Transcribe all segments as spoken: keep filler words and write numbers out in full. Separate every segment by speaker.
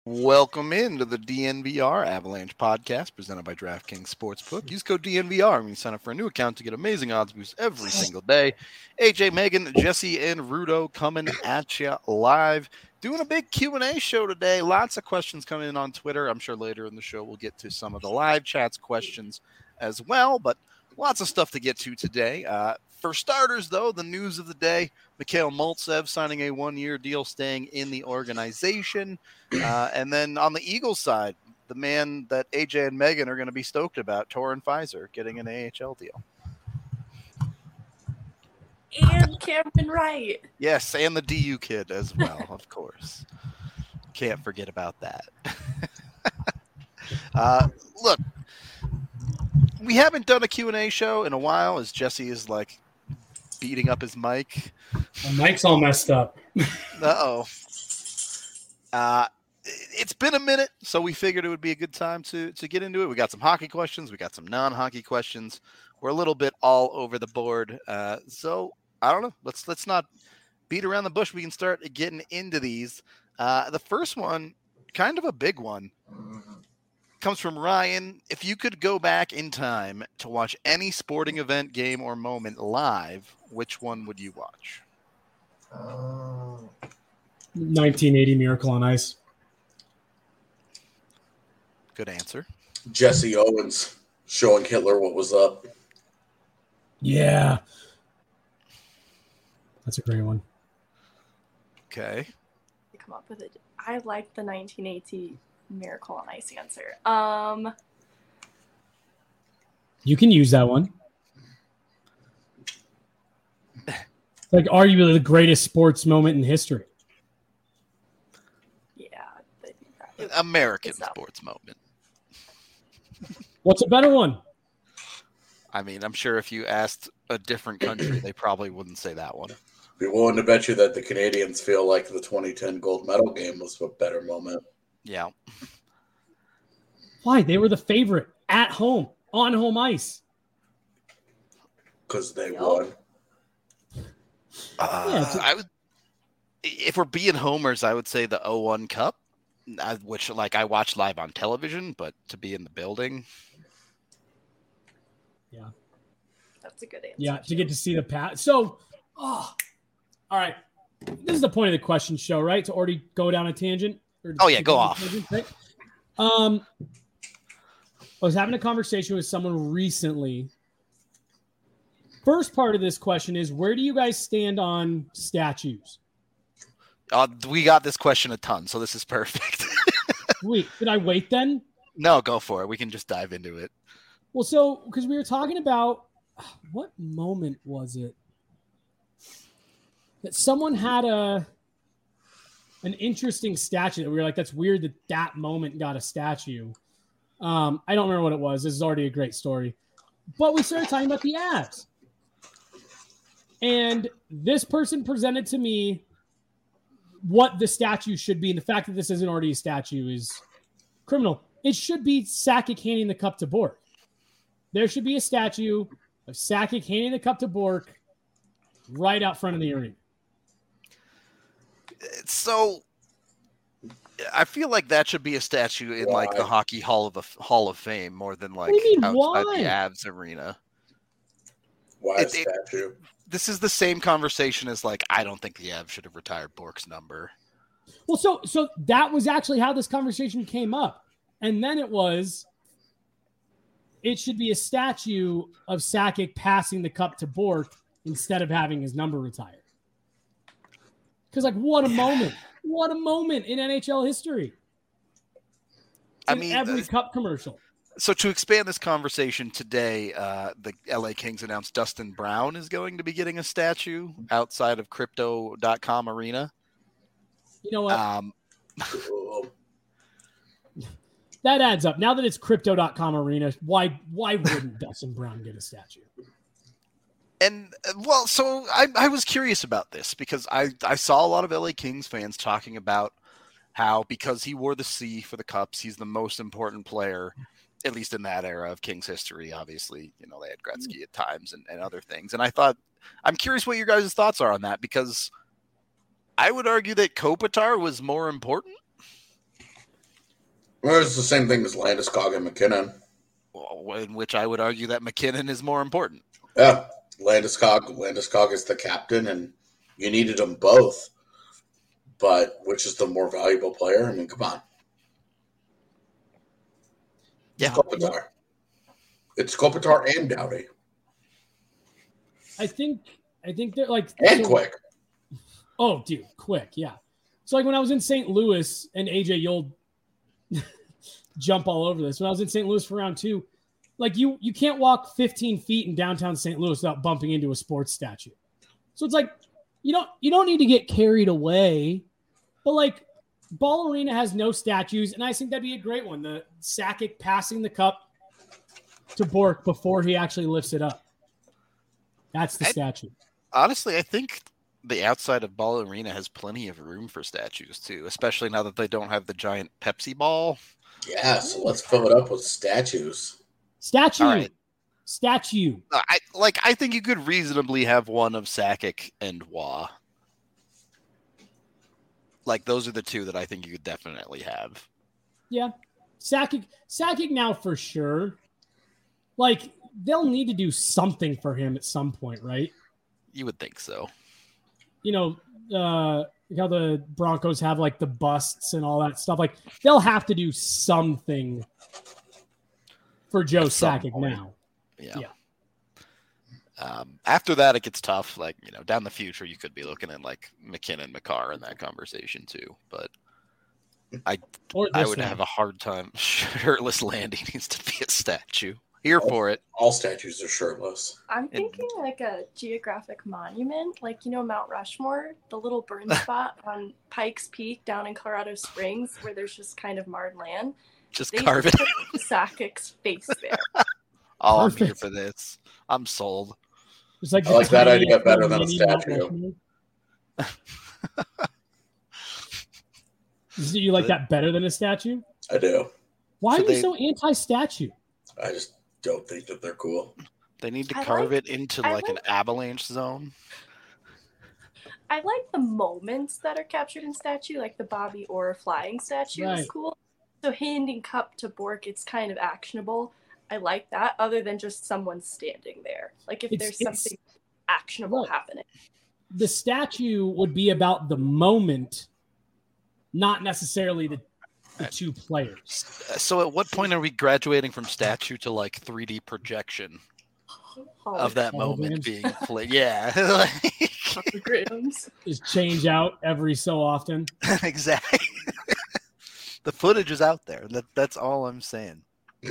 Speaker 1: Welcome into the D N V R Avalanche podcast presented by DraftKings Sportsbook. Use code D N V R when you sign up for a new account to get amazing odds boosts every single day. A J, Megan, Jesse, and Rudo coming at you live. Doing a big Q and A show today. Lots of questions coming in on Twitter. I'm sure later in the show we'll get to some of the live chats questions as well, but lots of stuff to get to today. Uh, for starters, though, the news of the day, Mikhail Maltsev signing a one-year deal staying in the organization. Uh, and then on the Eagles side, the man that A J and Megan are going to be stoked about, Torin Fizer, getting an A H L deal.
Speaker 2: And Cameron Wright.
Speaker 1: Yes, and the D U kid as well, of course. Can't forget about that. uh, look, we haven't done a Q and A show in a while as Jesse is like beating up his mic.
Speaker 3: My mic's all messed up.
Speaker 1: Uh-oh. Uh, it's been a minute, so we figured it would be a good time to to get into it. We got some hockey questions. We got some non-hockey questions. We're a little bit all over the board. Uh, so I don't know. Let's let's not beat around the bush. We can start getting into these. Uh, the first one, kind of a big one, comes from Ryan. If you could go back in time to watch any sporting event, game, or moment live, which one would you watch?
Speaker 3: Uh, nineteen eighty Miracle on Ice.
Speaker 1: Good answer.
Speaker 4: Jesse Owens showing Hitler what was up.
Speaker 3: Yeah. That's a great one.
Speaker 1: Okay.
Speaker 2: Come up with it. I like the nineteen eighty Miracle on Ice answer. Um,
Speaker 3: You can use that one. Like arguably the greatest sports moment in history.
Speaker 2: yeah.
Speaker 1: American sports moment.
Speaker 3: What's a better one?
Speaker 1: I mean, I'm sure if you asked a different country, they probably wouldn't say that one.
Speaker 4: Be willing to bet you that the Canadians feel like the twenty ten gold medal game was a better moment.
Speaker 1: Yeah.
Speaker 3: Why? They were the favorite at home, on home ice.
Speaker 4: Because they won.
Speaker 1: Uh,
Speaker 3: Yeah,
Speaker 1: I would, if we're being homers, I would say the oh one Cup, uh, which like I watched live on television, but to be in the building.
Speaker 3: Yeah.
Speaker 2: That's a good answer.
Speaker 3: Yeah, to get to see the pass. So, oh, all right. This is the point of the question show, right? To already go down a tangent. Or
Speaker 1: Oh, yeah,
Speaker 3: to
Speaker 1: go
Speaker 3: down a
Speaker 1: off.
Speaker 3: tangent, right? Um, I was having a conversation with someone recently. First part of this question is, where do you guys stand on statues?
Speaker 1: Uh, we got this question a ton, so this is perfect.
Speaker 3: Wait, did I wait then?
Speaker 1: No, go for it. We can just dive into it.
Speaker 3: Well, so because we were talking about what moment was it that someone had a an interesting statue that we were like, that's weird that that moment got a statue. Um, I don't remember what it was. This is already a great story, but we started talking about the Avs, and this person presented to me what the statue should be, and the fact that this isn't already a statue is criminal. It should be Sakic handing the cup to Bork. There should be a statue of Sakic handing the cup to Bork right out front of the arena.
Speaker 1: So I feel like that should be a statue in
Speaker 4: Why?
Speaker 1: like the Hockey Hall of Hall of Fame more than like
Speaker 3: What do you mean,
Speaker 1: outside
Speaker 3: why?
Speaker 1: the Avs arena.
Speaker 4: Why a
Speaker 1: It- it-
Speaker 4: statue?
Speaker 1: This is the same conversation as like I don't think the Avs should have retired Bork's number.
Speaker 3: Well, so so that was actually how this conversation came up. And then it was, it should be a statue of Sakic passing the cup to Bork instead of having his number retired. Because, like, what a moment. What a moment in N H L history.
Speaker 1: I
Speaker 3: In
Speaker 1: mean,
Speaker 3: every
Speaker 1: uh,
Speaker 3: cup commercial.
Speaker 1: So to expand this conversation today, uh, the L A Kings announced Dustin Brown is going to be getting a statue outside of Crypto dot com arena.
Speaker 3: You know what?
Speaker 1: Um,
Speaker 3: that adds up. Now that it's Crypto dot com arena, why why wouldn't Dustin Brown get a statue?
Speaker 1: And uh, well, so I, I was curious about this because I, I saw a lot of L A Kings fans talking about how because he wore the C for the Cups, he's the most important player, at least in that era of Kings history. Obviously, you know, they had Gretzky at times and, and other things. And I thought, I'm curious what your guys' thoughts are on that because I would argue that Kopitar was more important.
Speaker 4: Well, it's the same thing as Landeskog and McKinnon.
Speaker 1: Well, in which I would argue that McKinnon is more important.
Speaker 4: Yeah, Landeskog. Landeskog is the captain, and you needed them both. But which is the more valuable player? I mean, come on.
Speaker 1: Yeah.
Speaker 4: It's Kopitar. It's Kopitar and Doughty.
Speaker 3: I think I think they're like
Speaker 4: And
Speaker 3: so,
Speaker 4: Quick.
Speaker 3: Oh, dude, Quick, yeah. So like when I was in Saint Louis, and A J, you'll jump all over this. When I was in Saint Louis for round two, like you you can't walk fifteen feet in downtown Saint Louis without bumping into a sports statue. So it's like you don't you don't need to get carried away, but like Ball Arena has no statues, and I think that'd be a great one. The Sakic passing the cup to Bork before he actually lifts it up. That's the
Speaker 1: I,
Speaker 3: statue.
Speaker 1: Honestly, I think the outside of Ball Arena has plenty of room for statues too, especially now that they don't have the giant Pepsi ball.
Speaker 4: Yeah, so let's fill it up with statues.
Speaker 3: Statue.
Speaker 1: All right.
Speaker 3: Statue.
Speaker 1: I like. I think you could reasonably have one of Sakic and Wah. Like those are the two that I think you could definitely have.
Speaker 3: Yeah, Sakic. Sakic now for sure. Like they'll need to do something for him at some point, right?
Speaker 1: You would think so.
Speaker 3: You know, uh, how the Broncos have like the busts and all that stuff. Like they'll have to do something for Joe Sakic now.
Speaker 1: Yeah.
Speaker 3: Yeah.
Speaker 1: Um, after that, it gets tough. Like, you know, down the future, you could be looking at like McKinnon, McCarr in that conversation too. But I,
Speaker 3: Or
Speaker 1: I
Speaker 3: this
Speaker 1: would
Speaker 3: one.
Speaker 1: have a hard time. Shirtless Landy needs to be a statue. Here for it.
Speaker 4: All statues are shirtless.
Speaker 2: I'm thinking like a geographic monument, like, you know, Mount Rushmore, the little burn spot on Pikes Peak down in Colorado Springs where there's just kind of marred land.
Speaker 1: Just
Speaker 2: They
Speaker 1: carve it.
Speaker 2: put Sakic's face there.
Speaker 1: Oh, I'm here
Speaker 3: Perfect.
Speaker 1: for this. I'm sold.
Speaker 3: It's like
Speaker 4: I like that
Speaker 3: tiny
Speaker 4: idea better than a
Speaker 3: mini Mount
Speaker 4: statue.
Speaker 3: Rushmore. Do you like that better than a statue?
Speaker 4: I do.
Speaker 3: Why
Speaker 1: So
Speaker 3: are you
Speaker 1: they-
Speaker 3: so anti-statue?
Speaker 4: I just don't think that they're cool.
Speaker 1: They need to
Speaker 2: I
Speaker 1: carve
Speaker 2: like-
Speaker 1: it into
Speaker 2: I
Speaker 1: like an
Speaker 2: like-
Speaker 1: avalanche zone.
Speaker 2: I like the moments that are captured in statue, like the Bobby Orr flying statue
Speaker 3: Right.
Speaker 2: is cool. So handing cup to Bork, it's kind of actionable. I like that, other than just someone standing there. Like if
Speaker 3: It's-
Speaker 2: there's
Speaker 3: it's-
Speaker 2: something actionable
Speaker 3: Right.
Speaker 2: happening.
Speaker 3: The statue would be about the moment, not necessarily the, the two players.
Speaker 1: So at what point are we graduating from statue to like three D projection of that moment
Speaker 3: Holograms.
Speaker 1: being played? Yeah. Like-
Speaker 2: Holograms.
Speaker 3: Is change out every so often.
Speaker 1: exactly. The footage is out there. That, that's all I'm saying.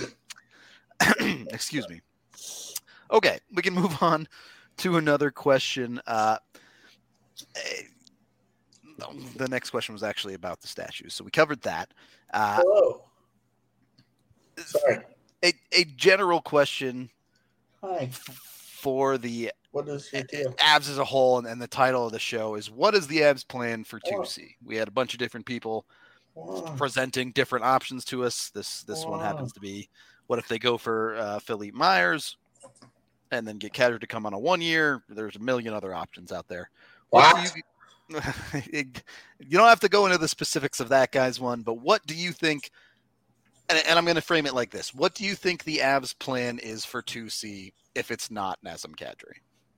Speaker 1: Excuse me. Okay, we can move on to another question. Uh, eh, the next question was actually about the statues, so we covered that. Uh,
Speaker 4: Hello. Sorry.
Speaker 1: a, a general question
Speaker 4: Hi.
Speaker 1: f- for the
Speaker 4: What is your deal?
Speaker 1: Avs as a whole, and, and the title of the show is "What is the Avs plan for
Speaker 4: Oh.
Speaker 1: two C?" We had a bunch of different people
Speaker 4: Wow.
Speaker 1: presenting different options to us. This this one
Speaker 4: Wow.
Speaker 1: happens to be, what if they go for uh, Philippe Myers and then get Kadri to come on a one year? There's a million other options out there. What do
Speaker 4: What?
Speaker 1: you, you don't have to go into the specifics of that guy's one, but what do you think? And, and I'm going to frame it like this: what do you think the Avs' plan is for two C if it's not Nazem Kadri?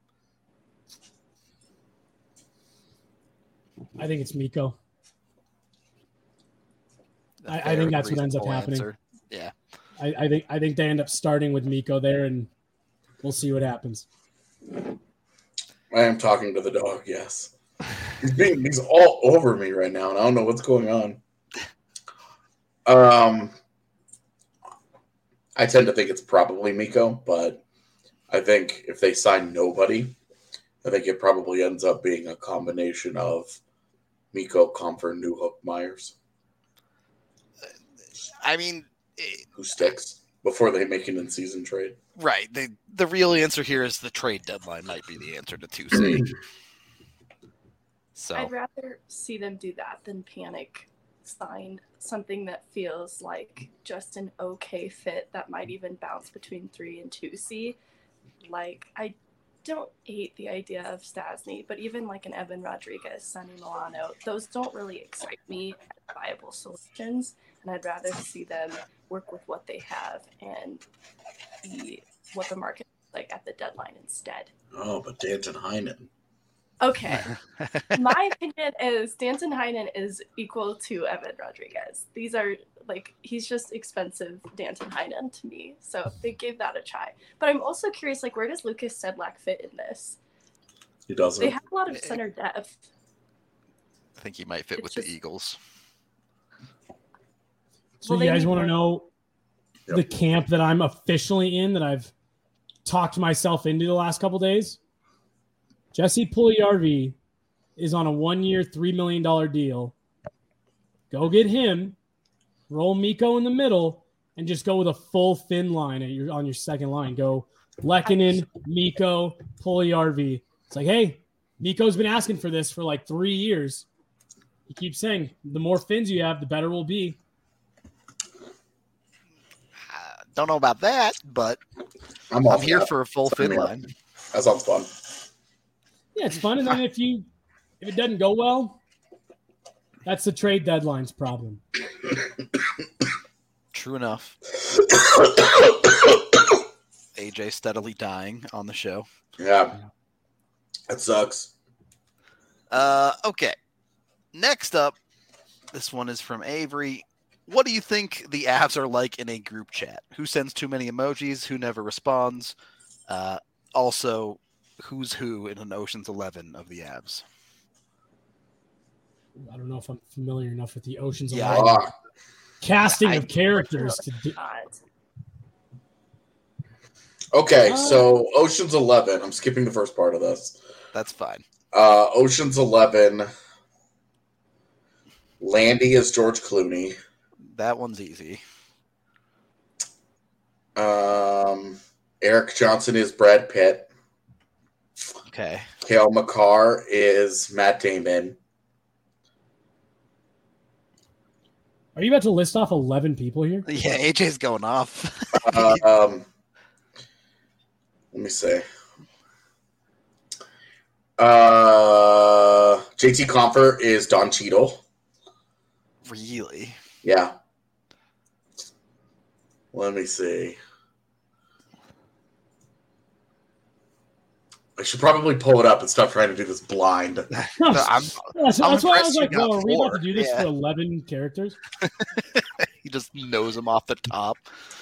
Speaker 3: I think it's Miko.
Speaker 1: A
Speaker 3: I- I
Speaker 1: fair,
Speaker 3: think that's what ends up
Speaker 1: reasonable
Speaker 3: happening.
Speaker 1: answer. Yeah.
Speaker 3: I, I think I think they end up starting with Miko there, and we'll see what happens.
Speaker 4: I am talking to the dog, yes. He's being he's all over me right now, and I don't know what's going on. Um I tend to think it's probably Miko, but I think if they sign nobody, I think it probably ends up being a combination of Miko, Comfort, Newhook, Myers,
Speaker 1: I mean, it,
Speaker 4: who sticks before they make an in-season trade.
Speaker 1: right. The the real answer here is the trade deadline might be the answer to two C. So
Speaker 2: I'd rather see them do that than panic sign something that feels like just an okay fit that might even bounce between three and two C. Like, I don't hate the idea of Stasny, but even like an Evan Rodriguez, Sonny Milano, those don't really excite me as viable solutions. and I'd rather see them work with what they have and see what the market is like at the deadline instead.
Speaker 4: Oh, but Danton Heinen.
Speaker 2: Okay. My opinion is Danton Heinen is equal to Evan Rodriguez. These are like, he's just expensive Danton Heinen to me. So they gave that a try. But I'm also curious, like, where does Lucas Sedlak fit in this?
Speaker 4: He doesn't.
Speaker 2: They have a lot of center depth.
Speaker 1: I think he might fit
Speaker 2: It's
Speaker 1: with
Speaker 2: just-
Speaker 1: the Eagles.
Speaker 3: So
Speaker 2: Well,
Speaker 3: you
Speaker 2: they
Speaker 3: guys
Speaker 2: need
Speaker 3: want to
Speaker 2: more-
Speaker 3: know
Speaker 4: Yep.
Speaker 3: the camp that I'm officially in that I've talked myself into the last couple days? Jesse Puljujarvi is on a one-year, three million dollars deal. Go get him, roll Mikko in the middle, and just go with a full Finn line at your, on your second line. Go Lehkonen, Mikko, Puljujarvi. It's like, hey, Mikko's been asking for this for like three years. He keeps saying, the more Finns you have, the better we'll be.
Speaker 1: Uh, don't know about that, but
Speaker 4: I'm, all
Speaker 1: I'm
Speaker 4: for
Speaker 1: here
Speaker 4: that.
Speaker 1: for a full
Speaker 4: Sign
Speaker 1: fin
Speaker 4: me up.
Speaker 1: line.
Speaker 4: That sounds fun.
Speaker 3: Yeah, it's fun. And then if you if it doesn't go well, that's the trade deadline's problem.
Speaker 1: True enough. A J steadily dying on the show.
Speaker 4: Yeah. That sucks.
Speaker 1: Uh, okay. Next up, this one is from Avery. What do you think the Avs are like in a group chat? Who sends too many emojis? Who never responds? Uh, also, who's who in an Ocean's Eleven of the Avs?
Speaker 3: I don't know if I'm familiar enough with the Ocean's
Speaker 1: Yeah,
Speaker 3: Eleven
Speaker 4: Ah,
Speaker 3: casting
Speaker 1: I-
Speaker 3: of characters to do.
Speaker 2: God.
Speaker 4: okay,
Speaker 3: Uh,
Speaker 4: so Ocean's Eleven. I'm skipping the first part of this.
Speaker 1: That's fine.
Speaker 4: Uh, Ocean's Eleven. Landy is George Clooney.
Speaker 1: That one's easy.
Speaker 4: Um, Eric Johnson is Brad Pitt.
Speaker 1: Okay.
Speaker 4: Cale McCarr is Matt Damon.
Speaker 3: Are you about to list off eleven people here?
Speaker 1: Yeah, A J's going off.
Speaker 4: Uh, um, let me see. Uh, J T Comfort is Don Cheadle.
Speaker 1: Really?
Speaker 4: Yeah. Let me see. I should probably pull it up and stop trying to do this blind.
Speaker 1: No, I'm,
Speaker 3: Yeah, so
Speaker 1: I'm
Speaker 3: that's why I
Speaker 1: impressed
Speaker 3: was
Speaker 1: you
Speaker 3: like,
Speaker 1: got
Speaker 3: well, are we about
Speaker 1: four.
Speaker 3: to do this
Speaker 1: Yeah.
Speaker 3: for eleven characters?
Speaker 1: he just knows him off the top.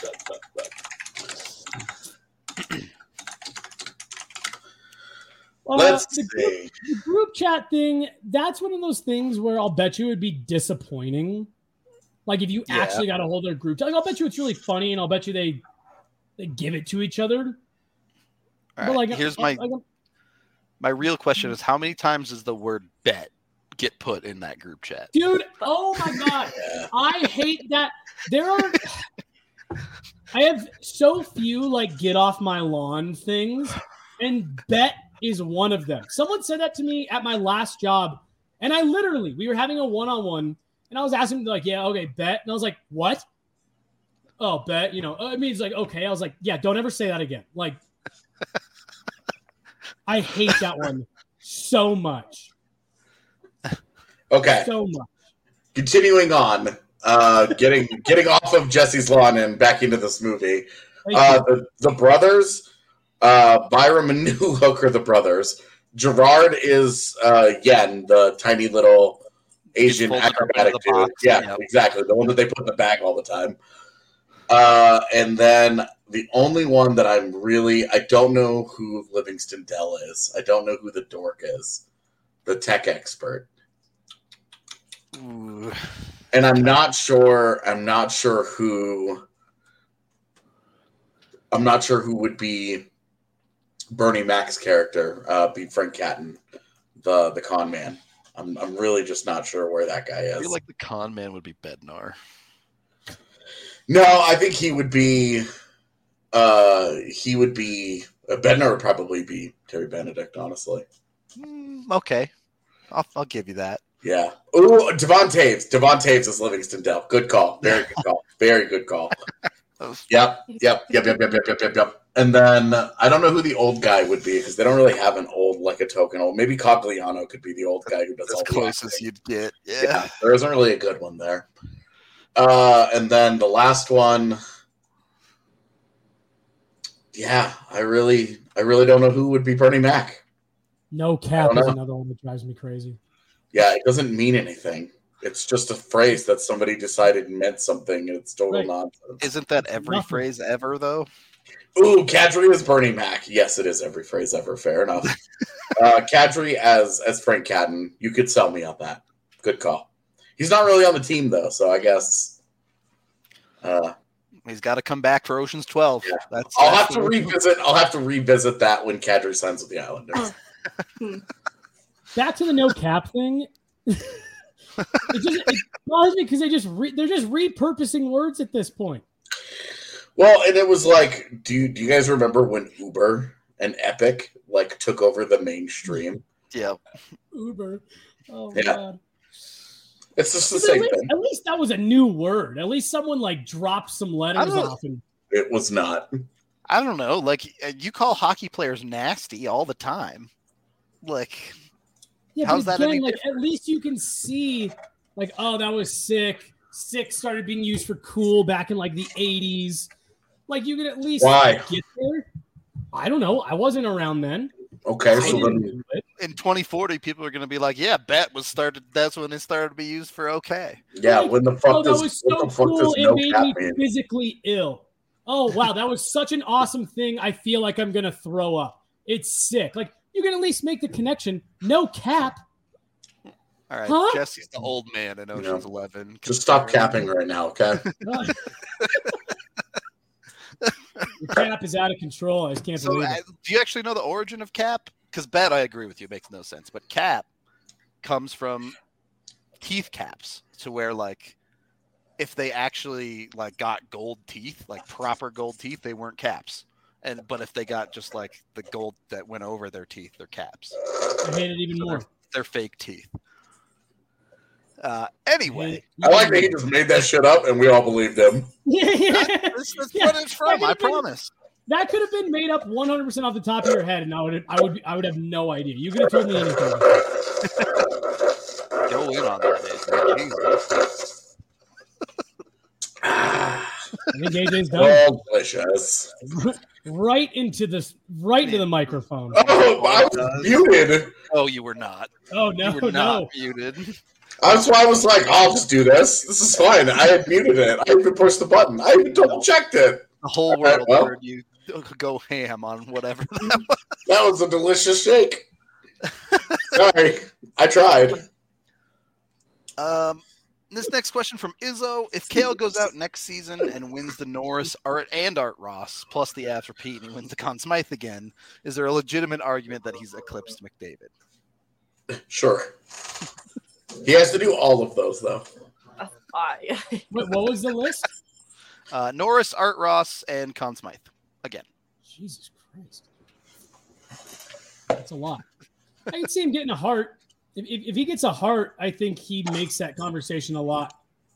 Speaker 3: Uh,
Speaker 4: Let's
Speaker 3: the, group,
Speaker 4: see.
Speaker 3: the group chat thing, that's one of those things where I'll bet you it would be disappointing. Like if you
Speaker 1: Yeah.
Speaker 3: actually got a hold of a group chat, like I'll bet you it's really funny and I'll bet you they they give it to each other.
Speaker 1: All right,
Speaker 3: like,
Speaker 1: here's
Speaker 3: uh,
Speaker 1: my
Speaker 3: like,
Speaker 1: my real question: is how many times does the word "bet" get put in that group chat?
Speaker 3: dude, oh my god.
Speaker 4: Yeah.
Speaker 3: I hate that. There are I have so few like get off my lawn things, and bet is one of them. Someone said that to me at my last job, and I literally we were having a one-on-one, and I was asking like, yeah, okay, bet. And I was like, what? Oh, bet, you know, I mean, it's like, okay. I was like, yeah, don't ever say that again. Like, I hate that one so much.
Speaker 4: Okay,
Speaker 3: So much.
Speaker 4: continuing on. Uh, getting getting off of Jesse's lawn and back into this movie.
Speaker 3: Thank
Speaker 4: Uh,
Speaker 3: you.
Speaker 4: the, the brothers, uh, Byram and New Hook are the brothers. Gerard is uh, Yen, the tiny little Asian
Speaker 1: folded up into
Speaker 4: acrobatic
Speaker 1: the
Speaker 4: dude.
Speaker 1: box,
Speaker 4: Yeah,
Speaker 1: yep.
Speaker 4: exactly. The one that they put in the bag all the time. Uh, and then the only one that I'm really, I don't know who Livingston Dell is. I don't know who the dork is, the tech expert.
Speaker 1: Ooh.
Speaker 4: And I'm not sure. I'm not sure who. I'm not sure who would be Bernie Mac's character. Uh, be Frank Catton, the the con man. I'm I'm really just not sure where that guy
Speaker 1: I
Speaker 4: is.
Speaker 1: feel like the con man would be Bednar.
Speaker 4: No, I think he would be. Uh, he would be. Uh, Bednar would probably be Terry Benedict. Honestly,
Speaker 1: Mm, okay, I'll I'll give you that.
Speaker 4: yeah. Ooh, Devon Taves. Devon Taves is Livingston Dell. Good call. Very good call. Very good call.
Speaker 1: That was-
Speaker 4: Yep, yep, yep, yep, yep, yep, yep, yep, yep. And then uh, I don't know who the old guy would be because they don't really have an old like a token old. Maybe Cogliano could be the old guy who does
Speaker 1: As
Speaker 4: all the
Speaker 1: close as
Speaker 4: acting.
Speaker 1: you'd get. Yeah.
Speaker 4: Yeah, there isn't really a good one there. Uh, and then the last one, yeah, I really, I really don't know who would be Bernie Mac.
Speaker 3: No cap
Speaker 4: I don't
Speaker 3: is
Speaker 4: know.
Speaker 3: another one that drives me crazy.
Speaker 4: Yeah, it doesn't mean anything. It's just a phrase that somebody decided meant something, and it's total
Speaker 3: Right.
Speaker 4: nonsense.
Speaker 1: Isn't that every
Speaker 3: Nothing.
Speaker 1: phrase ever, though?
Speaker 4: Ooh, Kadri as Bernie Mac. Yes, it is every phrase ever. Fair enough. uh, Kadri as as Frank Cadden. You could sell me on that. Good call. He's not really on the team though, so I guess. Uh,
Speaker 1: He's got to come back for Ocean's twelve.
Speaker 4: Yeah.
Speaker 1: That's,
Speaker 4: I'll
Speaker 1: that's
Speaker 4: have to
Speaker 1: the-
Speaker 4: revisit. I'll have to revisit that when Kadri signs with the Islanders.
Speaker 3: Back to the no cap thing. it just it bothers me because they just re, they're just repurposing words at this point.
Speaker 4: Well, and it was like, do you, do you guys remember when Uber and Epic like took over the mainstream?
Speaker 1: Yeah.
Speaker 3: Uber. Oh
Speaker 4: Yeah.
Speaker 3: god.
Speaker 4: It's just the
Speaker 3: But
Speaker 4: same
Speaker 3: at, least,
Speaker 4: thing.
Speaker 3: at least that was a new word. At least someone like dropped some
Speaker 1: I
Speaker 3: letters
Speaker 1: don't-
Speaker 3: off and
Speaker 4: It was not.
Speaker 1: I don't know. Like, uh, you call hockey players nasty all the time. Like,
Speaker 3: yeah,
Speaker 1: How's
Speaker 3: but
Speaker 1: that
Speaker 3: again,
Speaker 1: any
Speaker 3: like at least you can see like, oh, that was sick. Sick started being used for cool back in like the eighties. Like you could at least
Speaker 4: Why?
Speaker 3: get there. I don't know. I wasn't around then.
Speaker 4: Okay,
Speaker 3: I
Speaker 4: so
Speaker 3: didn't
Speaker 4: then
Speaker 3: do it.
Speaker 1: in twenty forty, people are going to be like, yeah, bet was started. That's when it started to be used for okay.
Speaker 4: yeah,
Speaker 3: Like,
Speaker 4: when the fuck
Speaker 3: Oh, that
Speaker 4: does
Speaker 3: was
Speaker 4: what
Speaker 3: so
Speaker 4: the fuck
Speaker 3: cool.
Speaker 4: does
Speaker 3: It
Speaker 4: no
Speaker 3: made
Speaker 4: cap
Speaker 3: me
Speaker 4: mean?
Speaker 3: physically ill. Oh, wow. That was such an awesome thing. I feel like I'm going to throw up. It's sick. Like, you can at least make the connection. No cap.
Speaker 1: All right.
Speaker 3: Huh?
Speaker 1: Jesse's the old man in Ocean's
Speaker 4: Yeah.
Speaker 1: eleven.
Speaker 4: Just stop
Speaker 1: Considering-
Speaker 4: capping right now, okay?
Speaker 3: Your cap is out of control. I just can't
Speaker 1: So,
Speaker 3: believe
Speaker 1: uh,
Speaker 3: it.
Speaker 1: do you actually know the origin of cap? Because bet, I agree with you, it makes no sense. But cap comes from teeth caps, to where like if they actually like got gold teeth, like proper gold teeth, they weren't caps. And but if they got just like the gold that went over their teeth, they're caps.
Speaker 3: I hate it even
Speaker 1: So
Speaker 3: more.
Speaker 1: they're, they're fake teeth. Uh, anyway,
Speaker 4: I like that he just made that shit up and we all believed him.
Speaker 3: Yeah, yeah.
Speaker 1: this is
Speaker 3: Yeah,
Speaker 1: what it's from.
Speaker 3: that
Speaker 1: I
Speaker 3: could've been-
Speaker 1: promise.
Speaker 3: That could have been made up one hundred percent off the top of your head, and I would, I would, I would have no idea. You could have told me anything.
Speaker 1: Go in on that. Jesus.
Speaker 3: I think A J's done.
Speaker 4: Oh, delicious.
Speaker 3: Right into this, right into the microphone.
Speaker 4: Oh, I was muted.
Speaker 1: Oh, you were not.
Speaker 3: Oh
Speaker 1: You
Speaker 3: no,
Speaker 1: were not
Speaker 3: no.
Speaker 1: muted.
Speaker 4: That's why I was like, I'll just do this. This is fine. I had muted it. I even pushed the button. I even double checked it.
Speaker 1: The whole
Speaker 4: All right,
Speaker 1: world
Speaker 4: well.
Speaker 1: heard you go ham on whatever that was.
Speaker 4: That was a delicious shake. Sorry. I tried.
Speaker 1: Um, this next question from Izzo: if Kale goes out next season and wins the Norris Art and Art Ross plus the Avs repeat and he wins the Conn Smythe again, is there a legitimate argument that he's eclipsed McDavid?
Speaker 4: Sure. He has to do all of those, though.
Speaker 2: I
Speaker 3: Wait, what was the list?
Speaker 1: Uh, Norris, Art Ross, and Conn Smythe again.
Speaker 3: Jesus Christ, that's a lot. I can see him getting a heart. If, if, if he gets a heart, I think he makes that conversation a lot.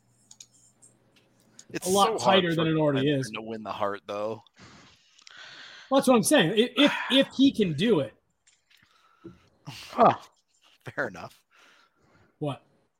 Speaker 1: It's
Speaker 3: A lot
Speaker 1: so hard
Speaker 3: tighter
Speaker 1: for
Speaker 3: than it already
Speaker 1: Cleveland
Speaker 3: is.
Speaker 1: to win the Hart, though.
Speaker 3: Well, that's what I'm saying. If, if if he can do it,
Speaker 1: Huh. Fair enough.
Speaker 3: what?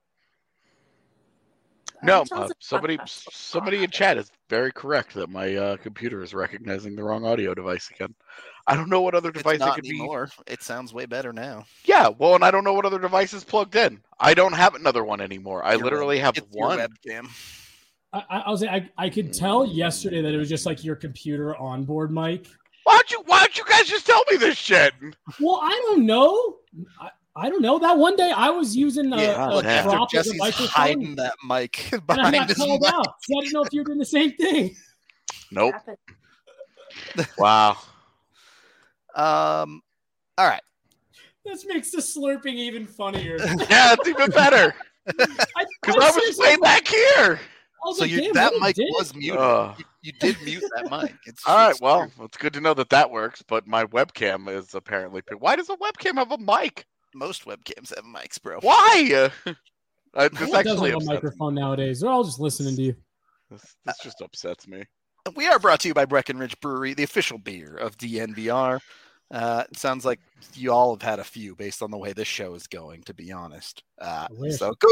Speaker 5: No,
Speaker 2: It sounds
Speaker 5: uh,
Speaker 2: like
Speaker 5: somebody
Speaker 2: podcast.
Speaker 5: somebody in chat is very correct that my uh, computer is recognizing the wrong audio device again. I don't know what other device
Speaker 1: It's
Speaker 5: it
Speaker 1: not
Speaker 5: could be.
Speaker 1: anymore. It sounds way better now.
Speaker 5: Yeah, well, and I don't know what other device is plugged in. I don't have another one anymore. I
Speaker 1: Your
Speaker 5: literally
Speaker 1: web-
Speaker 5: have
Speaker 1: it's your
Speaker 5: one.
Speaker 1: webcam.
Speaker 3: I, I, I was I, I could tell yesterday that it was just like your computer onboard mic.
Speaker 5: Why don't you Why don't you guys just tell me this shit?
Speaker 3: Well, I don't know. I, I don't know. That one day I was using a,
Speaker 1: Yeah,
Speaker 3: a
Speaker 1: look, after
Speaker 3: prop as a
Speaker 1: Jesse's
Speaker 3: microphone,
Speaker 1: hiding that mic
Speaker 3: and I
Speaker 1: behind
Speaker 3: got
Speaker 1: his
Speaker 3: called
Speaker 1: mic.
Speaker 3: out. So I didn't know if you were doing the same thing.
Speaker 5: Nope.
Speaker 2: Happened.
Speaker 5: Wow.
Speaker 1: Um, all right.
Speaker 3: This makes the slurping even funnier.
Speaker 5: Yeah, it's even better
Speaker 3: I,
Speaker 5: because I was
Speaker 3: seriously-
Speaker 5: way back here.
Speaker 3: I was
Speaker 1: So
Speaker 3: like,
Speaker 1: you,
Speaker 3: damn,
Speaker 1: that
Speaker 3: what a
Speaker 1: mic
Speaker 3: dick.
Speaker 1: was muted.
Speaker 5: Uh.
Speaker 1: You, you did mute that mic. It's,
Speaker 5: All right,
Speaker 1: it's
Speaker 5: well,
Speaker 1: weird.
Speaker 5: it's good to know that that works. But my webcam is apparently. Why does a webcam have a mic?
Speaker 1: Most webcams have mics, bro.
Speaker 5: Why? Uh, this
Speaker 3: No one does
Speaker 5: actually
Speaker 3: have a
Speaker 5: upsets me.
Speaker 3: microphone nowadays. They're all just listening to you.
Speaker 5: This, this just upsets me.
Speaker 1: We are brought to you by Breckenridge Brewery, the official beer of D N V R. Uh, it sounds like you all have had a few based on the way this show is going, to be honest. Uh,
Speaker 3: I wish.
Speaker 1: so go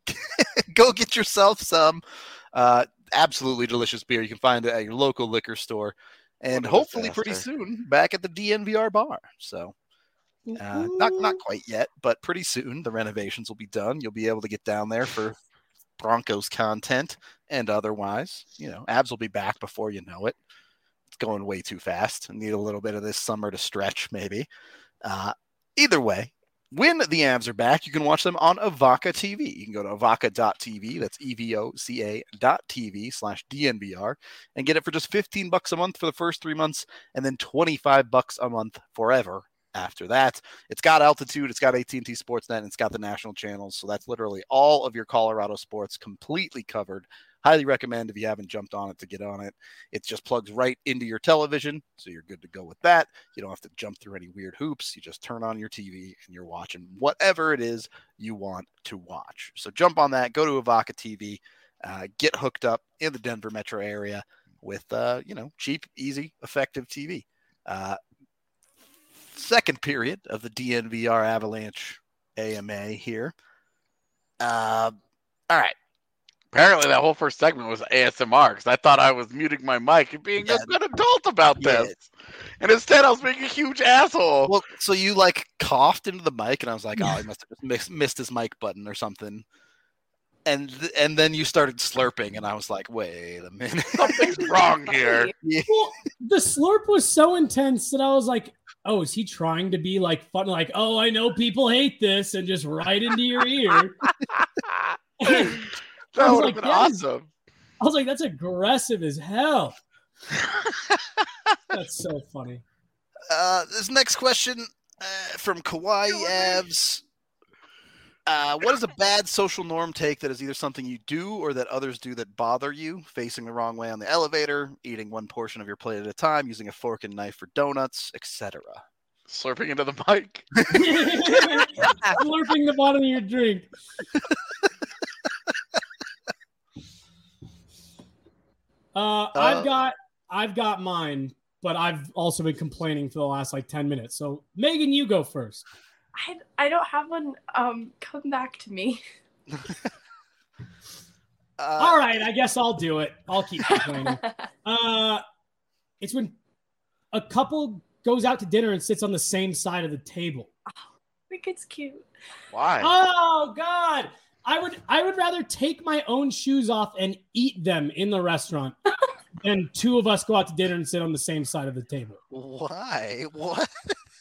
Speaker 1: go get yourself some uh, absolutely delicious beer. You can find it at your local liquor store, and
Speaker 5: What a
Speaker 1: hopefully pretty
Speaker 5: disaster.
Speaker 1: soon back at the D N V R bar. So uh, not not quite yet, but pretty soon the renovations will be done. You'll be able to get down there for Broncos content and otherwise. You know, Abs will be back before you know it. It's going way too fast. I need a little bit of this summer to stretch, maybe. Uh, either way, when the Avs are back, you can watch them on Avaca T V. You can go to avaca dot t v, that's E V O C A dot T V slash D N V R, and get it for just fifteen bucks a month for the first three months, and then twenty-five bucks a month forever after that. It's got Altitude, it's got A T and T Sportsnet, and it's got the national channels, so that's literally all of your Colorado sports completely covered. Highly recommend if you haven't jumped on it to get on it. It just plugs right into your television, so you're good to go with that. You don't have to jump through any weird hoops. You just turn on your T V and you're watching whatever it is you want to watch. So jump on that, go to Avaca T V, uh, get hooked up in the Denver metro area with, uh, you know, cheap, easy, effective T V. Uh, second period of the D N V R Avalanche A M A here. Uh, all right.
Speaker 5: Apparently, that whole first segment was A S M R because I thought I was muting my mic and being
Speaker 1: Yeah.
Speaker 5: a good adult about
Speaker 1: Yeah.
Speaker 5: this. And instead, I was being a huge asshole.
Speaker 1: Well, so you like coughed into the mic, and I was like, "Oh, I must have just missed, missed his mic button or something." And th- and then you started slurping, and I was like, "Wait a minute,
Speaker 5: Something's wrong here.
Speaker 1: Yeah.
Speaker 3: Well, the slurp was so intense that I was like, oh, is he trying to be like fun? Like, oh, I know people hate this, and just right into your ear.
Speaker 5: That
Speaker 3: I was
Speaker 5: would
Speaker 3: like,
Speaker 5: have been
Speaker 3: that is-
Speaker 5: awesome.
Speaker 3: I was like, that's aggressive as hell. That's so funny.
Speaker 1: Uh, this next question uh, from Kawaii Avs. Uh, what is a bad social norm take that is either something you do or that others do that bother you? Facing the wrong way on the elevator, eating one portion of your plate at a time, using a fork and knife for donuts, et cetera.
Speaker 5: Slurping into the mic.
Speaker 3: Slurping the bottom of your drink. Uh,
Speaker 1: Uh,
Speaker 3: I've got I've got mine, but I've also been complaining for the last like ten minutes. So Megan, you go first.
Speaker 2: I, I don't have one. Um, come back to me.
Speaker 1: Uh,
Speaker 3: All right, I guess I'll do it. I'll keep complaining. uh, it's when a couple goes out to dinner and sits on the same side of the table.
Speaker 2: I think it's cute.
Speaker 5: Why?
Speaker 3: Oh God. I would I would rather take my own shoes off and eat them in the restaurant than two of us go out to dinner and sit on the same side of the table.
Speaker 1: Why? What?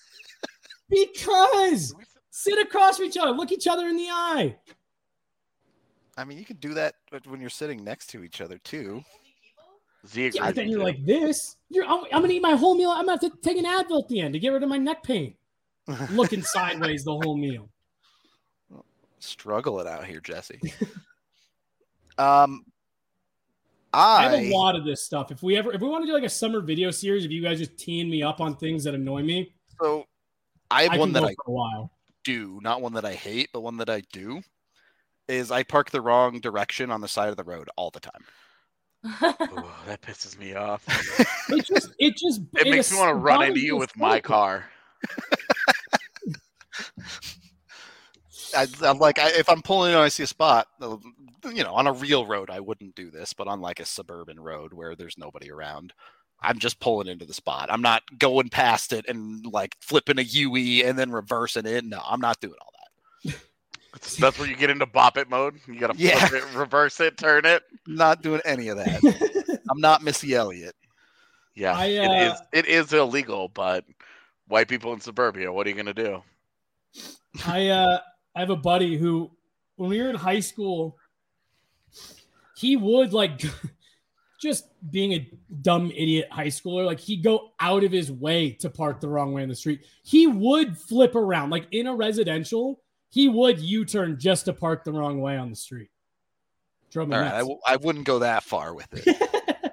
Speaker 3: Because sit across from each other, look each other in the eye.
Speaker 1: I mean, you can do that when you're sitting next to each other too.
Speaker 5: Z
Speaker 3: Yeah,
Speaker 5: agrees
Speaker 3: but then
Speaker 5: with
Speaker 3: you're
Speaker 5: you.
Speaker 3: like this. You're I'm, I'm gonna eat my whole meal. I'm gonna have to take an Advil at the end to get rid of my neck pain. Looking sideways the whole meal.
Speaker 1: Struggle it out here, Jesse. um,
Speaker 3: I have
Speaker 1: I
Speaker 3: a lot of this stuff. If we ever if we want to do like a summer video series, if you guys just teeing me up on things that annoy me,
Speaker 1: so I have
Speaker 3: I
Speaker 1: one
Speaker 3: can
Speaker 1: that
Speaker 3: go
Speaker 1: I
Speaker 3: for a while.
Speaker 1: do, not one that I hate, but one that I do. Is I park the wrong direction on the side of the road all the time.
Speaker 5: Ooh, that pisses me off.
Speaker 3: It just it just
Speaker 5: It makes me want to run into you with my car.
Speaker 1: I, I'm like, I, if I'm pulling in and I see a spot, you know, on a real road, I wouldn't do this, but on like a suburban road where there's nobody around, I'm just pulling into the spot. I'm not going past it and like flipping a U E and then reversing it. No, I'm not doing all that.
Speaker 5: That's where you get into bop it mode. You gotta
Speaker 1: Yeah.
Speaker 5: flip it, reverse it, turn it.
Speaker 1: Not doing any of that. I'm not Missy Elliott.
Speaker 5: Yeah,
Speaker 3: I,
Speaker 5: it
Speaker 3: uh,
Speaker 5: is. It is illegal, but white people in suburbia, what are you gonna do?
Speaker 3: I uh I have a buddy who when we were in high school, he would like just being a dumb idiot high schooler, like he'd go out of his way to park the wrong way in the street. He would flip around, like in a residential, he would U-turn just to park the wrong way on the street. Drove me
Speaker 1: All right, I,
Speaker 3: nuts.
Speaker 1: w- I wouldn't go that far with it.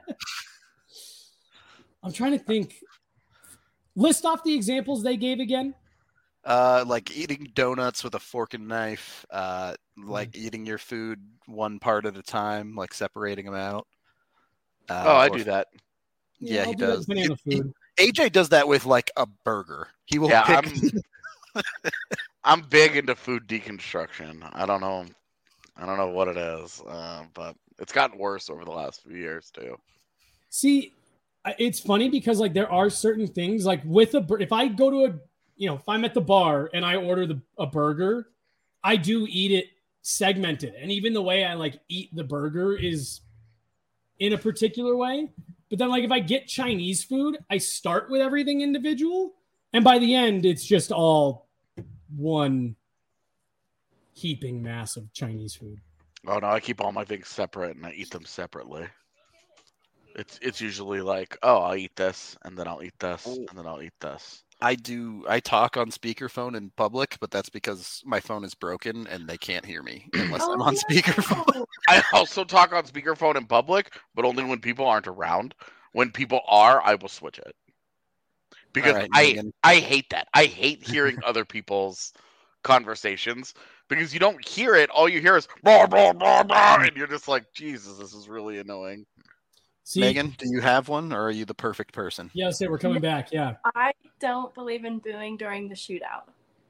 Speaker 3: I'm trying to think. List off the examples they gave again.
Speaker 1: Uh, like eating donuts with a fork and knife, uh, like
Speaker 3: Mm.
Speaker 1: eating your food one part at a time, like separating them out. Uh,
Speaker 5: Oh, I
Speaker 1: or-
Speaker 5: do that.
Speaker 1: Yeah,
Speaker 3: I'll
Speaker 1: he
Speaker 3: do that
Speaker 1: does.
Speaker 3: depending on the
Speaker 1: He-
Speaker 3: food.
Speaker 1: A J does that with like a burger. He will
Speaker 5: Yeah,
Speaker 1: pick.
Speaker 5: I'm I'm big into food deconstruction. I don't know. I don't know what it is, uh, but it's gotten worse over the last few years too.
Speaker 3: See, it's funny because like there are certain things like with a if I go to a you know if I'm at the bar and I order the a burger, I do eat it segmented, and even the way I like eat the burger is in a particular way. But then like if I get Chinese food, I start with everything individual, and by the end it's just all one heaping mass of Chinese food.
Speaker 5: Oh no, I keep all my things separate and I eat them separately. It's it's usually like, oh, I'll eat this, and then I'll eat this, and then I'll eat this.
Speaker 1: I do. I talk on speakerphone in public, but that's because my phone is broken and they can't hear me unless
Speaker 2: Oh,
Speaker 1: I'm on
Speaker 2: no.
Speaker 1: speakerphone.
Speaker 5: I also talk on speakerphone in public, but only when people aren't around. When people are, I will switch it. Because
Speaker 1: All right,
Speaker 5: I
Speaker 1: Megan.
Speaker 5: I hate that. I hate hearing other people's conversations because you don't hear it. All you hear is blah, blah, blah, blah, and you're just like, Jesus, this is really annoying.
Speaker 3: See,
Speaker 1: Megan, do you have one, or are you the perfect person?
Speaker 3: yeah, say we're coming back. Yeah.
Speaker 2: I don't believe in booing during the shootout.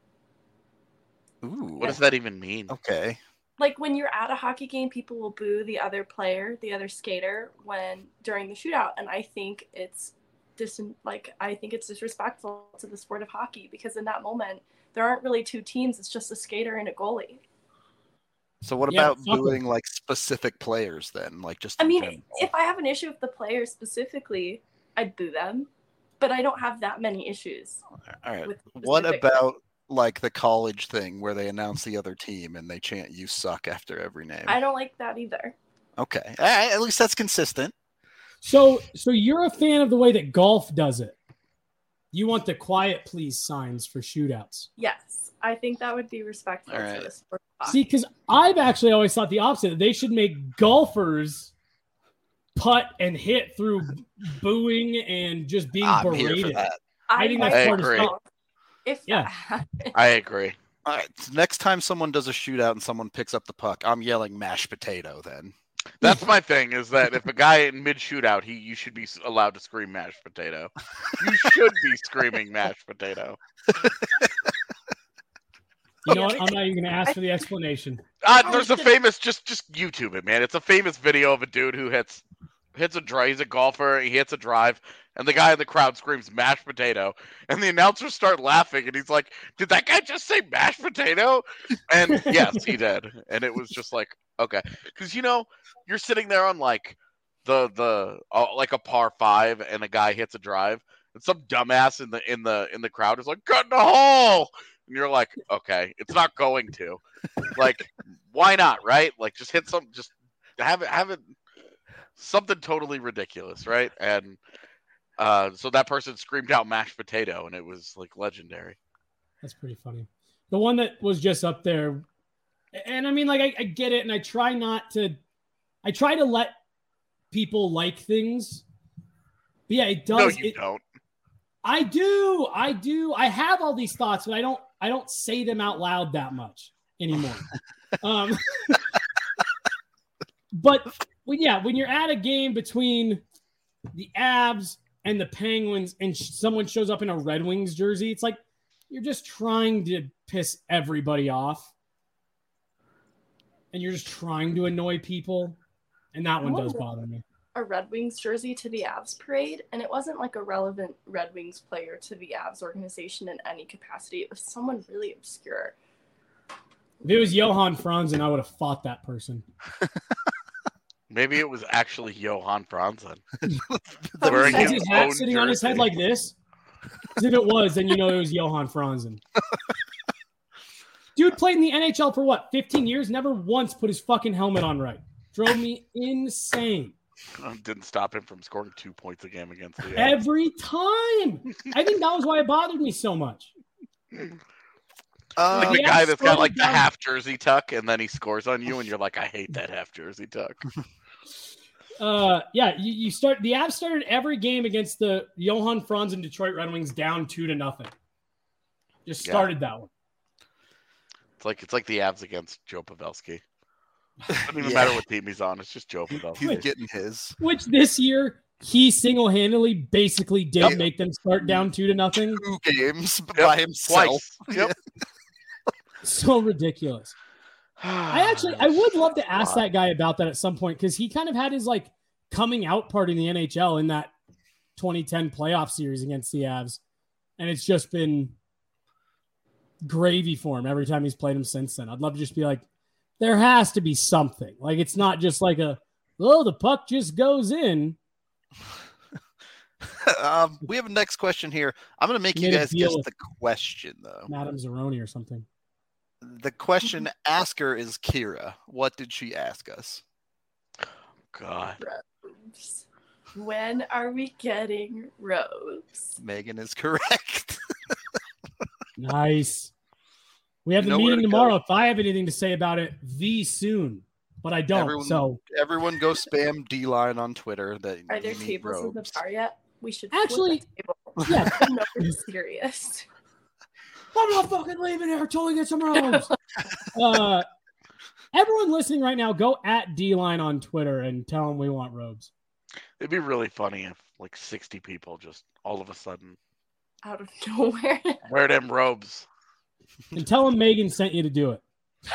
Speaker 1: Ooh,
Speaker 5: What does that even mean?
Speaker 1: okay.
Speaker 2: Like when you're at a hockey game, people will boo the other player, the other skater, when during the shootout, and I think it's dis like I think it's disrespectful to the sport of hockey because in that moment there aren't really two teams; it's just a skater and a goalie.
Speaker 1: So what
Speaker 3: Yeah,
Speaker 1: about
Speaker 3: fuck 'em.
Speaker 1: booing like specific players then, like just?
Speaker 2: I
Speaker 1: in
Speaker 2: mean,
Speaker 1: general?
Speaker 2: if I have an issue with the player specifically, I'd boo them, but I don't have that many issues.
Speaker 1: All right.
Speaker 2: with
Speaker 1: What
Speaker 2: specific-
Speaker 1: about like the college thing where they announce the other team and they chant "You suck" after every name?
Speaker 2: I don't like that either.
Speaker 1: Okay, All right, at least that's consistent.
Speaker 3: So, so you're a fan of the way that golf does it. You want the quiet please signs for shootouts.
Speaker 2: Yes, I think that would be respectful
Speaker 1: All right.
Speaker 2: to the sport of
Speaker 3: See,
Speaker 2: hockey.
Speaker 3: because I've actually always thought the opposite. That they should make golfers putt and hit through booing and just being
Speaker 1: I'm here for
Speaker 3: berated.
Speaker 1: that.
Speaker 3: I think
Speaker 2: like
Speaker 3: that's
Speaker 5: I
Speaker 3: part of
Speaker 5: agree.
Speaker 3: fun.
Speaker 2: If
Speaker 3: Yeah.
Speaker 2: that happened.
Speaker 5: I agree.
Speaker 1: All right. So next time someone does a shootout and someone picks up the puck, I'm yelling "mashed potato." Then
Speaker 5: That's my thing. Is that if a guy in mid shootout, he you should be allowed to scream mashed potato. You should be screaming mashed potato.
Speaker 3: You know what? I'm not even going to ask for the explanation.
Speaker 5: Uh,
Speaker 2: Oh,
Speaker 5: there's a
Speaker 2: shit.
Speaker 5: famous, just just YouTube it, man. It's a famous video of a dude who hits hits a drive. He's a golfer. He hits a drive, and the guy in the crowd screams mashed potato, and the announcers start laughing, and he's like, "Did that guy just say mashed potato?" And yes, he did. And it was just like, okay, because you know you're sitting there on like the the uh, like a par five, and a guy hits a drive, and some dumbass in the in the in the crowd is like, "Cut in the hole." And you're like, okay, it's not going to. Like, why not, right? Like, just hit some, just have it, have it, something totally ridiculous, right? And uh, so that person screamed out mashed potato, and it was like legendary.
Speaker 3: That's pretty funny. The one that was just up there, and I mean, like, I, I get it, and I try not to, I try to let people like things. But yeah, it does.
Speaker 5: No, you
Speaker 3: it,
Speaker 5: don't.
Speaker 3: I do. I do. I have all these thoughts, but I don't I don't say them out loud that much anymore. um, but when, yeah, when you're at a game between the Avs and the Penguins and sh- someone shows up in a Red Wings jersey, it's like you're just trying to piss everybody off. And you're just trying to annoy people. And that one does bother me.
Speaker 2: A Red Wings jersey to the Avs parade, and it wasn't like a relevant Red Wings player to the Avs organization in any capacity. It was someone really obscure.
Speaker 3: If it was Johan Franzen, I would have fought that person.
Speaker 5: Maybe it was actually Johan Franzen.
Speaker 2: But
Speaker 5: Wearing
Speaker 2: he
Speaker 3: Has
Speaker 5: his
Speaker 3: his hat
Speaker 5: own
Speaker 3: sitting on his head
Speaker 5: jersey.
Speaker 3: like this? 'Cause if it was, then you know it was Johan Franzen. Dude played in the N H L for what, fifteen years? Never once put his fucking helmet on right. Drove me insane.
Speaker 5: Didn't stop him from scoring two points a game against the Avs.
Speaker 3: Every time. I think that was why it bothered me so much.
Speaker 1: Uh,
Speaker 5: Like the
Speaker 3: Yeah,
Speaker 5: guy that's got
Speaker 3: scroll
Speaker 5: like the
Speaker 3: down.
Speaker 5: half jersey tuck, and then he scores on you, and you're like, I hate that half jersey tuck.
Speaker 3: Uh, yeah, you, you start the Avs started every game against the Johan Franzen Detroit Red Wings down two to nothing. Just
Speaker 5: Yeah.
Speaker 3: started that one.
Speaker 5: It's like it's like the Avs against Joe Pavelski. Doesn't even
Speaker 1: Yeah.
Speaker 5: matter what team he's on. It's just Joe
Speaker 1: he's
Speaker 5: Pavelski.
Speaker 1: getting his.
Speaker 3: Which this year he single-handedly basically did
Speaker 1: Yep.
Speaker 3: make them start down two to nothing.
Speaker 1: Two games
Speaker 5: Yep,
Speaker 1: by himself.
Speaker 5: Twice. Yep.
Speaker 3: So ridiculous. I actually, I would love to ask that guy about that at some point because he kind of had his like coming out party in the N H L in that twenty ten playoff series against the Avs, and it's just been gravy for him every time he's played him since then. I'd love to just be like, there has to be something. Like it's not just like a, oh, the puck just goes in.
Speaker 1: um, we have a next question here. I'm going to make you guys guess the question though.
Speaker 3: Madame Zeroni or something.
Speaker 1: The question asker is Kira. What did she ask us?
Speaker 5: God.
Speaker 2: Robes. When are we getting robes?
Speaker 1: Megan is correct.
Speaker 3: Nice. We have
Speaker 1: You
Speaker 3: the
Speaker 1: know where
Speaker 3: meeting
Speaker 1: to
Speaker 3: tomorrow.
Speaker 1: go.
Speaker 3: If I have anything to say about it, the soon, but I don't.
Speaker 1: Everyone,
Speaker 3: so
Speaker 1: everyone go spam D-Line on Twitter. That
Speaker 2: Are there
Speaker 1: you need
Speaker 2: tables in the
Speaker 1: robes.
Speaker 2: bar yet? We should
Speaker 3: Actually,
Speaker 2: flip a table.
Speaker 3: yeah.
Speaker 2: No, we're serious.
Speaker 3: I'm not fucking leaving here until we get some robes. uh, everyone listening right now, go at D-Line on Twitter and tell them we want robes.
Speaker 5: It'd be really funny if like sixty people just all of a sudden
Speaker 2: Out of nowhere.
Speaker 5: wear them robes.
Speaker 3: And tell them Megan sent you to do it.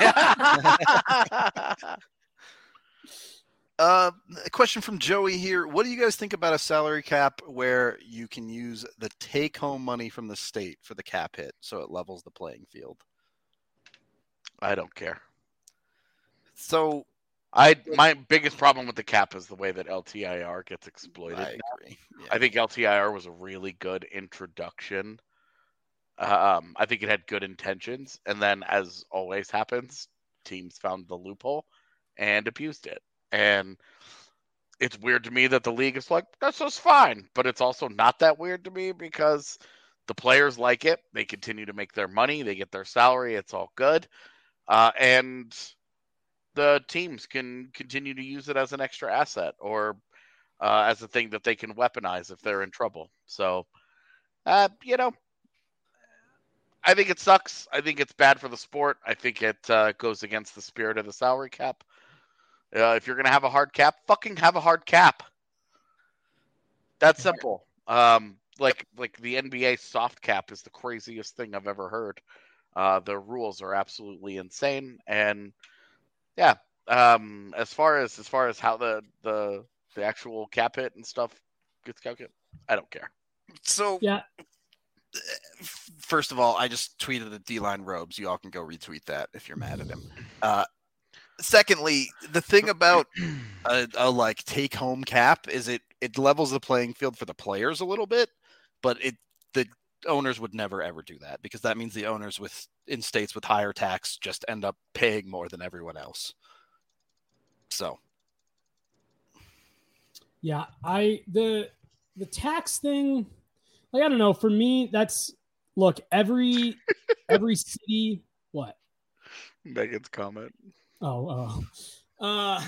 Speaker 1: Uh, a question from Joey here. What do you guys think about a salary cap where you can use the take-home money from the state for the cap hit so it levels the playing field?
Speaker 5: I don't care.
Speaker 1: So
Speaker 5: I my biggest problem with the cap is the way that L T I R gets exploited.
Speaker 1: I agree. Yeah.
Speaker 5: I think L T I R was a really good introduction. Um, I think it had good intentions, and then, as always happens, teams found the loophole and abused it. And it's weird to me that the league is like, that's just fine. But it's also not that weird to me because the players like it. They continue to make their money. They get their salary. It's all good. Uh, and the teams can continue to use it as an extra asset or uh, as a thing that they can weaponize if they're in trouble. So, uh, you know, I think it sucks. I think it's bad for the sport. I think it uh, goes against the spirit of the salary cap. Uh, if you're going to have a hard cap, fucking have a hard cap. That's simple. Um, like like the N B A soft cap is the craziest thing I've ever heard. Uh, the rules are absolutely insane, and yeah. Um, as far as as far as how the the the actual cap hit and stuff gets calculated, I don't care.
Speaker 1: So
Speaker 3: Yeah.
Speaker 1: First of all, I just tweeted the D-Line robes. You all can go retweet that if you're mad at him. Uh, secondly, the thing about a, a like take-home cap is it it levels the playing field for the players a little bit, but it the owners would never ever do that because that means the owners with in states with higher tax just end up paying more than everyone else. So,
Speaker 3: Yeah, I the the tax thing, like I don't know. For me, that's look every every city. What?
Speaker 5: Megan's comment.
Speaker 3: Oh, oh. Uh,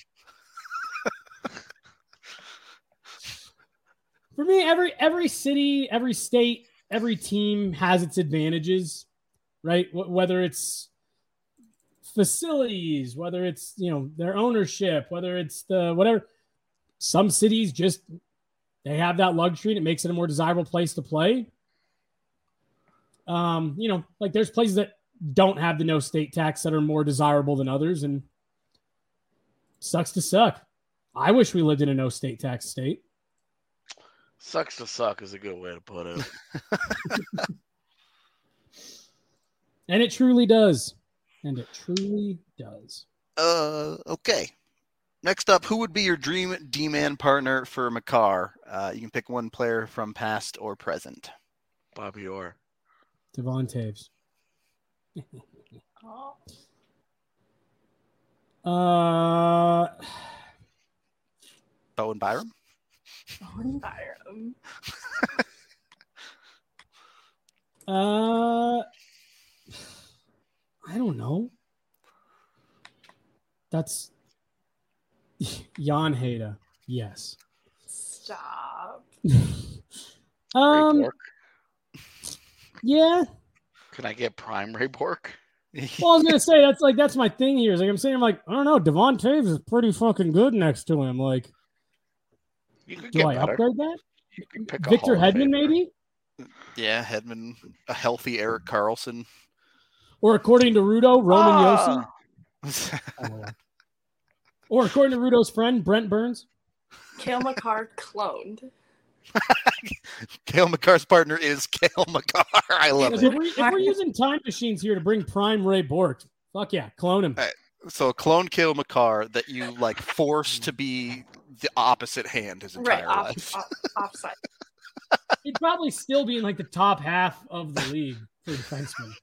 Speaker 3: for me, every every city, every state, every team has its advantages, right? Wh- whether it's facilities, whether it's, you know, their ownership, whether it's the whatever. Some cities just they have that luxury and it makes it a more desirable place to play. Um, you know, like there's places that don't have the no state tax that are more desirable than others, and sucks to suck. I wish we lived in a no state tax state.
Speaker 5: Sucks to suck is a good way to put it.
Speaker 3: And it truly does. And it truly does.
Speaker 1: uh, okay. Next up, who would be your dream D-man partner for Makar? Uh, you can pick one player from past or present.
Speaker 5: Bobby Orr.
Speaker 3: Devon Taves.
Speaker 2: Oh,
Speaker 3: Uh,
Speaker 1: Bowen Byram?
Speaker 2: Owen Byram.
Speaker 3: uh, I don't know. That's Jan Heda. Yes.
Speaker 2: Stop.
Speaker 3: um.
Speaker 5: Ray Bork.
Speaker 3: Yeah.
Speaker 5: Can I get prime Ray Bork?
Speaker 3: Well, I was gonna say that's like that's my thing here. Is like I'm saying, I'm like I don't know. Devon Taves is pretty fucking good next to him. Like,
Speaker 5: You could
Speaker 3: do
Speaker 5: get
Speaker 3: I
Speaker 5: better.
Speaker 3: upgrade that?
Speaker 5: You could pick a
Speaker 3: Victor
Speaker 5: Hall of
Speaker 3: Hedman,
Speaker 5: Famer.
Speaker 3: maybe?
Speaker 1: Yeah, Hedman, a healthy Eric Carlson.
Speaker 3: Or according to Rudo, Roman
Speaker 5: Ah,
Speaker 3: Yossi? Oh. Or according to Rudo's friend, Brent Burns.
Speaker 2: Kale McCarr cloned.
Speaker 1: Kale McCarr's partner is Kale McCarr. I love
Speaker 3: If
Speaker 1: it.
Speaker 3: we're, if we're using time machines here to bring prime Ray Bork, fuck yeah, clone him.
Speaker 1: Right. So a clone Kale McCarr that you like force to be the opposite hand his entire
Speaker 2: Right, off,
Speaker 1: life.
Speaker 2: off, offside.
Speaker 3: He'd probably still be in like the top half of the league for defensemen.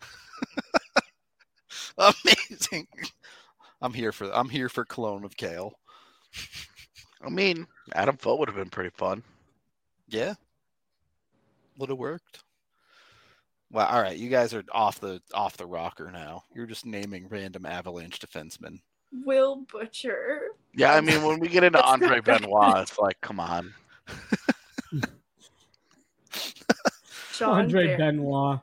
Speaker 1: Amazing. I'm here for I'm here for clone of Kale.
Speaker 5: I mean, Adam Foot would have been pretty fun.
Speaker 1: Yeah. Would have worked. Well, all right, you guys are off the off the rocker now. You're just naming random Avalanche defensemen.
Speaker 2: Will Butcher.
Speaker 5: Yeah, I mean, when we get into
Speaker 2: That's
Speaker 5: Andre
Speaker 2: not
Speaker 5: Benoit, it's like, come on.
Speaker 2: John
Speaker 3: Andre
Speaker 2: Bear.
Speaker 3: Benoit.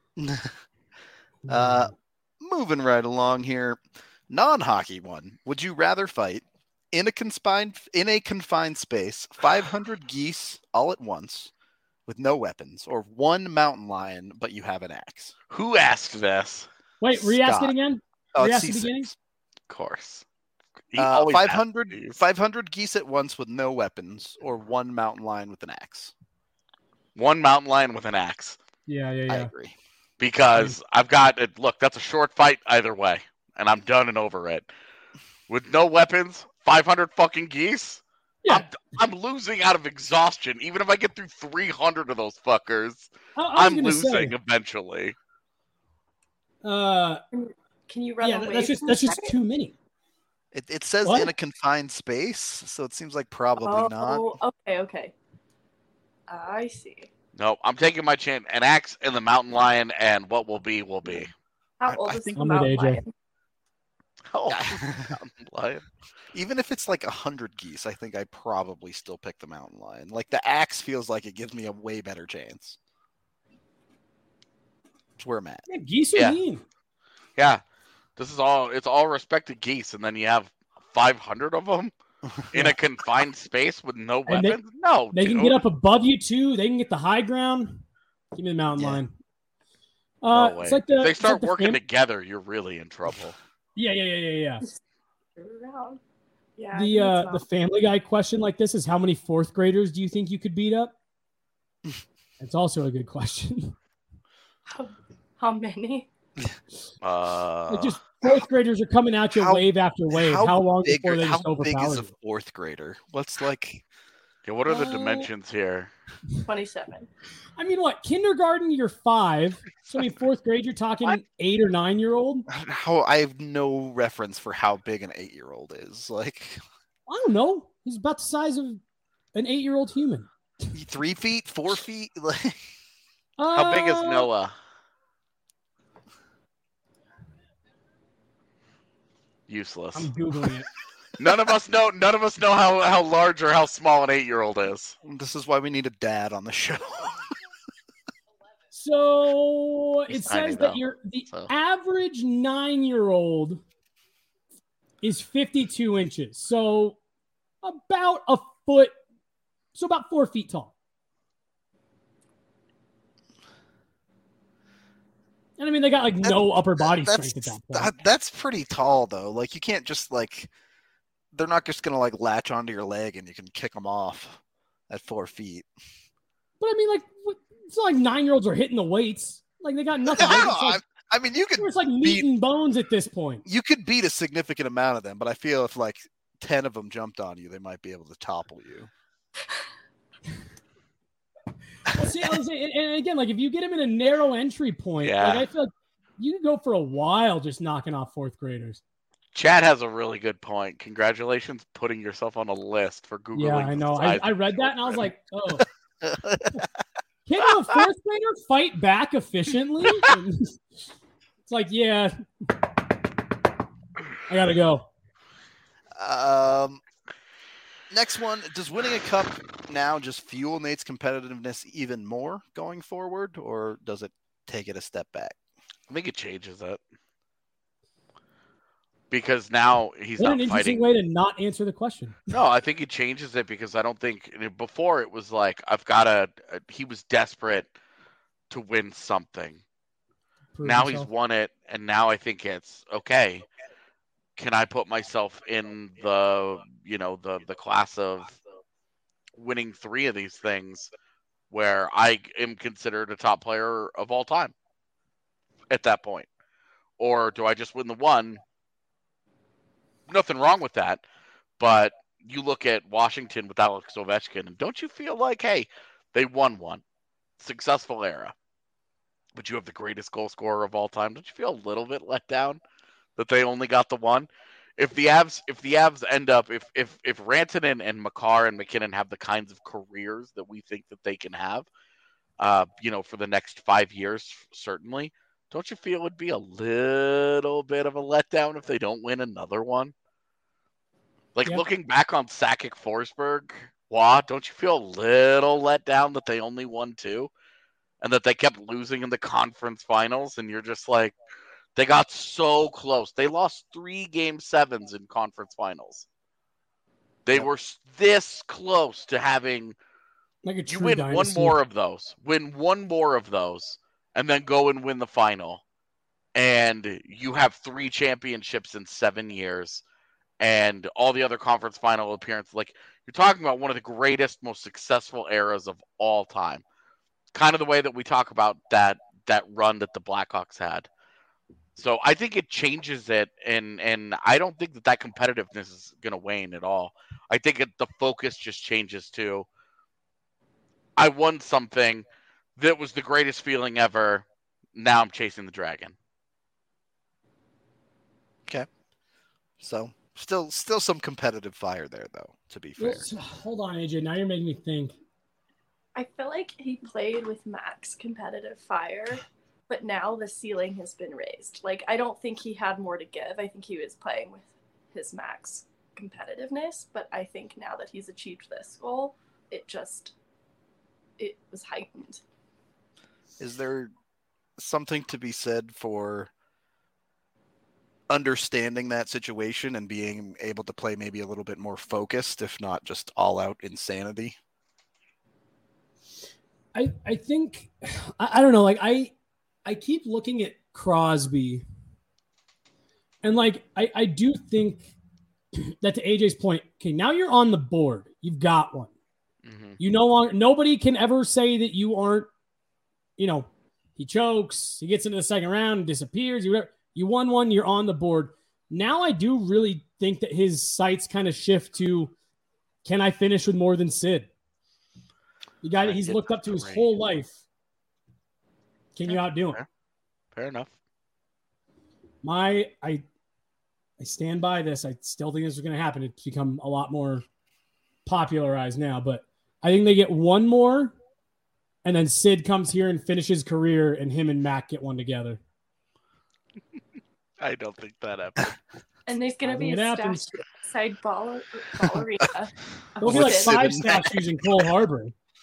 Speaker 1: Uh, moving right along here. Non-hockey one. Would you rather fight in a confined in a confined space, five hundred geese all at once with no weapons, or one mountain lion but you have an axe?
Speaker 5: Who asked this?
Speaker 3: Wait, re-ask
Speaker 1: Scott.
Speaker 3: it again?
Speaker 1: Oh,
Speaker 3: Re-ask
Speaker 1: it's
Speaker 3: the
Speaker 1: C
Speaker 3: beginning?
Speaker 1: six.
Speaker 5: Of course. He
Speaker 1: Uh,
Speaker 5: always
Speaker 1: five
Speaker 5: asks
Speaker 1: hundred,
Speaker 5: these.
Speaker 1: five hundred geese at once with no weapons, or one mountain lion with an axe.
Speaker 5: One mountain lion with an axe.
Speaker 3: Yeah, yeah,
Speaker 1: I
Speaker 3: yeah.
Speaker 1: agree.
Speaker 5: Because I've got it. Look, that's a short fight either way, and I'm done and over it. With no weapons, five hundred fucking geese.
Speaker 3: Yeah.
Speaker 5: I'm, I'm losing out of exhaustion. Even if I get through three hundred of those fuckers,
Speaker 3: I, I was
Speaker 5: I'm
Speaker 3: gonna
Speaker 5: losing
Speaker 3: say,
Speaker 5: eventually.
Speaker 3: uh,
Speaker 2: Can you run
Speaker 3: yeah,
Speaker 2: away?
Speaker 3: that's just
Speaker 2: from
Speaker 3: that's
Speaker 2: the
Speaker 3: just
Speaker 2: guy?
Speaker 3: too many.
Speaker 1: It, it says
Speaker 3: What?
Speaker 1: in a confined space, so it seems like probably
Speaker 2: Oh,
Speaker 1: not.
Speaker 2: okay, okay. I see.
Speaker 5: No, I'm taking my chance. An axe and the mountain lion, and what will be will be.
Speaker 2: How
Speaker 1: I-
Speaker 2: old
Speaker 1: I
Speaker 2: is
Speaker 1: think
Speaker 2: the
Speaker 3: I'm with
Speaker 2: mountain
Speaker 3: A J.
Speaker 2: lion?
Speaker 5: Oh, mountain lion.
Speaker 1: Even if it's like a hundred geese, I think I probably still pick the mountain lion. Like the axe feels like it gives me a way better chance. That's where I'm at.
Speaker 3: Yeah, geese are
Speaker 5: Yeah.
Speaker 3: mean.
Speaker 5: Yeah, this is all. It's all respected geese, and then you have five hundred of them in a confined space with no
Speaker 3: And they-
Speaker 5: weapons. no,
Speaker 3: They can
Speaker 5: dude.
Speaker 3: get up above you too. They can get the high ground. Give me the mountain
Speaker 1: Yeah.
Speaker 3: lion.
Speaker 5: No
Speaker 3: Uh,
Speaker 5: way.
Speaker 3: it's like the
Speaker 5: if they
Speaker 3: it's
Speaker 5: start
Speaker 3: like the
Speaker 5: working
Speaker 3: fam-
Speaker 5: together, you're really in trouble.
Speaker 3: Yeah, yeah, yeah, yeah, yeah.
Speaker 2: Around. Yeah. I
Speaker 3: The
Speaker 2: think
Speaker 3: uh,
Speaker 2: it's
Speaker 3: the Family Guy question like this is how many fourth graders do you think you could beat up? It's also a good question.
Speaker 2: how, how many?
Speaker 5: Uh,
Speaker 3: Like just fourth graders are coming at you
Speaker 1: How-
Speaker 3: wave after wave. How, long
Speaker 1: big,
Speaker 3: before they
Speaker 1: how
Speaker 3: just
Speaker 1: big
Speaker 3: overpower
Speaker 1: is a
Speaker 3: you?
Speaker 1: fourth grader? What's like
Speaker 5: yeah, what are the
Speaker 3: Uh,
Speaker 5: dimensions here?
Speaker 2: twenty-seven.
Speaker 3: I mean, what kindergarten? You're five. So I mean, fourth grade, you're talking
Speaker 5: What?
Speaker 3: eight or nine year old.
Speaker 1: how I have no reference for how big an eight year old is. Like
Speaker 3: I don't know. He's about the size of an eight year old human.
Speaker 1: three feet, four feet. Like
Speaker 5: How big is
Speaker 3: Uh,
Speaker 5: Noah? Useless.
Speaker 3: I'm googling it.
Speaker 5: None of us know. None of us know how, how large or how small an eight year old is.
Speaker 1: this is why we need a dad on the show.
Speaker 3: So it
Speaker 5: He's tiny,
Speaker 3: says that
Speaker 5: though,
Speaker 3: your the
Speaker 5: so.
Speaker 3: average nine year old is fifty-two inches. So about a foot, so about four feet tall. And I mean, they got like no upper body
Speaker 1: that's,
Speaker 3: strength at that point.
Speaker 1: that- that's pretty tall though. Like you can't just like they're not just gonna like latch onto your leg and you can kick them off at four feet.
Speaker 3: But I mean, like, what- it's not like nine year olds are hitting the weights. Like they got nothing.
Speaker 1: I,
Speaker 3: It's
Speaker 1: don't know,
Speaker 3: like,
Speaker 1: I, I mean, you could
Speaker 3: it's like meat and bones at this point.
Speaker 1: you could beat a significant amount of them, but I feel if like ten of them jumped on you, they might be able to topple you.
Speaker 3: Well, see, I was saying, and and again, like if you get him in a narrow entry point,
Speaker 5: Yeah.
Speaker 3: like I feel like you can go for a while just knocking off fourth graders.
Speaker 5: Chad has a really good point. Congratulations, putting yourself on a list for Googling.
Speaker 3: Yeah, I
Speaker 5: the
Speaker 3: know. I,
Speaker 5: size
Speaker 3: I
Speaker 5: of
Speaker 3: read that and I was
Speaker 5: children.
Speaker 3: like, oh, can a fourth grader fight back efficiently? And it's like, yeah, I gotta go.
Speaker 1: Um, next one. Does winning a cup now just fuel Nate's competitiveness even more going forward, or does it take it a step back?
Speaker 5: I think it changes it because now he's
Speaker 3: What an
Speaker 5: not
Speaker 3: interesting
Speaker 5: fighting.
Speaker 3: way to not answer the question.
Speaker 5: No, I think he changes it because I don't think before it was like I've got to. He was desperate to win something.
Speaker 3: Prove
Speaker 5: Now
Speaker 3: yourself.
Speaker 5: he's won it, and now I think it's okay. can I put myself in the, you know, the, the class of winning three of these things where I am considered a top player of all time at that point? Or do I just win the one? Nothing wrong with that. But you look at Washington with Alex Ovechkin, and don't you feel like, hey, they won one. Successful era. But you have the greatest goal scorer of all time. Don't you feel a little bit let down that they only got the one? If the Avs, if the Avs end up, if if if Rantanen and Makar and McKinnon have the kinds of careers that we think that they can have, uh, you know, for the next five years, certainly, don't you feel it'd be a little bit of a letdown if they don't win another one? Like,
Speaker 3: Yep.
Speaker 5: looking back on Sakic Forsberg, Wah, don't you feel a little let down that they only won two? And that they kept losing in the conference finals, and you're just like, they got so close. They lost three game sevens in conference finals. They
Speaker 1: Yep.
Speaker 5: were this close to having,
Speaker 3: Like a
Speaker 5: you
Speaker 3: true
Speaker 5: win
Speaker 3: dynasty.
Speaker 5: one more of those, win one more of those, and then go and win the final. And you have three championships in seven years. And all the other conference final appearances. Like, you're talking about one of the greatest, most successful eras of all time. Kind of the way that we talk about that that run that the Blackhawks had. So I think it changes it, and and I don't think that that competitiveness is going to wane at all. I think it, the focus just changes to, I won something that was the greatest feeling ever. Now I'm chasing the dragon.
Speaker 1: Okay. So still still some competitive fire there, though, to be fair.
Speaker 3: Well, so- hold on, A J. Now you're making me think.
Speaker 2: I feel like he played with max competitive fire, but now the ceiling has been raised. Like, I don't think he had more to give. I think he was playing with his max competitiveness, but I think now that he's achieved this goal, it just, it was heightened.
Speaker 1: Is there something to be said for understanding that situation and being able to play maybe a little bit more focused, if not just all out insanity?
Speaker 3: I, I think I, I don't know, like I I keep looking at Crosby, and like I, I do think that, to A J's point, okay, now you're on the board. You've got one.
Speaker 5: Mm-hmm.
Speaker 3: You no longer, nobody can ever say that you aren't, you know, he chokes, he gets into the second round, disappears, you you won one, you're on the board. Now I do really think that his sights kind of shift to, can I finish with more than Sid? The guy that he's looked up to his whole life. Can you outdo him?
Speaker 5: Fair. Fair enough.
Speaker 3: My, I, I stand by this. I still think this is going to happen. It's become a lot more popularized now, but I think they get one more, and then Sid comes here and finishes career, and him and Mac get one together.
Speaker 5: I don't think that happens.
Speaker 2: And there's going
Speaker 3: I
Speaker 2: to be
Speaker 3: think
Speaker 2: a
Speaker 3: it happens.
Speaker 2: statue outside ball, ballerina.
Speaker 3: There'll be like
Speaker 1: Sid
Speaker 3: five
Speaker 1: and Mac.
Speaker 3: statues in Cole Harbor.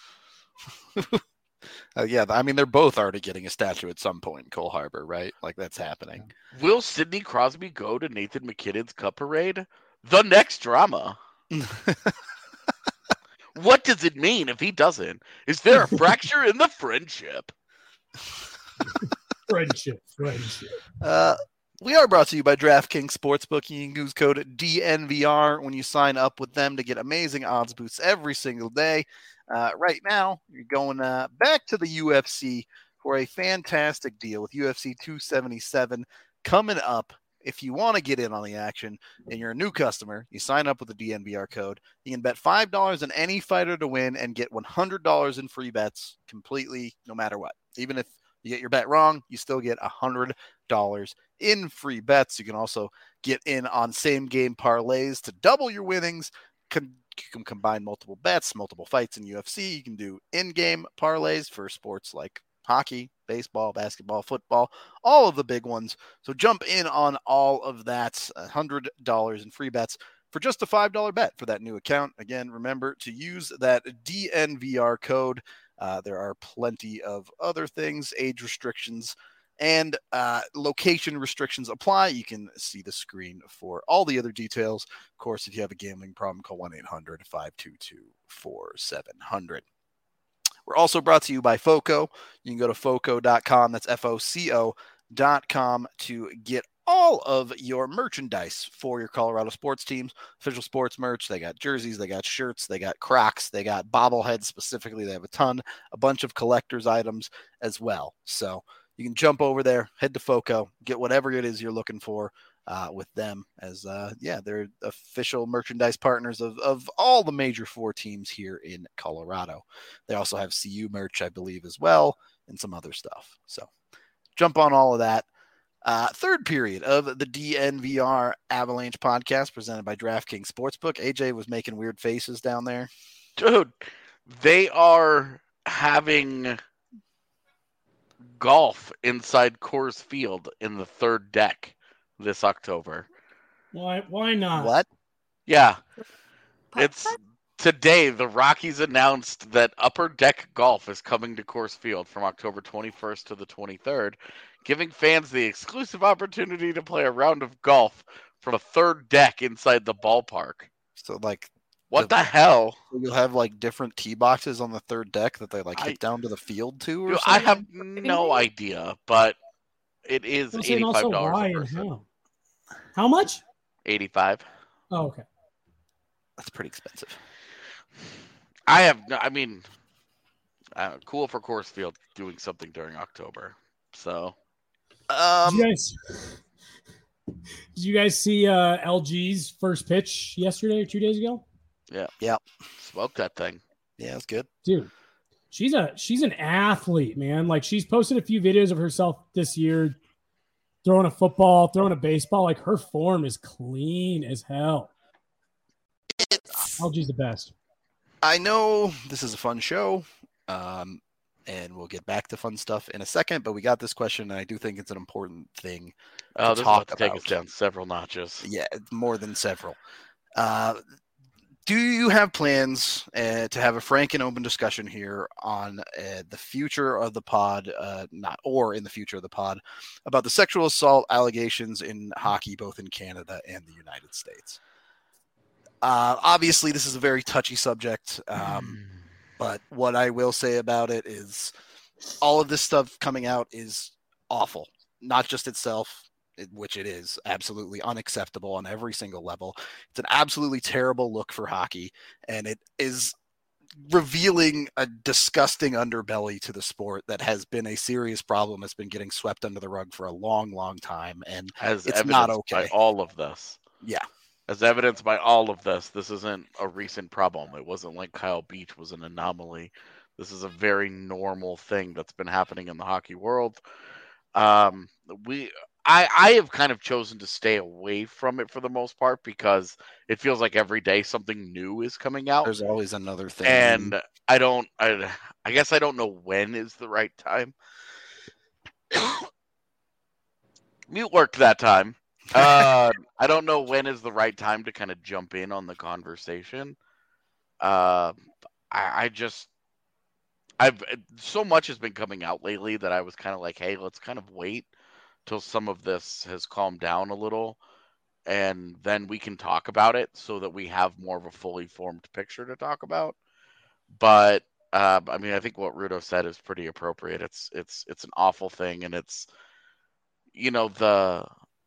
Speaker 1: Uh, yeah, I mean, they're both already getting a statue at some point in Cole Harbor, right? Like, that's happening.
Speaker 5: Will Sidney Crosby go to Nathan McKinnon's Cup Parade? The next drama. What does it mean if he doesn't? Is there a fracture in the friendship?
Speaker 3: Friendship, friendship.
Speaker 1: Uh, we are brought to you by DraftKings Sportsbook. You can use code D N V R when you sign up with them to get amazing odds boosts every single day. Uh, right now, you're going uh, back to the U F C for a fantastic deal with U F C two seventy-seven coming up. If you want to get in on the action and you're a new customer, you sign up with the D N V R code. You can bet five dollars on any fighter to win and get one hundred dollars in free bets completely, no matter what. Even if you get your bet wrong, you still get one hundred dollars in free bets. You can also get in on same game parlays to double your winnings. Con- you can combine multiple bets, multiple fights in U F C. You can do in-game parlays for sports like hockey, baseball, basketball, football, all of the big ones. So jump in on all of that. one hundred dollars in free bets for just a five dollars bet for that new account. Again, remember to use that D N V R code. Uh, there are plenty of other things, age restrictions, and uh, location restrictions apply. You can see the screen for all the other details. Of course, if you have a gambling problem, call one eight hundred five two two four seven zero zero. We're also brought to you by FOCO. You can go to foco dot com. That's F O C O dot com to get all of your merchandise for your Colorado sports teams, official sports merch. They got jerseys, they got shirts, they got Crocs, they got bobbleheads specifically. They have a ton, a bunch of collector's items as well. So you can jump over there, head to FOCO, get whatever it is you're looking for uh, with them as, uh, yeah, they're official merchandise partners of, of all the major four teams here in Colorado. They also have C U merch, I believe, as well, and some other stuff. So jump on all of that. Uh, third period of the D N V R Avalanche podcast presented by DraftKings Sportsbook. A J was making weird faces down there.
Speaker 5: Dude, they are having golf inside Coors Field in the third deck this October.
Speaker 3: Why? Why not?
Speaker 1: What?
Speaker 5: Yeah.
Speaker 2: Putt
Speaker 5: It's
Speaker 2: putt?
Speaker 5: today the Rockies announced that Upper Deck Golf is coming to Coors Field from October twenty-first to the twenty-third, giving fans the exclusive opportunity to play a round of golf from a third deck inside the ballpark.
Speaker 1: So, like,
Speaker 5: What
Speaker 1: The-
Speaker 5: the hell?
Speaker 1: you'll have, like, different tee boxes on the third deck that they, like,
Speaker 5: I-
Speaker 1: kick down to the field to or
Speaker 5: Dude,
Speaker 1: something?
Speaker 5: I have no idea, but it is
Speaker 3: Well, and
Speaker 5: eighty-five
Speaker 3: also
Speaker 5: dollars
Speaker 3: why
Speaker 5: a
Speaker 3: and
Speaker 5: person.
Speaker 3: how? How much?
Speaker 5: eighty-five.
Speaker 3: Oh, okay.
Speaker 1: That's pretty expensive.
Speaker 5: I have, no, I mean, uh, cool for Coors Field doing something during October. So,
Speaker 3: Did
Speaker 1: Um,
Speaker 3: you guys? Did you guys see uh, L G's first pitch yesterday or two days ago?
Speaker 5: smoke that thing.
Speaker 1: yeah, it's good.
Speaker 3: Dude, she's a she's an athlete, man. Like, she's posted a few videos of herself this year throwing a football, throwing a baseball. Like, her form is clean as hell. L G's the best.
Speaker 1: I know this is a fun show, um, and we'll get back to fun stuff in a second, but we got this question, and I do think it's an important thing.
Speaker 5: Oh, this is
Speaker 1: talk
Speaker 5: about to take us
Speaker 1: about.
Speaker 5: down several notches.
Speaker 1: Yeah, it's more than several. Uh, do you have plans uh, to have a frank and open discussion here on uh, the future of the pod, uh, not or in the future of the pod, about the sexual assault allegations in hockey, both in Canada and the United States? Uh, obviously, this is a very touchy subject, um, but what I will say about it is all of this stuff coming out is awful, not just itself, it- which it is absolutely unacceptable on every single level. It's an absolutely terrible look for hockey, and it is revealing a disgusting underbelly to the sport that has been a serious problem that's been getting swept under the rug for a long, long time. And
Speaker 5: As
Speaker 1: It's
Speaker 5: evidenced
Speaker 1: not
Speaker 5: by
Speaker 1: okay.
Speaker 5: all of this.
Speaker 1: yeah,
Speaker 5: As evidenced by all of this, this isn't a recent problem. It wasn't like Kyle Beach was an anomaly. This is a very normal thing that's been happening in the hockey world. Um, we, I, I have kind of chosen to stay away from it for the most part because it feels like every day something new is coming out,
Speaker 1: there's always another thing.
Speaker 5: and I don't, I, I guess I don't know when is the right time. Mute worked that time. uh, I don't know when is the right time to kind of jump in on the conversation. Uh, I, I just, I've so much has been coming out lately that I was kind of like, hey, let's kind of wait till some of this has calmed down a little, and then we can talk about it so that we have more of a fully formed picture to talk about. But uh, I mean, I think what Rudo said is pretty appropriate. It's it's it's an awful thing, and it's, you know, the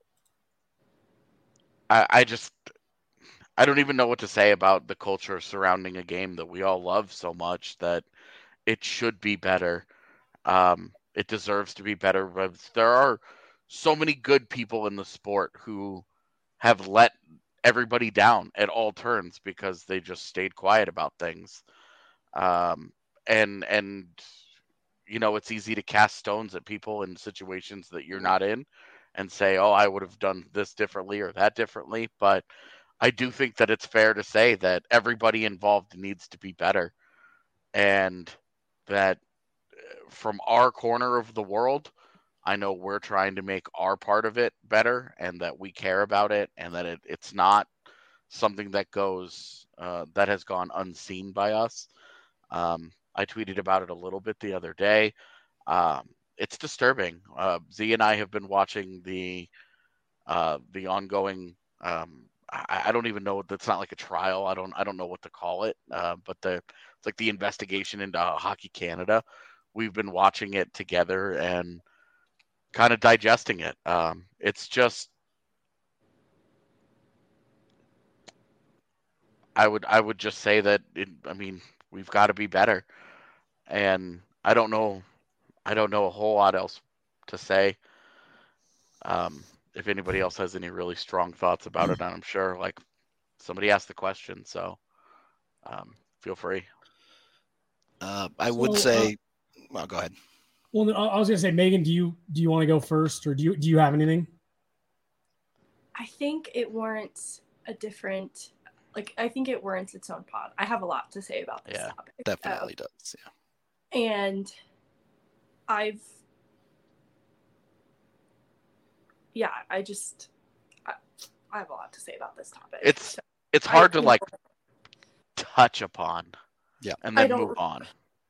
Speaker 5: I, I just I don't even know what to say about the culture surrounding a game that we all love so much that it should be better. Um, it deserves to be better. But there are so many good people in the sport who have let everybody down at all turns because they just stayed quiet about things. Um, and and you know, it's easy to cast stones at people in situations that you're not in and say, oh, I would have done this differently or that differently. But I do think that it's fair to say that everybody involved needs to be better, and that from our corner of the world, I know we're trying to make our part of it better, and that we care about it, and that it, it's not something that goes uh, that has gone unseen by us. Um, I tweeted about it a little bit the other day. Um, it's disturbing. Uh, Z and I have been watching the uh, the ongoing. Um, I, I don't even know. That's not like a trial. I don't. I don't know what to call it. Uh, but the it's like the investigation into Hockey Canada. We've been watching it together, and kind of digesting it. Um, it's just, I would I would just say that it, I mean, we've got to be better, and I don't know I don't know a whole lot else to say. Um, if anybody else has any really strong thoughts about it, I'm sure like somebody asked the question, so um, feel free.
Speaker 1: Uh, I
Speaker 3: So,
Speaker 1: would say, uh, well, go ahead.
Speaker 3: Well, I was going to say, Megan, do you do you want to go first, or do you do you have anything?
Speaker 2: I think it warrants a different, like I think it warrants its own pod. I have a lot to say about this
Speaker 1: Yeah,
Speaker 2: topic.
Speaker 1: definitely
Speaker 2: Um,
Speaker 1: does. Yeah.
Speaker 2: and I've, yeah, I just, I, I have a lot to say about this topic.
Speaker 5: It's
Speaker 2: So
Speaker 5: it's hard
Speaker 2: I-
Speaker 5: to like touch upon,
Speaker 1: Yeah.
Speaker 5: and
Speaker 2: I
Speaker 5: then
Speaker 2: don't-
Speaker 5: move on.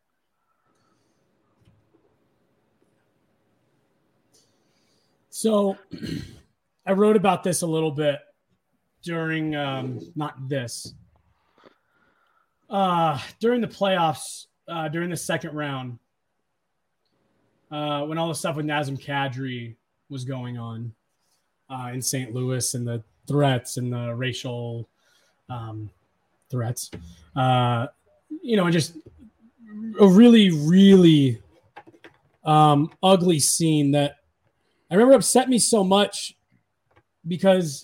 Speaker 3: So I wrote about this a little bit during, um, not this, uh, during the playoffs, uh, during the second round, uh, when all the stuff with Nazem Kadri was going on uh, in Saint Louis, and the threats and the racial um, threats, uh, you know, and just a really, really um, ugly scene that I remember upset me so much because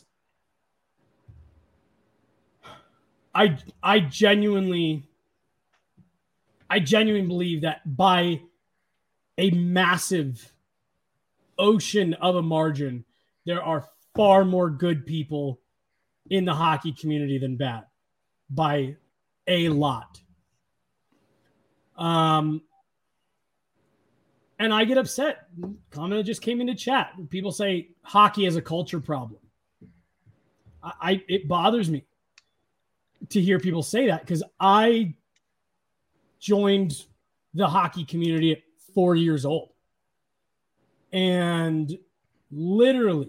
Speaker 3: I I genuinely I genuinely believe that by a massive ocean of a margin, there are far more good people in the hockey community than bad, by a lot. Um, and I get upset. Comment just came into chat. People say hockey is a culture problem. I, I it bothers me to hear people say that, because I joined the hockey community at four years old. And literally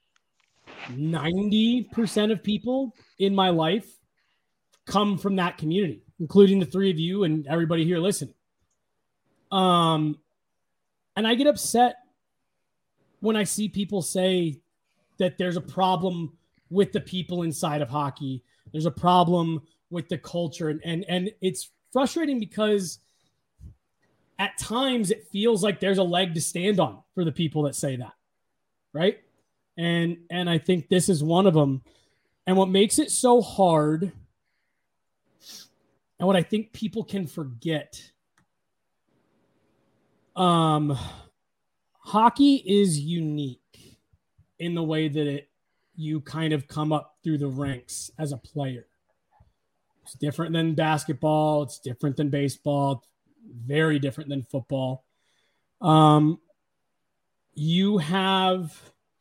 Speaker 3: ninety percent of people in my life come from that community, including the three of you and everybody here listening. Um, and I get upset when I see people say that there's a problem with the people inside of hockey. There's a problem with the culture. And, and, and it's frustrating because at times it feels like there's a leg to stand on for the people that say that. Right. And, and I think this is one of them. And what makes it so hard, and what I think people can forget, um, hockey is unique in the way that it, you kind of come up through the ranks as a player. It's different than basketball. It's different than baseball. Very different than football. Um, you have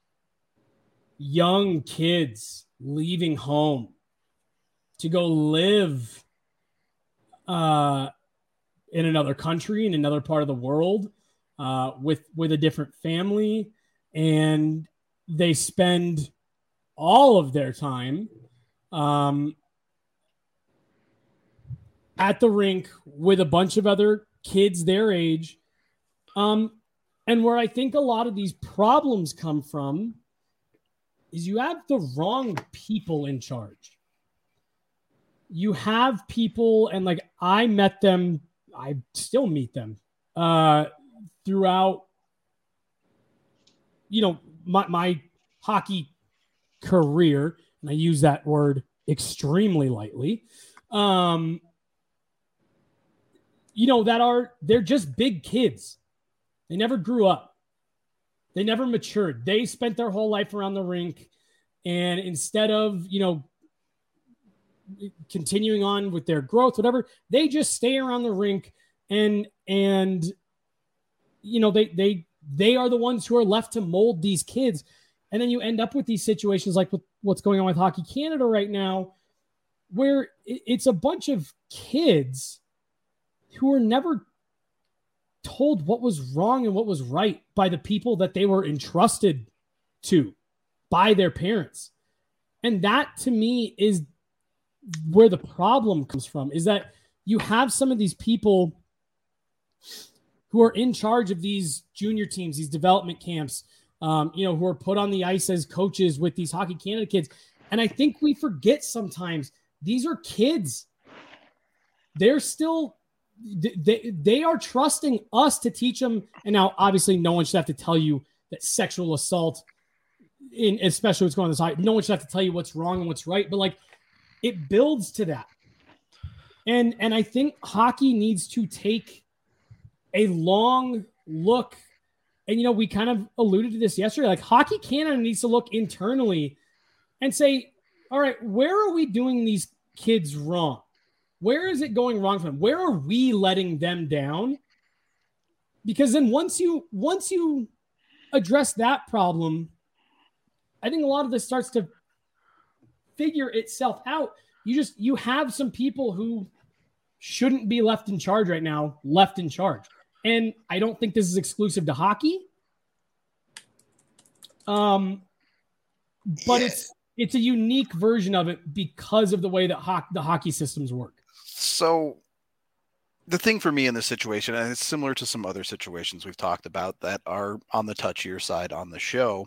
Speaker 3: young kids leaving home to go live uh, in another country, in another part of the world, uh, with with a different family, and they spend all of their time um, at the rink with a bunch of other kids their age. Um, and where I think a lot of these problems come from is you have the wrong people in charge. You have people, and like I met them, I still meet them uh, throughout, you know, my, my hockey career, and I use that word extremely lightly. Um, you know, that are, they're just big kids. They never grew up. They never matured. They spent their whole life around the rink. And instead of, you know, continuing on with their growth, whatever, they just stay around the rink and, and, you know, they, they, they are the ones who are left to mold these kids. And then you end up with these situations like with what's going on with Hockey Canada right now, where it's a bunch of kids who were never told what was wrong and what was right by the people that they were entrusted to by their parents. And that to me is where the problem comes from, is that you have some of these people who are in charge of these junior teams, these development camps, um, you know, who are put on the ice as coaches with these Hockey Canada kids. And I think we forget sometimes these are kids. They're still, they, they are trusting us to teach them. And now, obviously, no one should have to tell you that sexual assault, in especially what's going on this high, no one should have to tell you what's wrong and what's right. But like, it builds to that. And and I think hockey needs to take a long look. And, you know, we kind of alluded to this yesterday. Like, Hockey Canada needs to look internally and say, all right, where are we doing these kids wrong? Where is it going wrong for them? Where are we letting them down? Because then once you once you address that problem, I think a lot of this starts to figure itself out. You just, you have some people who shouldn't be left in charge right now, left in charge. And I don't think this is exclusive to hockey. Um, but yeah. it's, it's a unique version of it because of the way that ho- the hockey systems work.
Speaker 1: So the thing for me in this situation, and it's similar to some other situations we've talked about that are on the touchier side on the show,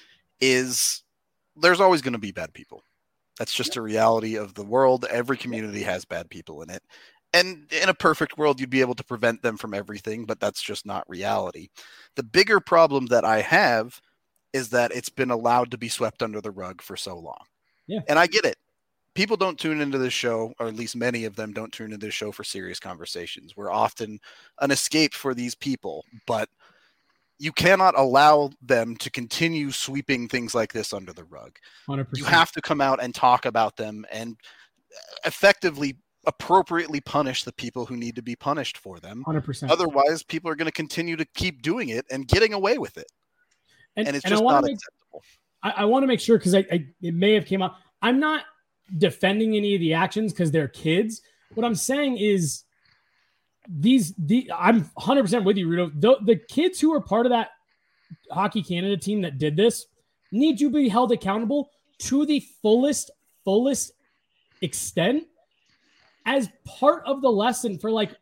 Speaker 1: is there's always going to be bad people. That's just a reality of the world. Every community has bad people in it. And in a perfect world, you'd be able to prevent them from everything, but that's just not reality. The bigger problem that I have is that it's been allowed to be swept under the rug for so long.
Speaker 3: Yeah.
Speaker 1: And I get it. People don't tune into this show, or at least many of them don't tune into this show for serious conversations. We're often an escape for these people, but you cannot allow them to continue sweeping things like this under the rug.
Speaker 3: one hundred percent.
Speaker 1: You have to come out and talk about them and effectively, appropriately punish the people who need to be punished for them.
Speaker 3: one hundred percent.
Speaker 1: Otherwise, people are going to continue to keep doing it and getting away with it. And, and it's and just not
Speaker 3: make,
Speaker 1: acceptable.
Speaker 3: I, I want to make sure, because I, I it may have came up. I'm not defending any of the actions because they're kids. What I'm saying is, These the I'm one hundred percent with you, Rudo. The, the kids who are part of that Hockey Canada team that did this need to be held accountable to the fullest, fullest extent as part of the lesson for, like,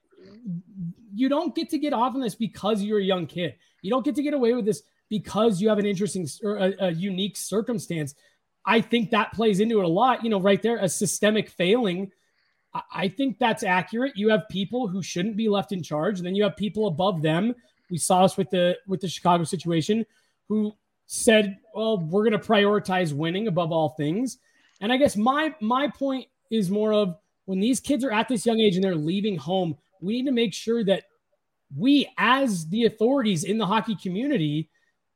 Speaker 3: you don't get to get off on this because you're a young kid. You don't get to get away with this because you have an interesting or a, a unique circumstance. I think that plays into it a lot. You know, right there, a systemic failing. I think that's accurate. You have people who shouldn't be left in charge, and then you have people above them. We saw this with the with the Chicago situation, who said, "Well, we're going to prioritize winning above all things." And I guess my my point is more of, when these kids are at this young age and they're leaving home, we need to make sure that we, as the authorities in the hockey community,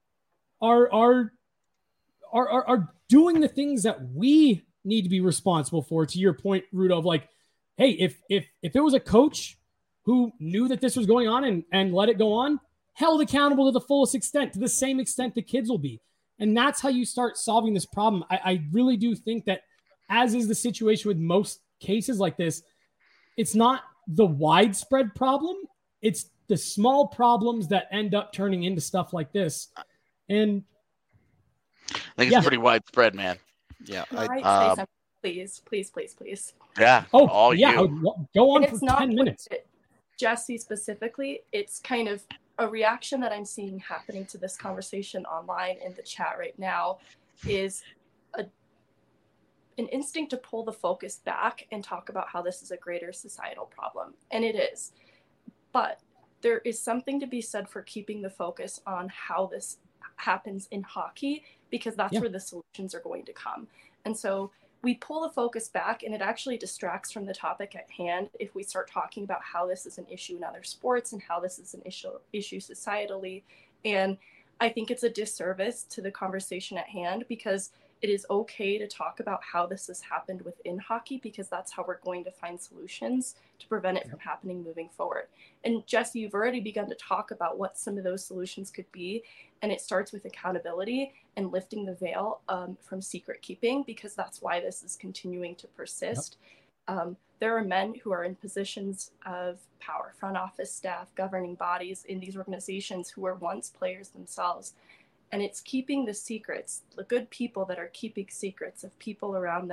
Speaker 3: are are are are, are doing the things that we need to be responsible for. To your point, Rudo, of like, hey, if if if it was a coach who knew that this was going on and, and let it go on, held accountable to the fullest extent, to the same extent the kids will be. And that's how you start solving this problem. I, I really do think that, as is the situation with most cases like this, it's not the widespread problem. It's the small problems that end up turning into stuff like this. And
Speaker 5: I think it's
Speaker 3: yeah.
Speaker 5: pretty widespread, man.
Speaker 1: Yeah.
Speaker 2: I,
Speaker 1: I,
Speaker 2: I say
Speaker 5: um,
Speaker 2: something, please, please, please, please.
Speaker 5: Yeah.
Speaker 3: oh,
Speaker 5: all
Speaker 3: yeah,
Speaker 5: you.
Speaker 3: go on
Speaker 2: And
Speaker 3: for
Speaker 2: it's not
Speaker 3: ten minutes.
Speaker 2: Jesse specifically. It's kind of a reaction that I'm seeing happening to this conversation online in the chat right now is a an instinct to pull the focus back and talk about how this is a greater societal problem. And it is. But there is something to be said for keeping the focus on how this happens in hockey, because that's
Speaker 3: Yeah.
Speaker 2: where the solutions are going to come. And so we pull the focus back, and it actually distracts from the topic at hand if we start talking about how this is an issue in other sports and how this is an issue issue societally. And I think it's a disservice to the conversation at hand, because it is okay to talk about how this has happened within hockey, because that's how we're going to find solutions to prevent it from happening moving forward. And Jesse, you've already begun to talk about what some of those solutions could be. And it starts with accountability and lifting the veil um, from secret keeping, because that's why this is continuing to persist. Yep. Um, there are men who are in positions of power, front office staff, governing bodies in these organizations, who were once players themselves. And it's keeping the secrets, the good people that are keeping secrets of people around them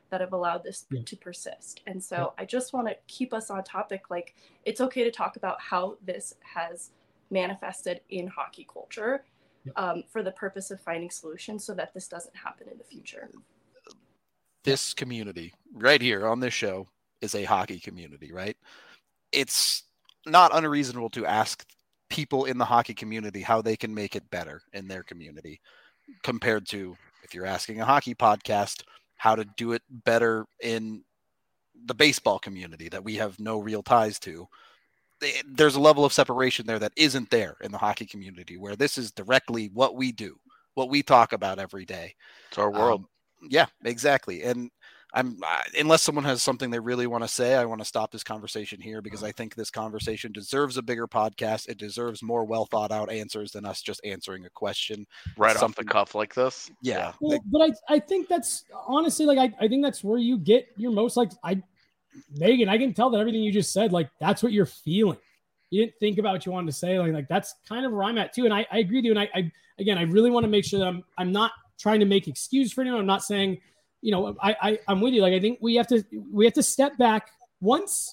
Speaker 2: that have allowed this
Speaker 3: Yeah.
Speaker 2: to persist. And so I just want to keep us on topic. Like, it's okay to talk about how this has manifested in hockey culture
Speaker 3: Yeah.
Speaker 2: um, for the purpose of finding solutions so that this doesn't happen in the future.
Speaker 1: This community right here on this show is a hockey community, right? It's not unreasonable to ask people in the hockey community how they can make it better in their community compared to if you're asking a hockey podcast how to do it better in the baseball community that we have no real ties to. There's a level of separation there that isn't there in the hockey community, where this is directly what we do, what we talk about every day.
Speaker 5: It's our world.
Speaker 1: Um, yeah, exactly. And I'm uh, unless someone has something they really want to say, I want to stop this conversation here because I think this conversation deserves a bigger podcast. It deserves more well thought out answers than us just answering a question
Speaker 5: Right off
Speaker 1: something-
Speaker 5: the cuff like this.
Speaker 1: Yeah.
Speaker 3: Well, but I, I think that's honestly like I, I think that's where you get your most like I Megan, I can tell that everything you just said, like that's what you're feeling. You didn't think about what you wanted to say. Like, like that's kind of where I'm at too. And I, I agree with you. And I, I again I really want to make sure that I'm I'm not trying to make excuse for anyone. I'm not saying, you know, I, I I'm with you. Like I think we have to we have to step back once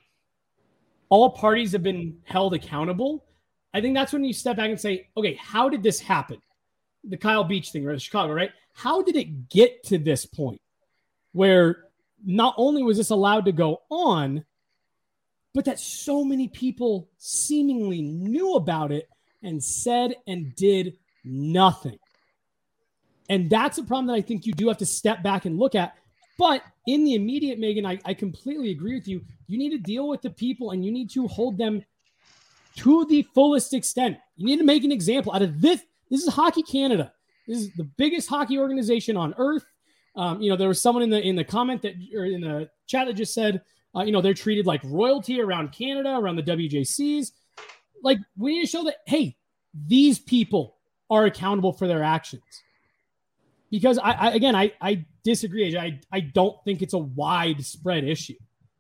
Speaker 3: all parties have been held accountable. I think that's when you step back and say, okay, how did this happen? The Kyle Beach thing, or the Chicago, right? How did it get to this point where not only was this allowed to go on, but that so many people seemingly knew about it and said and did nothing? And that's a problem that I think you do have to step back and look at. But in the immediate, Megan, I, I completely agree with you. You need to deal with the people and you need to hold them to the fullest extent. You need to make an example out of this. This is Hockey Canada. This is the biggest hockey organization on earth. Um, you know, there was someone in the in the comment that or in the chat that just said, uh, you know, they're treated like royalty around Canada, around the W J Cs. Like, we need to show that, hey, these people are accountable for their actions. Because I, I again, I, I disagree. I, I don't think it's a widespread issue.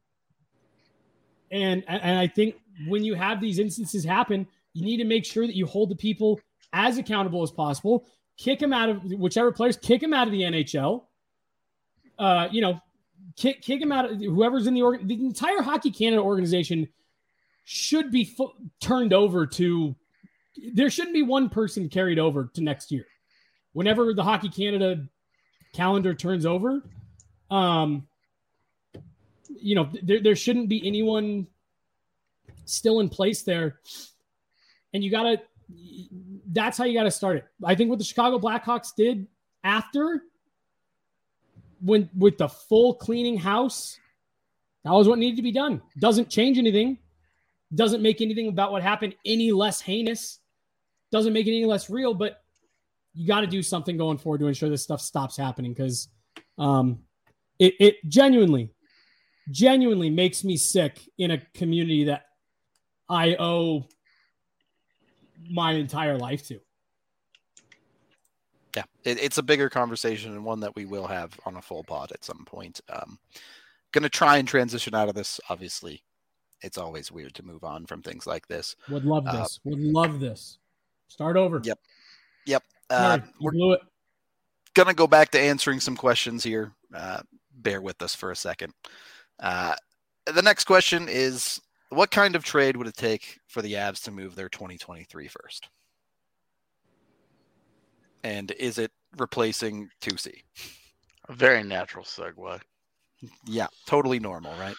Speaker 3: And, and I think when you have these instances happen, you need to make sure that you hold the people as accountable as possible. Kick them out of whichever players, kick them out of the N H L. Uh, you know, kick kick them out of whoever's in the org. The entire Hockey Canada organization should be fu- turned over to. There shouldn't be one person carried over to next year. Whenever the Hockey Canada calendar turns over, um, you know, there, there shouldn't be anyone still in place there. And you got to, that's how you got to start it. I think what the Chicago Blackhawks did after, when with the full cleaning house, that was what needed to be done. Doesn't change anything. Doesn't make anything about what happened any less heinous. Doesn't make it any less real, but you got to do something going forward to ensure this stuff stops happening, because um, it, it genuinely, genuinely makes me sick in a community that I owe my entire life to.
Speaker 1: Yeah, it, it's a bigger conversation and one that we will have on a full pod at some point. Um, going to try and transition out of this. Obviously, it's always weird to move on from things like this.
Speaker 3: Would love this. Uh, Would love this. Start over.
Speaker 1: Yep. Yep.
Speaker 3: Uh,
Speaker 1: uh, we're
Speaker 3: blew it.
Speaker 1: going to go back to answering some questions here. Uh, bear with us for a second. Uh, the next question is, what kind of trade would it take for the Avs to move their twenty twenty-three first? And is it replacing two C?
Speaker 5: A very natural segue.
Speaker 1: Yeah, totally normal, right?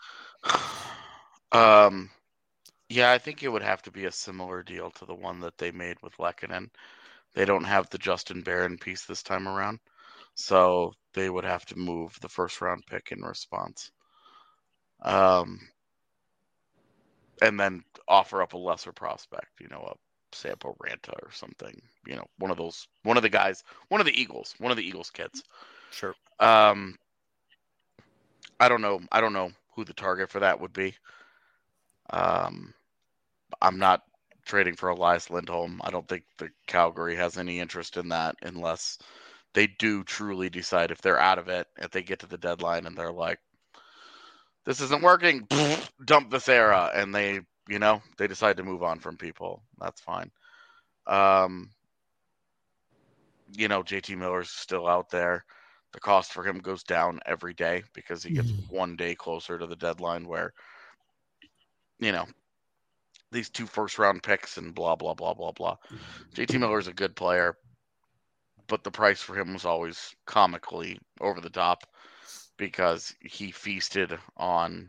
Speaker 5: Um, yeah, I think it would have to be a similar deal to the one that they made with Lehkonen. They don't have the Justin Barron piece this time around, so they would have to move the first round pick in response. Um, and then offer up a lesser prospect, you know, a Sampo Ranta or something, you know, one of those, one of the guys, one of the Eagles, one of the Eagles kids.
Speaker 1: Sure.
Speaker 5: Um, I don't know. I don't know who the target for that would be. Um, I'm not trading for Elias Lindholm. I don't think the Calgary has any interest in that unless they do truly decide, if they're out of it, if they get to the deadline and they're like, this isn't working, dump this era, and they, you know, they decide to move on from people. That's fine. Um, you know, J T Miller's still out there. the cost for him goes down every day because he gets
Speaker 3: Mhm.
Speaker 5: one day closer to the deadline where, you know, these two first round picks and blah, blah, blah, blah, blah. J T Miller is a good player, but the price for him was always comically over the top because he feasted on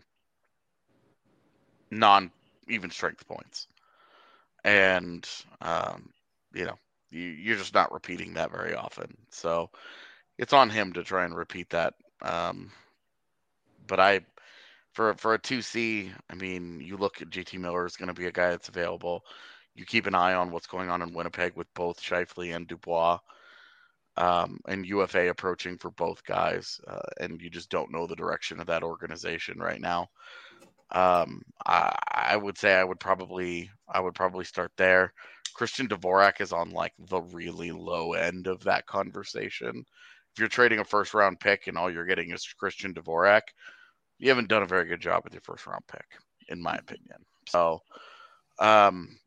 Speaker 5: non even strength points. And, um, you know, you, you're just not repeating that very often. So it's on him to try and repeat that. Um, but I, for for a two C, I mean, you look at J T Miller is going to be a guy that's available. You keep an eye on what's going on in Winnipeg with both Scheifele and Dubois, um, and U F A approaching for both guys, uh, and you just don't know the direction of that organization right now. Um, I, I would say I would probably I would probably start there. Christian Dvorak is on like the really low end of that conversation. If you're trading a first round pick and all you're getting is Christian Dvorak, you haven't done a very good job with your first round pick, in my opinion. So, um,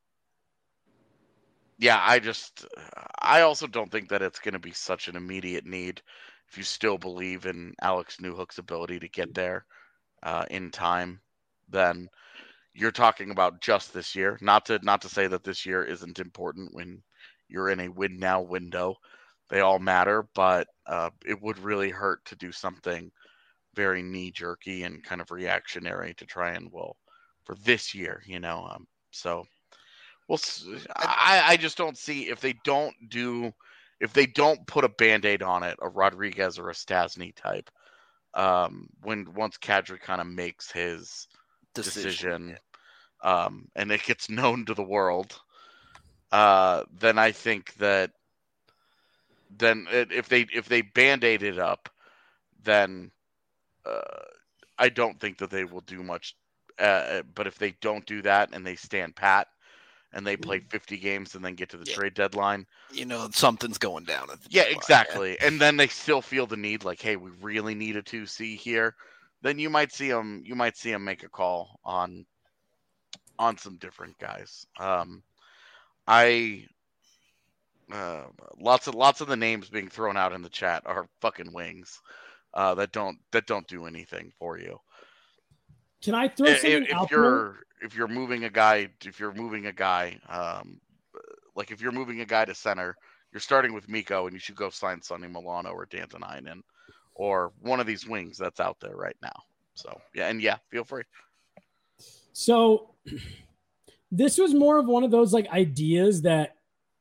Speaker 5: yeah, I just I also don't think that it's going to be such an immediate need if you still believe in Alex Newhook's ability to get there uh, in time. Then you're talking about just this year. Not to not to say that this year isn't important when you're in a win now window. They all matter, but uh, it would really hurt to do something very knee jerky and kind of reactionary to try and well for this year, you know. Um, so well, I I just don't see if they don't do if they don't put a Band-Aid on it, a Rodriguez or a Stasny type. Um, when once Kadri kind of makes his decision, decision um, and it gets known to the world, uh, then I think that then it, if they if they Band-Aid it up, then uh, I don't think that they will do much. Uh, but if they don't do that and they stand pat and they play fifty games and then get to the yeah. trade deadline,
Speaker 1: you know something's going down. At the
Speaker 5: yeah, exactly. Yeah. And then they still feel the need, like, hey, we really need a two C here. Then you might see them. You might see them make a call on on some different guys. Um, I uh, lots of lots of the names being thrown out in the chat are fucking wings uh, that don't that don't do anything for you.
Speaker 3: Can I throw something
Speaker 5: if, if
Speaker 3: out
Speaker 5: you're
Speaker 3: there?
Speaker 5: if you're moving a guy if you're moving a guy um, like if you're moving a guy to center, you're starting with Mikko and you should go sign Sonny Milano or Dantanainen or one of these wings that's out there right now. So yeah, and yeah, feel free.
Speaker 3: So this was more of one of those like ideas that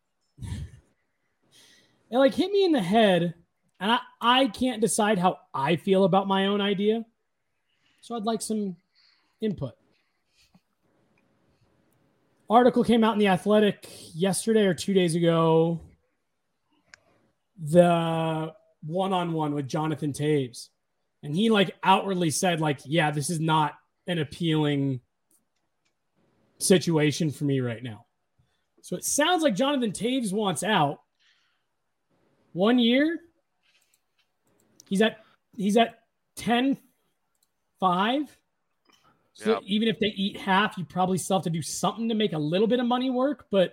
Speaker 3: it like hit me in the head, and I, I can't decide how I feel about my own idea. So I'd like some input. Article came out in The Athletic yesterday or two days ago. The one-on-one with Jonathan Toews. And he like outwardly said like, yeah, this is not an appealing situation for me right now. So it sounds like Jonathan Toews wants out. One year. He's at he's at ten five. So yep. Even if they eat half, you probably still have to do something to make a little bit of money work, but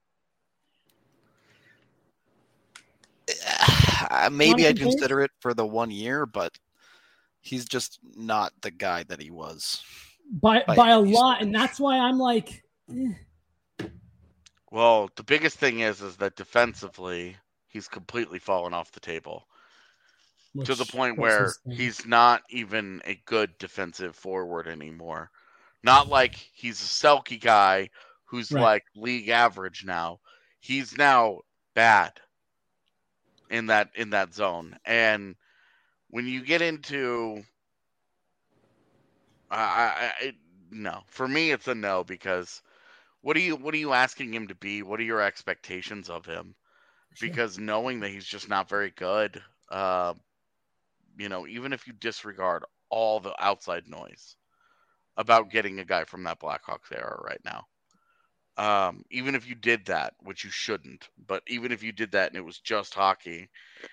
Speaker 1: uh, maybe I'd consider it for the one year, but he's just not the guy that he was
Speaker 3: by by, by a lot, and that's why I'm like eh.
Speaker 5: Well, the biggest thing is is that defensively he's completely fallen off the table. Which, to the point where he's not even a good defensive forward anymore. Not like he's a Selke guy who's right. like league average now. He's now bad in that in that zone. And when you get into I, I, I no, for me it's a no, because what are you what are you asking him to be? What are your expectations of him? Sure. Because knowing that he's just not very good, uh, you know, even if you disregard all the outside noise about getting a guy from that Blackhawks era right now, um, even if you did that, which you shouldn't, but even if you did that and it was just hockey,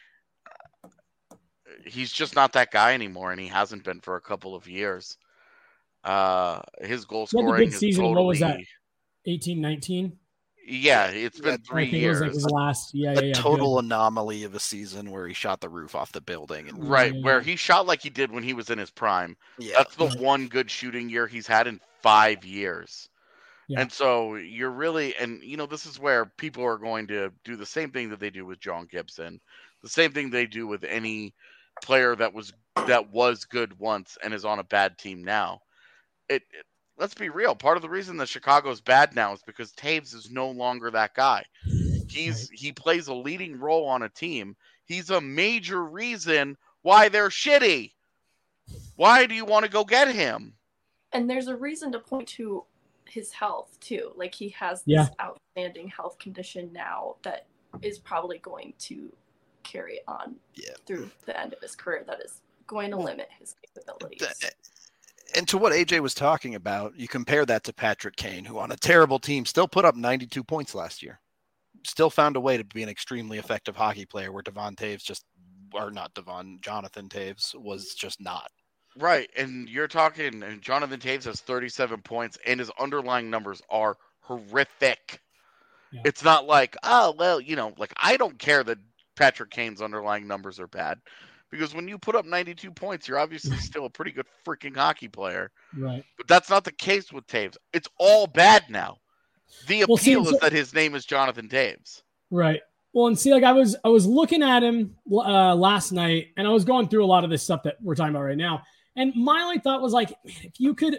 Speaker 5: he's just not that guy anymore, and he hasn't been for a couple of years. Uh, his goal scoring is
Speaker 3: season.
Speaker 5: totally...
Speaker 3: What was that? eighteen nineteen
Speaker 5: Yeah, it's been
Speaker 1: That-
Speaker 5: three
Speaker 3: I think
Speaker 5: years.
Speaker 3: it was like his last. Yeah,
Speaker 1: a
Speaker 3: yeah, yeah.
Speaker 1: total
Speaker 3: good.
Speaker 1: anomaly of a season where he shot the roof off the building. And
Speaker 5: Right,
Speaker 3: Yeah,
Speaker 5: where
Speaker 3: yeah.
Speaker 5: he shot like he did when he was in his prime.
Speaker 1: yeah,
Speaker 5: That's the
Speaker 3: Right.
Speaker 5: one good shooting year he's had in five years.
Speaker 3: Yeah.
Speaker 5: And so you're really, and you know, this is where people are going to do the same thing that they do with John Gibson, the same thing they do with any player that was that was good once and is on a bad team now. It, it let's be real. Part of the reason that Chicago's bad now is because Taves is no longer that guy. He's
Speaker 3: Right.
Speaker 5: he plays a leading role on a team. He's a major reason why they're shitty. Why do you want to go get him?
Speaker 2: And there's a reason to point to his health too. Like he has this
Speaker 3: Yeah.
Speaker 2: outstanding health condition now that is probably going to carry on
Speaker 1: Yeah.
Speaker 2: through the end of his career. That is going to
Speaker 1: Well,
Speaker 2: limit his capabilities.
Speaker 1: The- and to what A J was talking about, you compare that to Patrick Kane, who on a terrible team still put up ninety-two points last year. Still found a way to be an extremely effective hockey player where Devon Taves just, or not Devon, Jonathan Taves was just not.
Speaker 5: Right, and you're talking, and Jonathan Taves has thirty-seven points, and his underlying numbers are horrific.
Speaker 3: Yeah.
Speaker 5: It's not like, oh, well, you know, like I don't care that Patrick Kane's underlying numbers are bad, because when you put up ninety-two points, you're obviously still a pretty good freaking hockey player.
Speaker 3: Right.
Speaker 5: But that's not the case with Taves. It's all bad now. The
Speaker 3: Well, see,
Speaker 5: appeal
Speaker 3: so-
Speaker 5: is that his name is Jonathan Taves.
Speaker 3: Right. Well, and see, like I was, I was looking at him uh, last night, and I was going through a lot of this stuff that we're talking about right now. And my only thought was like, man, if you could, it,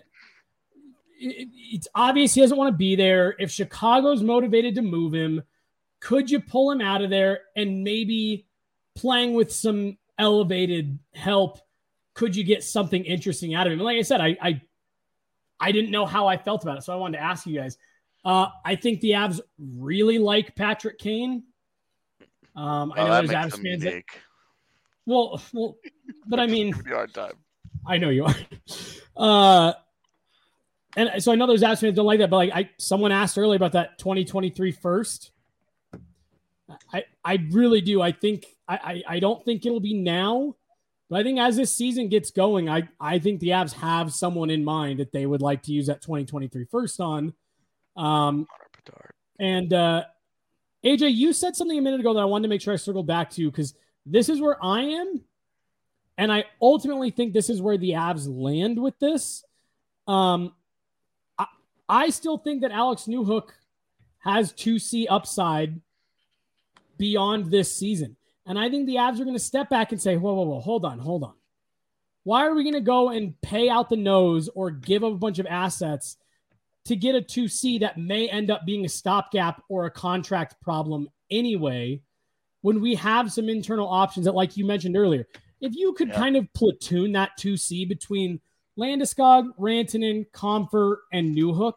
Speaker 3: it's obvious he doesn't want to be there. If Chicago's motivated to move him, could you pull him out of there and maybe playing with some elevated help? Could you get something interesting out of him? And like I said, I, I, I didn't know how I felt about it, so I wanted to ask you guys. Uh, I think the Avs really like Patrick Kane. Um, I
Speaker 5: Oh,
Speaker 3: know
Speaker 5: that
Speaker 3: there's
Speaker 5: makes
Speaker 3: Avs
Speaker 5: him
Speaker 3: fans that,
Speaker 5: unique.
Speaker 3: well, well, but I mean,
Speaker 5: Give me a hard time.
Speaker 3: I know you are. Uh, and so I know there's Avs fans don't like that, but like I, someone asked earlier about that twenty twenty-three first. I, I really do. I think I, I, I don't think it'll be now, but I think as this season gets going, I, I think the Avs have someone in mind that they would like to use that twenty twenty-three first on. Um, and uh, A J, you said something a minute ago that I wanted to make sure I circled back to, because this is where I am. And I ultimately think this is where the Avs land with this. Um, I, I still think that Alex Newhook has two C upside beyond this season. And I think the Avs are going to step back and say, whoa, whoa, whoa, hold on, hold on. Why are we going to go and pay out the nose or give up a bunch of assets to get a two C that may end up being a stopgap or a contract problem anyway, when we have some internal options that, like you mentioned earlier, if you could
Speaker 5: Yeah.
Speaker 3: kind of platoon that two C between Landeskog, Rantanen, Comfort, and Newhook,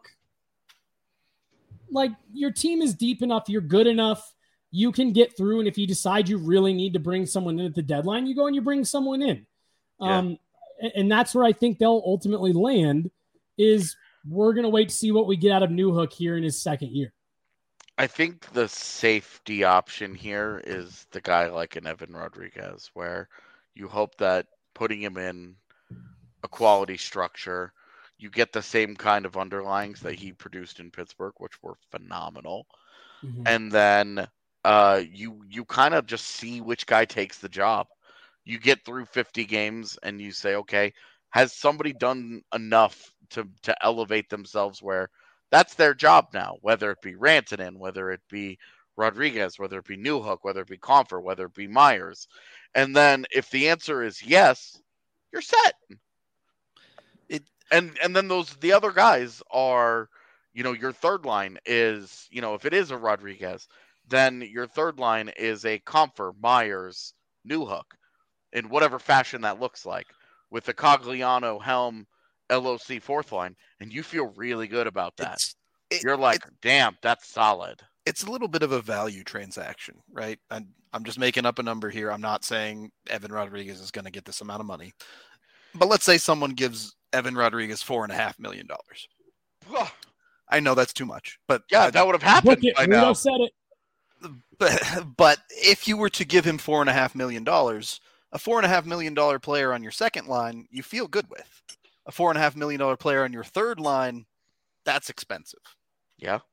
Speaker 3: like your team is deep enough, you're good enough, you can get through. And if you decide you really need to bring someone in at the deadline, you go and you bring someone in.
Speaker 5: Yeah.
Speaker 3: Um, and, and that's where I think they'll ultimately land is we're going to wait to see what we get out of Newhook here in his second year.
Speaker 5: I think the safety option here is the guy like an Evan Rodriguez, where you hope that putting him in a quality structure, you get the same kind of underlings that he produced in Pittsburgh, which were phenomenal.
Speaker 3: Mhm.
Speaker 5: And then uh, you you kind of just see which guy takes the job. You get through fifty games and you say, okay, has somebody done enough to to elevate themselves where that's their job now, whether it be Rantanen, whether it be Rodriguez, whether it be Newhook, whether it be Comfort, whether it be Myers. And then if the answer is yes, you're set.
Speaker 1: It-
Speaker 5: and and then those the other guys are, you know, your third line is, you know, if it is a Rodriguez, then your third line is a Comfort, Myers, Newhook, in whatever fashion that looks like, with the Cogliano, Helm, L O C fourth line, and you feel really good about that.
Speaker 1: It's, it-
Speaker 5: You're like, damn, that's solid.
Speaker 1: it's a little bit of a value transaction, right? I'm, I'm just making up a number here. I'm not saying Evan Rodriguez is going to get this amount of money, but let's say someone gives Evan Rodriguez four and a half million dollars. I know that's too much, but
Speaker 5: Yeah,
Speaker 1: I-
Speaker 5: that would have
Speaker 3: Book
Speaker 5: happened
Speaker 3: it.
Speaker 5: by
Speaker 3: Rudo
Speaker 5: now.
Speaker 3: said it.
Speaker 1: but, but if you were to give him four and a half million dollars, a four and a half million dollar player on your second line, you feel good with. A four and a half million dollar player on your third line, that's expensive.
Speaker 5: Yeah.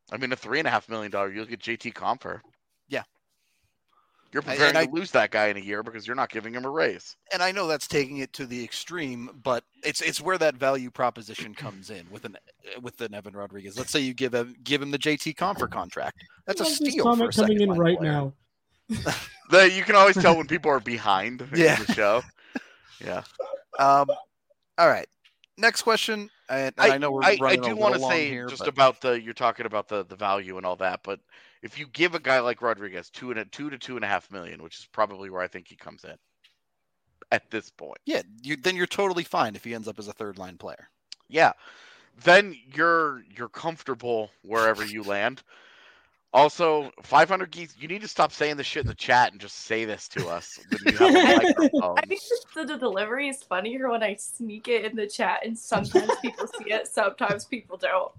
Speaker 5: I mean, a three and a half million dollar, you look at J T Compher.
Speaker 1: Yeah.
Speaker 5: You're preparing
Speaker 1: I,
Speaker 5: to lose that guy in a year because you're not giving him a raise.
Speaker 1: And I know that's taking it to the extreme, but it's it's where that value proposition comes in with an with an Evan Rodriguez. Let's say you give him give him the J T Compher contract. That's a steal for a
Speaker 3: coming in right
Speaker 1: player.
Speaker 3: now.
Speaker 5: The, you can always tell when people are behind
Speaker 1: Yeah.
Speaker 5: in the show. Yeah.
Speaker 1: Um. All right. Next question. And, and I, I know we're
Speaker 5: I,
Speaker 1: running
Speaker 5: I do
Speaker 1: a
Speaker 5: want to
Speaker 1: little long
Speaker 5: say
Speaker 1: here,
Speaker 5: just
Speaker 1: but...
Speaker 5: about the you're talking about the, the value and all that, but if you give a guy like Rodriguez two and a two to two and a half million, which is probably where I think he comes in at this point.
Speaker 1: Yeah, you, then you're totally fine if he ends up as a third line player.
Speaker 5: Yeah, then you're you're comfortable wherever you land. Also, five hundred geese. You need to stop saying this shit in the chat and just say this to us when you have a microphone.
Speaker 2: I think the, the delivery is funnier when I sneak it in the chat, and sometimes people see it, sometimes people don't.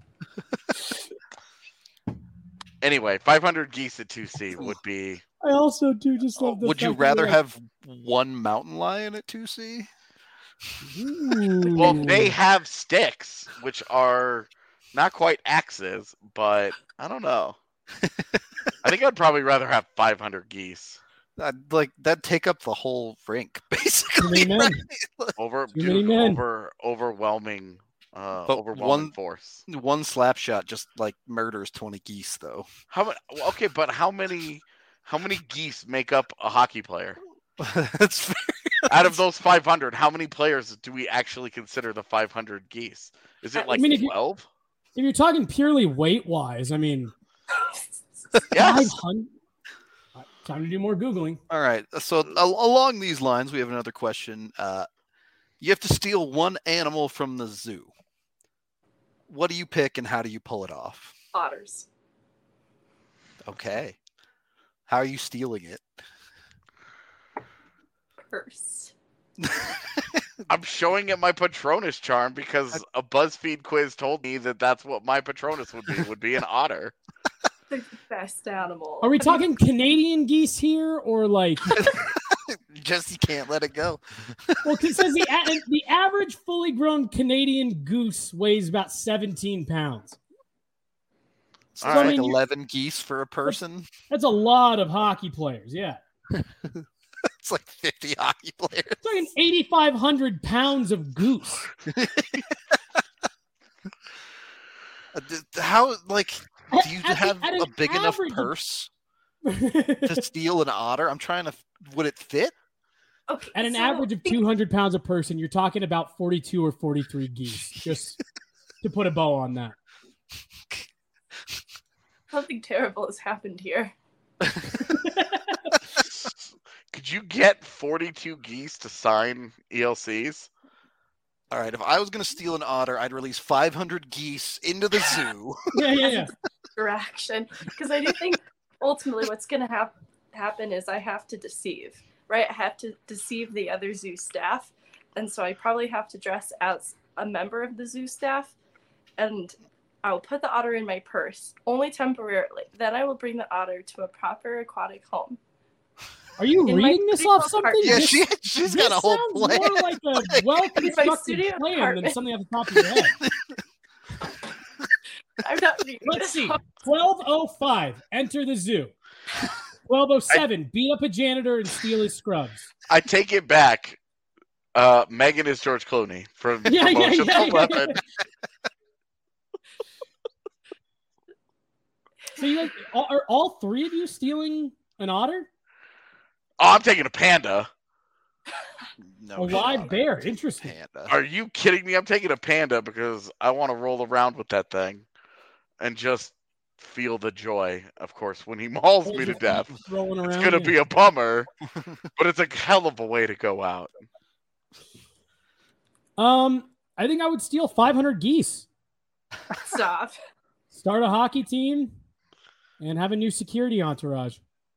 Speaker 5: Anyway, five hundred geese at two C would be.
Speaker 3: I also do just love the
Speaker 1: Would you
Speaker 3: fact
Speaker 1: rather
Speaker 3: that-
Speaker 1: have one mountain lion at two C?
Speaker 3: Ooh.
Speaker 5: Well, they have sticks, which are not quite axes, but I don't know. I think I'd probably rather have five hundred geese.
Speaker 1: I'd, like that'd take up the whole rink, basically.
Speaker 3: Too many
Speaker 1: Right?
Speaker 3: men.
Speaker 5: Over,
Speaker 3: Too many
Speaker 5: dude,
Speaker 3: men.
Speaker 5: over, overwhelming, uh,
Speaker 1: But
Speaker 5: overwhelming
Speaker 1: one-
Speaker 5: force.
Speaker 1: One slap shot just like murders twenty geese, though.
Speaker 5: How many? Okay, but how many? How many geese make up a hockey player?
Speaker 1: That's fair.
Speaker 5: Out of those five hundred, how many players do we actually consider the five hundred geese? Is it
Speaker 2: I
Speaker 5: like
Speaker 3: mean, if you-
Speaker 5: twelve?
Speaker 3: If you're talking purely weight wise, I mean,
Speaker 5: Yes.
Speaker 3: five hundred. Time to do more Googling.
Speaker 1: All right. So al- along these lines, we have another question. Uh, you have to steal one animal from the zoo. What do you pick, and how do you pull it off?
Speaker 2: Otters.
Speaker 1: Okay. How are you stealing it?
Speaker 2: Purse.
Speaker 5: I'm showing it my Patronus charm because a BuzzFeed quiz told me that that's what my Patronus would be. Would be an otter.
Speaker 2: The best animal.
Speaker 3: Are we talking Canadian geese here, or like?
Speaker 1: Just you can't let it go.
Speaker 3: Well, it says the a- the average fully grown Canadian goose weighs about seventeen pounds.
Speaker 1: So
Speaker 5: All
Speaker 1: it's
Speaker 5: right.
Speaker 1: like
Speaker 3: I mean, you-
Speaker 1: eleven geese for a person.
Speaker 3: That's a lot of hockey players. Yeah,
Speaker 1: It's like fifty hockey players.
Speaker 3: it's like eighty-five hundred pounds of goose.
Speaker 1: Uh, th- How like do you
Speaker 3: At the-
Speaker 1: have
Speaker 3: at
Speaker 1: a
Speaker 3: an
Speaker 1: big enough
Speaker 3: average-
Speaker 1: purse to steal an otter? I'm trying to. Would it fit?
Speaker 2: Okay,
Speaker 3: At an
Speaker 2: so-
Speaker 3: average of two hundred pounds a person, you're talking about forty-two or forty-three geese. Just to put a bow on that.
Speaker 2: Something terrible has happened here.
Speaker 5: Could you get forty-two geese to sign E L Cs?
Speaker 1: All right. If I was going to steal an otter, I'd release five hundred geese into the zoo.
Speaker 3: Yeah, yeah, yeah.
Speaker 2: Distraction, because I do think ultimately what's going to hap- happen is I have to deceive, right? I have to deceive the other zoo staff, and so I probably have to dress as a member of the zoo staff, and I'll put the otter in my purse, only temporarily. Then I will bring the otter to a proper aquatic home.
Speaker 3: Are you
Speaker 2: In my
Speaker 3: reading this
Speaker 2: studio
Speaker 3: off something?
Speaker 2: apartment.
Speaker 1: Yeah,
Speaker 3: This-
Speaker 1: she she's
Speaker 3: this
Speaker 1: got a whole
Speaker 3: sounds
Speaker 1: plan.
Speaker 3: more like a well-constructed
Speaker 2: studio
Speaker 3: plan than
Speaker 2: apartment.
Speaker 3: something off the top of your head.
Speaker 2: I'm not reading
Speaker 3: Let's
Speaker 2: this
Speaker 3: see.
Speaker 2: off.
Speaker 3: twelve oh five, enter the zoo. twelve oh seven, beat up a janitor and steal his scrubs.
Speaker 5: I take it back. Uh, Megan is George Clooney from
Speaker 3: Yeah, yeah,
Speaker 5: Promotion
Speaker 3: yeah, yeah,
Speaker 5: eleven.
Speaker 3: So you like, are are all three of you stealing an otter?
Speaker 5: Oh, I'm taking a panda.
Speaker 1: No,
Speaker 3: a live
Speaker 1: shot.
Speaker 3: bear. Interesting.
Speaker 1: Panda.
Speaker 5: Are you kidding me? I'm taking a panda because I want to roll around with that thing and just feel the joy, of course, when he mauls me to death.
Speaker 3: Rolling around.
Speaker 5: It's going to
Speaker 3: yeah.
Speaker 5: be a bummer, but it's a hell of a way to go out.
Speaker 3: Um, I think I would steal five hundred geese,
Speaker 2: Stop.
Speaker 3: start a hockey team, and have a new security entourage.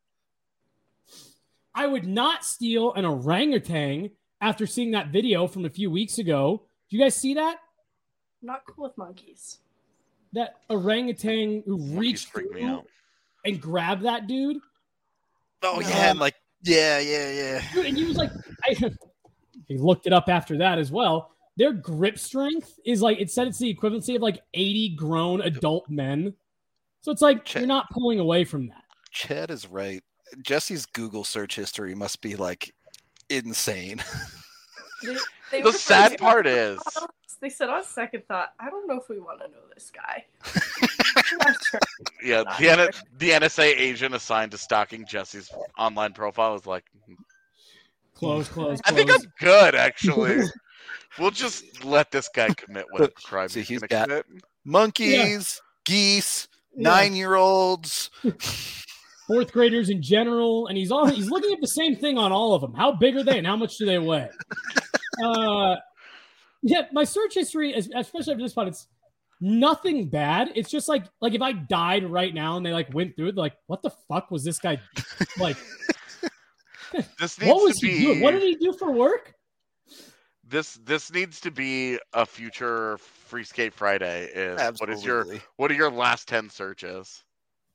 Speaker 3: I would not steal an orangutan after seeing that video from a few weeks ago. Did you guys see that?
Speaker 2: I'm not cool with monkeys.
Speaker 3: That orangutan who
Speaker 5: Monkeys
Speaker 3: reached
Speaker 5: freak me
Speaker 3: through
Speaker 5: out.
Speaker 3: and grabbed that dude.
Speaker 1: Oh
Speaker 3: No.
Speaker 1: yeah, and like yeah, yeah, yeah.
Speaker 3: Dude, and he was like, I, he looked it up after that as well. Their grip strength is like, it said it's the equivalency of like eighty grown adult men. So it's like
Speaker 1: Ch-
Speaker 3: you're not pulling away from that.
Speaker 1: Chad is right. Jesse's Google search history must be like insane.
Speaker 2: They, they
Speaker 5: The
Speaker 2: were
Speaker 5: sad
Speaker 2: first-
Speaker 5: part is,
Speaker 2: they said on second thought, I don't know if we want to know this guy. I'm not sure.
Speaker 5: yeah,
Speaker 2: Not
Speaker 5: the, N-
Speaker 2: sure.
Speaker 5: the N S A agent assigned to stalking Jesse's online profile is like,
Speaker 3: Close, close,
Speaker 5: I think I'm
Speaker 3: close.
Speaker 5: good, actually. We'll just let this guy commit whatever crime
Speaker 1: See,
Speaker 5: he's,
Speaker 1: he's
Speaker 5: gonna
Speaker 1: got-
Speaker 5: commit.
Speaker 1: Monkeys, geese,
Speaker 3: Yeah.
Speaker 1: nine-year-olds.
Speaker 3: Fourth graders in general, and he's all he's looking at the same thing on all of them. How big are they, and how much do they weigh? Uh, yeah, my search history, es- especially after this spot, it's nothing bad. It's just like like if I died right now and they like went through it, they're like, what the fuck was this guy like?
Speaker 5: This needs
Speaker 3: What was
Speaker 5: to
Speaker 3: he
Speaker 5: be
Speaker 3: doing? What did he do for work?
Speaker 5: this. This needs to be a future Free Skate Friday. Is what is your
Speaker 1: Absolutely.
Speaker 5: what are your last ten searches?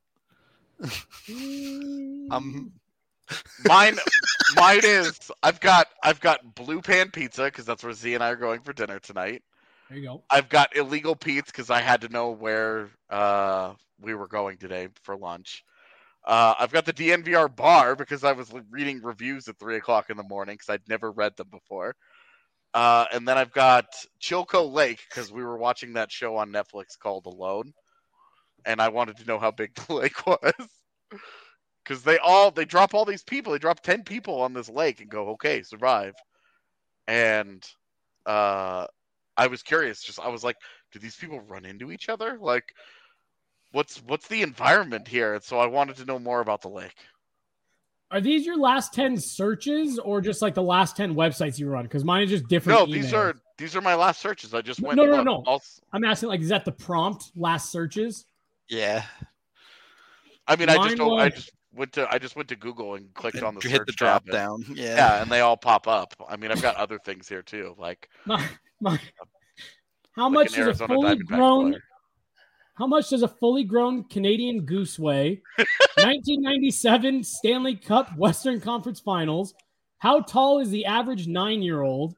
Speaker 1: Um,
Speaker 5: Mine, mine is I've got I've got Blue Pan Pizza because that's where Z and I are going for dinner tonight.
Speaker 3: There you go.
Speaker 5: I've got Illegal Pete's because I had to know where uh, we were going today for lunch. Uh, I've got the D N V R bar because I was reading reviews at three o'clock in the morning because I'd never read them before. Uh, and then I've got Chilco Lake because we were watching that show on Netflix called Alone, and I wanted to know how big the lake was. Because they all they drop all these people, they drop ten people on this lake and go, okay, survive. And uh, I was curious, just I was like, do these people run into each other? Like, what's what's the environment here? And so I wanted to know more about the lake.
Speaker 3: Are these your last ten searches or just like the last ten websites you run? Because mine is just different.
Speaker 5: No, these
Speaker 3: emails.
Speaker 5: are these are my last searches. I just
Speaker 3: No,
Speaker 5: went.
Speaker 3: no, no,
Speaker 5: look,
Speaker 3: no.
Speaker 5: all-
Speaker 3: I'm asking, like, is that the prompt last searches?
Speaker 1: yeah.
Speaker 5: I mean, I
Speaker 3: Mine
Speaker 5: just don't- I
Speaker 3: was-
Speaker 5: just went to I just went to Google and clicked on the
Speaker 1: You
Speaker 5: search
Speaker 1: hit the drop
Speaker 5: tab and-
Speaker 1: down. Yeah.
Speaker 5: Yeah, and they all pop up. I mean, I've got other things here too, like,
Speaker 3: My, my, how
Speaker 5: like
Speaker 3: much
Speaker 5: an
Speaker 3: does a
Speaker 5: Arizona
Speaker 3: fully
Speaker 5: Diamondbacks
Speaker 3: grown
Speaker 5: player.
Speaker 3: how much does a fully grown Canadian goose weigh? nineteen ninety-seven Stanley Cup Western Conference Finals. How tall is the average nine-year-old?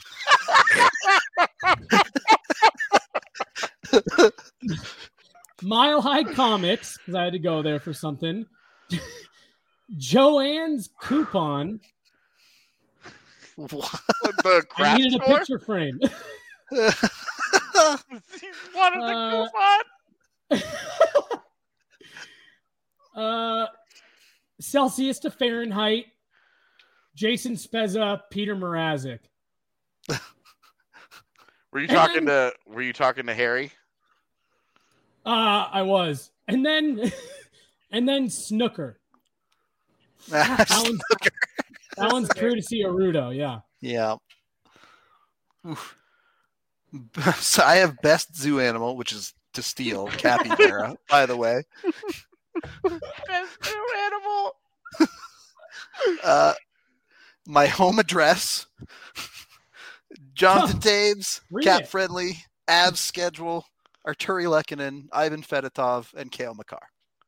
Speaker 3: Mile High Comics, because I had to go there for something. Joanne's coupon.
Speaker 1: What?
Speaker 5: the
Speaker 3: I
Speaker 5: craft
Speaker 3: needed a
Speaker 5: store.
Speaker 3: picture frame.
Speaker 5: He wanted the
Speaker 3: Uh,
Speaker 5: coupon.
Speaker 3: uh, Celsius to Fahrenheit. Jason Spezza, Peter Mrazek.
Speaker 5: Were you
Speaker 3: and
Speaker 5: talking
Speaker 3: then-
Speaker 5: to Were you talking to Harry?
Speaker 3: Uh, I was. And then and then Snooker. That one's, that one's courtesy of Rudo, yeah.
Speaker 1: Yeah. Oof. So I have best zoo animal, which is to steal, capybara, by the way.
Speaker 5: Best new animal.
Speaker 1: Uh, my home address, Jonathan Taves,
Speaker 3: Read
Speaker 1: Cat
Speaker 3: it.
Speaker 1: Friendly, Abs Schedule, Arturi Lekkinen, Ivan Fedotov, and Kale McCarr.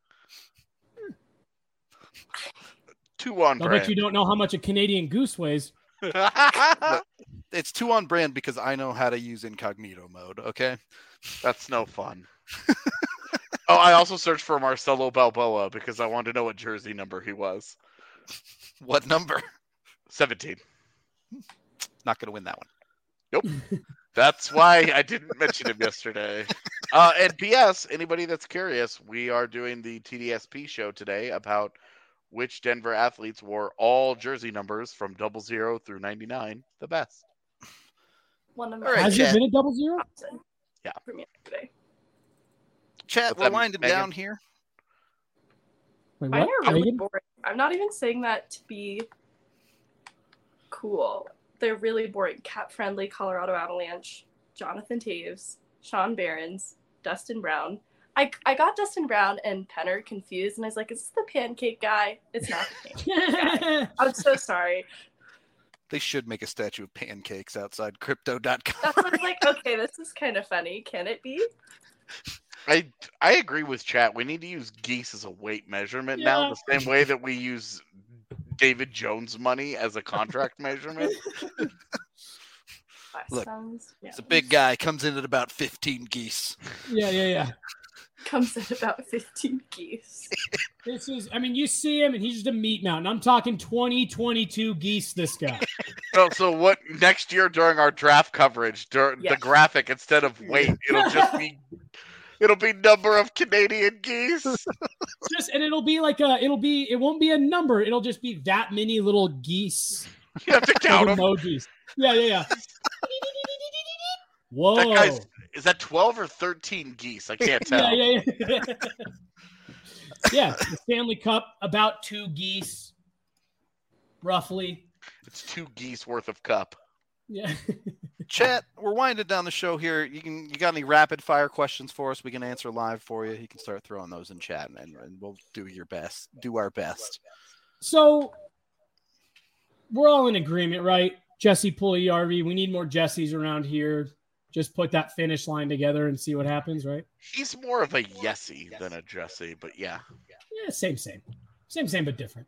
Speaker 5: Two on
Speaker 3: I'll bet
Speaker 5: brand.
Speaker 3: you don't know how much a Canadian goose weighs.
Speaker 1: It's two on brand because I know how to use incognito mode, okay?
Speaker 5: That's no fun. Oh, I also searched for Marcelo Balboa because I wanted to know what jersey number he was.
Speaker 1: What number?
Speaker 5: seventeen.
Speaker 1: Not going to win that one.
Speaker 5: Nope. That's why I didn't mention him yesterday. Uh, and P S, anybody that's curious, we are doing the T D S P show today about which Denver athletes wore all jersey numbers from double zero through ninety-nine the best.
Speaker 2: One of
Speaker 1: All right,
Speaker 3: Has
Speaker 1: Chad.
Speaker 3: it been a double zero?
Speaker 2: Thompson.
Speaker 5: Yeah.
Speaker 2: For me today.
Speaker 1: Chat,
Speaker 5: What's
Speaker 1: we're
Speaker 5: that,
Speaker 1: winding
Speaker 5: Megan?
Speaker 1: down here.
Speaker 3: Wait,
Speaker 2: Mine
Speaker 3: what?
Speaker 2: are really
Speaker 3: Megan?
Speaker 2: boring. I'm not even saying that to be cool. They're really boring. Cat Friendly, Colorado Avalanche, Jonathan Taves, Sean Barons, Dustin Brown. I, I got Dustin Brown and Penner confused, and I was like, is this the pancake guy? It's not the pancake guy. I'm so sorry.
Speaker 1: They should make a statue of pancakes outside crypto dot com.
Speaker 2: That's what I was like, okay, this is kind of funny. Can it be?
Speaker 5: I I agree with chat. We need to use geese as a weight measurement now,
Speaker 3: Yeah.
Speaker 5: the same way that we use David Jones money as a contract measurement.
Speaker 2: That
Speaker 1: Look,
Speaker 2: sounds, yeah.
Speaker 1: It's a big guy, comes in at about fifteen geese.
Speaker 3: Yeah, yeah, yeah.
Speaker 2: comes in about fifteen geese.
Speaker 3: This is, I mean, you see him and he's just a meat mountain. I'm talking twenty, twenty-two geese, this guy.
Speaker 5: So, so what next year during our draft coverage, dur-
Speaker 2: Yes.
Speaker 5: the graphic, instead of weight, it'll just be it'll be number of Canadian geese.
Speaker 3: Just, and it'll be like a, it'll be, it won't be a number. It'll just be that many little geese.
Speaker 5: You have to count them.
Speaker 3: Emojis. Yeah, yeah, yeah. Whoa.
Speaker 5: That guy's is that twelve or thirteen geese? I can't tell.
Speaker 3: Yeah, yeah, yeah. Yeah, the Stanley Cup, about two geese, roughly.
Speaker 5: It's two geese worth of cup.
Speaker 3: Yeah.
Speaker 1: Chat, we're winding down the show here. You can you got any rapid fire questions for us? We can answer live for you. You can start throwing those in chat, and, and we'll do your best. Do our best.
Speaker 3: So we're all in agreement, right? Jesse Pugliarvi. We need more Jessies around here. Just put that finish line together and see what happens, right?
Speaker 5: He's more of a Yesy than a Jesse, but yeah.
Speaker 3: Yeah, same, same. Same, same, but different.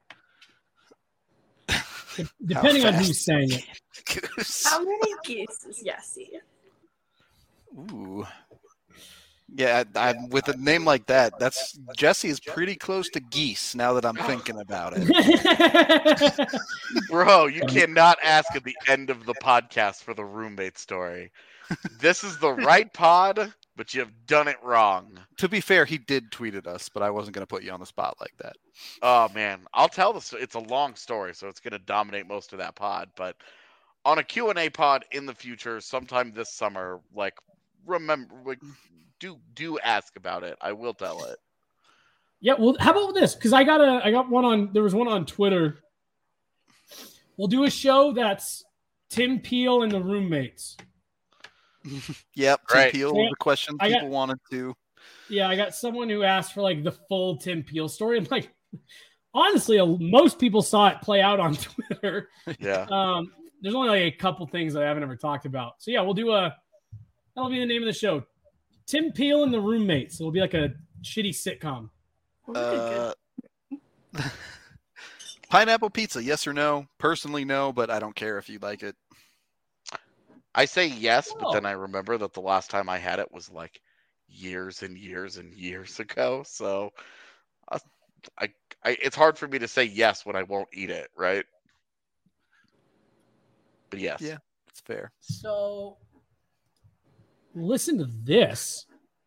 Speaker 3: Depending on who's saying it.
Speaker 2: How many geese is Yessie?
Speaker 1: Ooh. Yeah, I, I, with a name like that, that's Jesse is pretty close to geese now that I'm thinking about it.
Speaker 5: Bro, you cannot ask at the end of the podcast for the roommate story. This is the right pod, but you have done it wrong.
Speaker 1: To be fair, he did tweet at us, but I wasn't going to put you on the spot like that.
Speaker 5: Oh, man. I'll tell this. It's a long story, so it's going to dominate most of that pod. But on a Q and A pod in the future, sometime this summer, like, remember, like, do do ask about it. I will tell it.
Speaker 3: Yeah, well, how about this? Because I got a, I got one on. There was one on Twitter. We'll do a show that's Tim Peel and the roommates.
Speaker 1: Yep, Tim
Speaker 5: Right.
Speaker 1: Peel,
Speaker 3: Yeah,
Speaker 1: the question
Speaker 3: I
Speaker 1: people
Speaker 3: got-
Speaker 1: wanted to.
Speaker 3: Yeah, I got someone who asked for like the full Tim Peel story. I'm like, honestly, a- most people saw it play out on Twitter.
Speaker 5: Yeah.
Speaker 3: Um, there's only like a couple things that I haven't ever talked about. So yeah, we'll do a. That'll be the name of the show. Tim Peel and the roommates. It'll be like a shitty sitcom.
Speaker 2: Oh,
Speaker 1: Uh, pineapple pizza, yes or no? Personally, no, but I don't care if you like it.
Speaker 5: I say yes, but
Speaker 3: Oh.
Speaker 5: then I remember that the last time I had it was like years and years and years ago. So I, I, I it's hard for me to say yes when I won't eat it, right? But yes.
Speaker 1: Yeah. It's fair.
Speaker 3: So listen to this.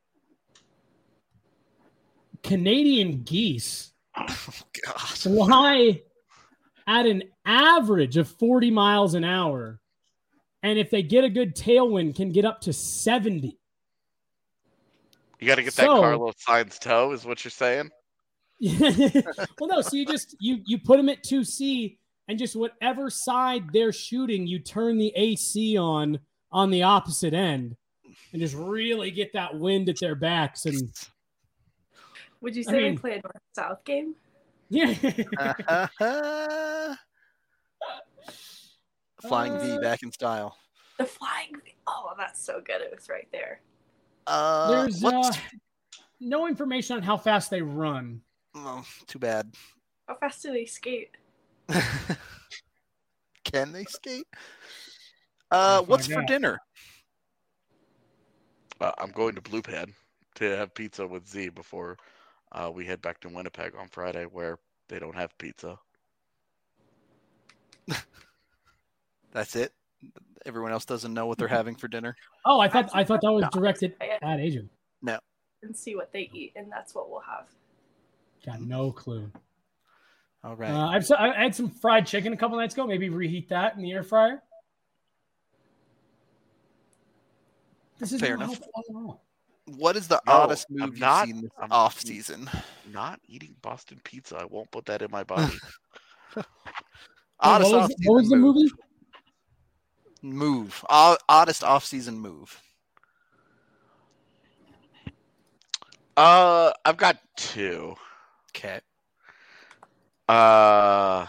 Speaker 3: Canadian geese
Speaker 1: Oh, God.
Speaker 3: fly at an average of forty miles an hour. And if they get a good tailwind, can get up to seventy.
Speaker 5: You got to get that
Speaker 3: So-
Speaker 5: Carlos Sainz toe, is what you're saying?
Speaker 3: Well, no, so you just you you put them at two C and just whatever side they're shooting, you turn the A C on on the opposite end and just really get that wind at their backs. And
Speaker 2: Would you
Speaker 3: I
Speaker 2: say
Speaker 3: mean-
Speaker 2: they play a north-south game?
Speaker 3: yeah.
Speaker 1: Flying V
Speaker 3: Uh,
Speaker 1: back in style.
Speaker 2: The flying. Oh, that's so good. It was right there.
Speaker 1: Uh,
Speaker 3: There's uh,
Speaker 1: what's...
Speaker 3: no information on how fast they run.
Speaker 1: Oh, too bad.
Speaker 2: How fast do they skate?
Speaker 1: Can they skate? Uh,
Speaker 3: Find
Speaker 1: what's for
Speaker 3: out.
Speaker 1: dinner?
Speaker 5: Uh, I'm going to Blue Pad to have pizza with Z before uh, we head back to Winnipeg on Friday, where they don't have pizza.
Speaker 1: That's it. Everyone else doesn't know what they're having for dinner.
Speaker 3: Oh, I thought I thought that was directed at Adrian.
Speaker 2: And see what they eat, and that's what we'll have.
Speaker 3: Got no clue.
Speaker 1: All right.
Speaker 3: Uh, I've I had some fried chicken a couple nights ago. Maybe reheat that in the air fryer. This is
Speaker 1: Fair
Speaker 3: no
Speaker 1: enough.
Speaker 3: help at all.
Speaker 1: What is the
Speaker 5: No,
Speaker 1: oddest
Speaker 5: I'm
Speaker 1: move you've
Speaker 5: not-
Speaker 1: seen this
Speaker 5: I'm-
Speaker 1: off season?
Speaker 5: Not eating Boston pizza. I won't put that in my body.
Speaker 1: Oddest
Speaker 3: what was,
Speaker 1: off-season
Speaker 3: what was the
Speaker 1: move.
Speaker 3: movie?
Speaker 1: Move. O- oddest off-season move.
Speaker 5: uh, I've got two.
Speaker 1: Okay.
Speaker 5: Uh,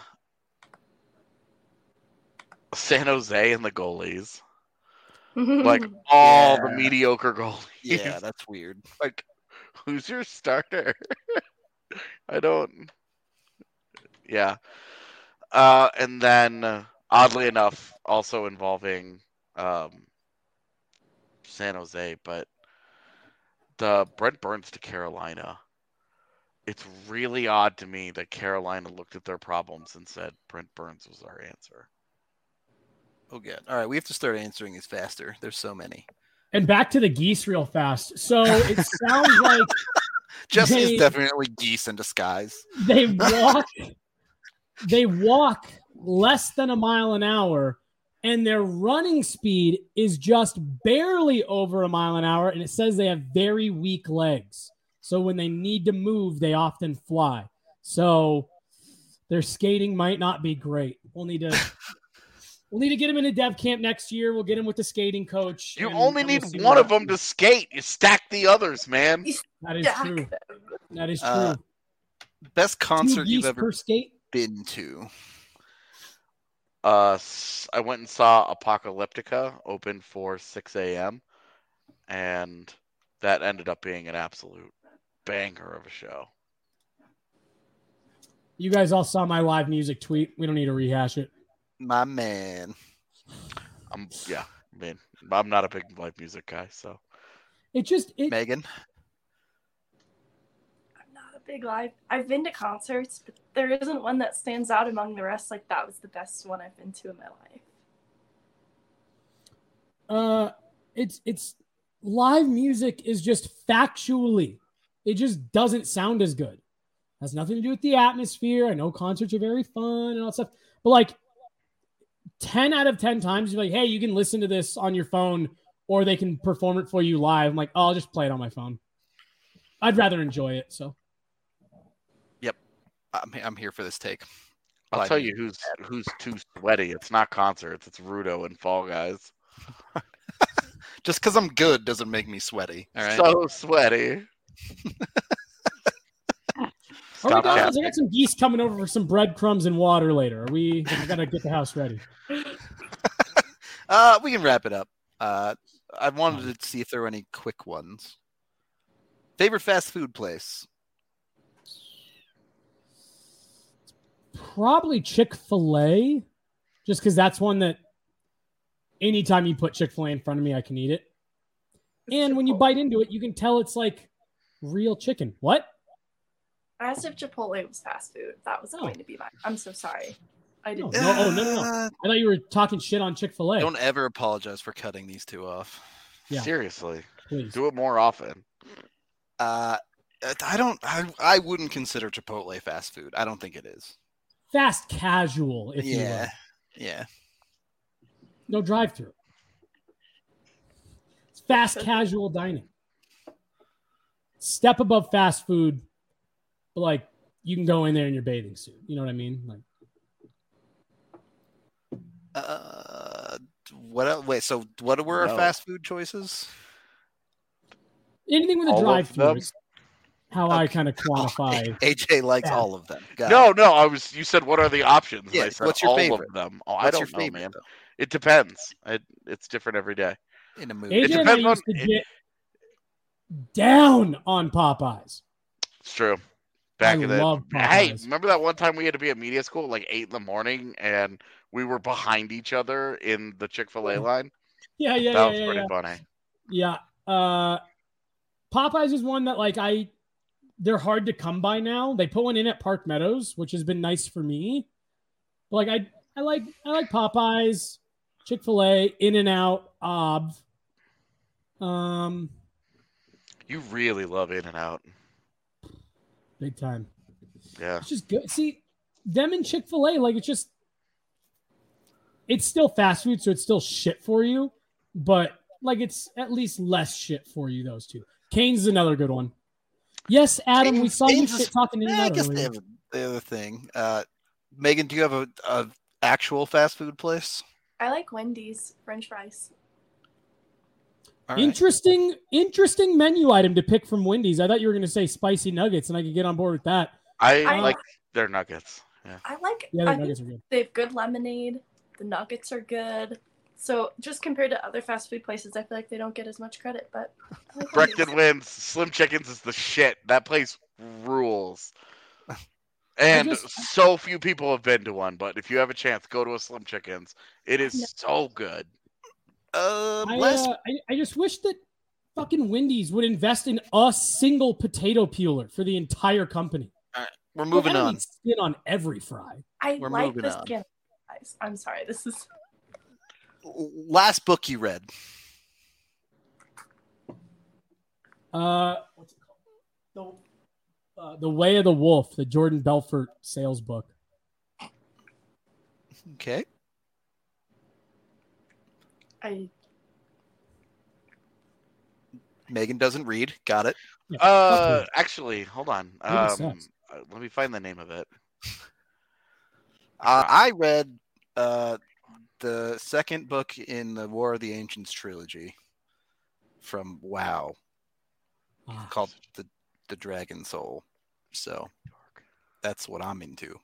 Speaker 5: San Jose and the goalies. Like all the
Speaker 1: Yeah.
Speaker 5: mediocre goalies.
Speaker 1: Yeah, that's weird.
Speaker 5: Like, who's your starter? I don't. Yeah. Uh, and then, uh, oddly enough, also involving um, San Jose, but the Brent Burns to Carolina. It's really odd to me that Carolina looked at their problems and said Brent Burns was our answer.
Speaker 1: Oh, good. All right, we have to start answering these faster. There's so many.
Speaker 3: And back to the geese real fast. So it sounds like
Speaker 1: Jesse
Speaker 3: they,
Speaker 1: is definitely geese in disguise.
Speaker 3: They walk. They walk less than a mile an hour, and their running speed is just barely over a mile an hour. And it says they have very weak legs. So when they need to move, they often fly. So their skating might not be great. We'll need to we'll need to get him in a dev camp next year. We'll get him with the skating coach.
Speaker 5: You
Speaker 3: and
Speaker 5: only
Speaker 3: we'll
Speaker 5: need
Speaker 3: see
Speaker 5: one
Speaker 3: what
Speaker 5: of them to
Speaker 3: happens.
Speaker 5: skate. You stack the others, man.
Speaker 3: That is
Speaker 2: Jack
Speaker 3: true.
Speaker 2: them.
Speaker 3: That is true.
Speaker 1: Uh, Best
Speaker 3: Two
Speaker 1: concert you've
Speaker 3: geese
Speaker 1: ever
Speaker 3: per skate.
Speaker 1: been to?
Speaker 5: Uh, s- I went and saw Apocalyptica open for six a.m. and that ended up being an absolute banger of a show.
Speaker 3: You guys all saw my live music tweet. We don't need to rehash it.
Speaker 1: My man.
Speaker 5: I'm yeah. I mean, I'm not a big live music guy, so
Speaker 3: It just it,
Speaker 1: Megan?
Speaker 2: I'm not a big live. I've been to concerts, but there isn't one that stands out among the rest. Like that was the best one I've been to in my life.
Speaker 3: uh it's it's live music is just factually, it just doesn't sound as good. Has nothing to do with the atmosphere. I know concerts are very fun and all that stuff, but like ten out of ten times you're like, hey, you can listen to this on your phone or they can perform it for you live. I'm like, oh, I'll just play it on my phone. I'd rather enjoy it. So
Speaker 1: I'm, I'm here for this take.
Speaker 5: I'll
Speaker 1: Live
Speaker 5: tell
Speaker 1: music.
Speaker 5: you who's who's too sweaty. It's not concerts. It's Rudo and Fall Guys.
Speaker 1: Just because I'm good doesn't make me sweaty. All right.
Speaker 5: So sweaty.
Speaker 3: All right,
Speaker 5: Stop
Speaker 3: guys, I
Speaker 5: tapping.
Speaker 3: got some geese coming over for some breadcrumbs and water later. Are we? I gotta get the house ready.
Speaker 1: Uh, we can wrap it up. Uh, I wanted to see if there were any quick ones. Favorite fast food place?
Speaker 3: Probably Chick-fil-A, just because that's one that anytime you put Chick-fil-A in front of me, I can eat it. And when you
Speaker 2: Chipotle.
Speaker 3: bite into it, you can tell it's like real chicken. What?
Speaker 2: I asked if Chipotle was fast food. That was
Speaker 3: Oh.
Speaker 2: going to be mine. I'm so sorry. I
Speaker 3: No,
Speaker 2: didn't.
Speaker 3: no, oh, no, no, no.
Speaker 1: Uh,
Speaker 3: I thought you were talking shit on Chick-fil-A.
Speaker 1: Don't ever apologize for cutting these two off.
Speaker 3: Yeah.
Speaker 5: Seriously,
Speaker 3: Please.
Speaker 5: do it more often.
Speaker 1: Uh, I don't. I, I wouldn't consider Chipotle fast food. I don't think it is.
Speaker 3: Fast casual, if you
Speaker 1: Yeah,
Speaker 3: will.
Speaker 1: yeah.
Speaker 3: No drive-through. It's fast casual dining. Step above fast food, but like you can go in there in your bathing suit. You know what I mean? Like
Speaker 1: Uh, what? Else? Wait. So, what were our
Speaker 5: No.
Speaker 1: fast food choices?
Speaker 3: anything with a
Speaker 5: All of
Speaker 3: drive-through
Speaker 5: them?
Speaker 3: is how I
Speaker 1: Okay.
Speaker 3: kind of quantify.
Speaker 1: A J likes
Speaker 3: Yeah.
Speaker 1: all of them. Got
Speaker 5: No,
Speaker 1: it.
Speaker 5: no. I was. You said what are the options? And
Speaker 1: Yeah,
Speaker 5: I said
Speaker 1: what's your
Speaker 5: all
Speaker 1: favorite?
Speaker 5: of them. Oh, I
Speaker 1: What's
Speaker 5: don't
Speaker 1: your
Speaker 5: know,
Speaker 1: favorite
Speaker 5: man.
Speaker 1: though?
Speaker 5: It depends. It, it's different every day.
Speaker 1: In a
Speaker 3: A
Speaker 1: movie.
Speaker 3: J and I
Speaker 5: depends on-
Speaker 3: used to
Speaker 5: it-
Speaker 3: get down on Popeyes.
Speaker 5: It's true. Back
Speaker 3: I
Speaker 5: in the
Speaker 3: love
Speaker 5: hey,
Speaker 3: Popeyes.
Speaker 5: remember that one time we had to be at media school at like eight in the morning, and we were behind each other in the Chick Fil A line.
Speaker 3: Yeah, yeah,
Speaker 5: that
Speaker 3: yeah,
Speaker 5: was
Speaker 3: yeah,
Speaker 5: pretty
Speaker 3: yeah.
Speaker 5: funny.
Speaker 3: Yeah. Uh, Popeyes is one that like I, they're hard to come by now. They put one in at Park Meadows, which has been nice for me. But like I, I like I like Popeyes, Chick-fil-A, In-N-Out, Ob. Um,
Speaker 5: You really love In and Out.
Speaker 3: big time.
Speaker 5: Yeah.
Speaker 3: It's just good. See, them and Chick-fil-A, like it's just, it's still fast food, so it's still shit for you, but like it's at least less shit for you. Those two. Cane's is another good one. Yes, Adam, we
Speaker 1: Cane's-
Speaker 3: saw you
Speaker 1: Cane's is-
Speaker 3: shit talking in
Speaker 1: Eh,
Speaker 3: and
Speaker 1: I
Speaker 3: out
Speaker 1: guess they
Speaker 3: earlier.
Speaker 1: have the other thing. Uh, Megan, do you have a, a actual fast food place?
Speaker 2: I like Wendy's French fries.
Speaker 1: All right.
Speaker 3: Interesting, interesting menu item to pick from Wendy's. I thought you were going to say spicy nuggets, and I could get on board with that.
Speaker 5: I,
Speaker 2: I-
Speaker 5: like their nuggets. Yeah.
Speaker 2: I like.
Speaker 3: Yeah,
Speaker 2: I
Speaker 3: the
Speaker 2: think
Speaker 3: nuggets are good.
Speaker 2: they have good lemonade. The nuggets are good. So just compared to other fast food places, I feel like they don't get as much credit. But I like Wendy's.
Speaker 5: Brecton wins. Slim Chickens is the shit. That place rules. And
Speaker 3: just-
Speaker 5: so few people have been to one, but if you have a chance, go to a Slim Chickens. It is
Speaker 2: No.
Speaker 5: so good.
Speaker 1: Uh,
Speaker 3: I,
Speaker 1: last
Speaker 3: uh, I, I just wish that fucking Wendy's would invest in a single potato peeler for the entire company.
Speaker 1: We're moving
Speaker 3: Well, I don't
Speaker 1: on.
Speaker 3: need skin on every fry.
Speaker 2: I
Speaker 1: We're
Speaker 2: like
Speaker 1: moving
Speaker 2: the
Speaker 1: on.
Speaker 2: skin. Guys, I'm sorry. This is
Speaker 1: Last book you read.
Speaker 3: Uh, what's it called? The uh, The Way of the Wolf, the Jordan Belfort sales book.
Speaker 1: Okay.
Speaker 2: I
Speaker 1: Megan doesn't read. Got it.
Speaker 3: Yeah,
Speaker 5: Uh,
Speaker 3: fuck
Speaker 5: actually, hold on.
Speaker 3: Reading
Speaker 5: Um,
Speaker 3: sucks.
Speaker 5: uh, let me find the name of it.
Speaker 1: Uh, I read uh, the second book in the War of the Ancients trilogy from WoW
Speaker 3: you. Ah.
Speaker 1: called the the Dragon Soul. So that's what I'm into.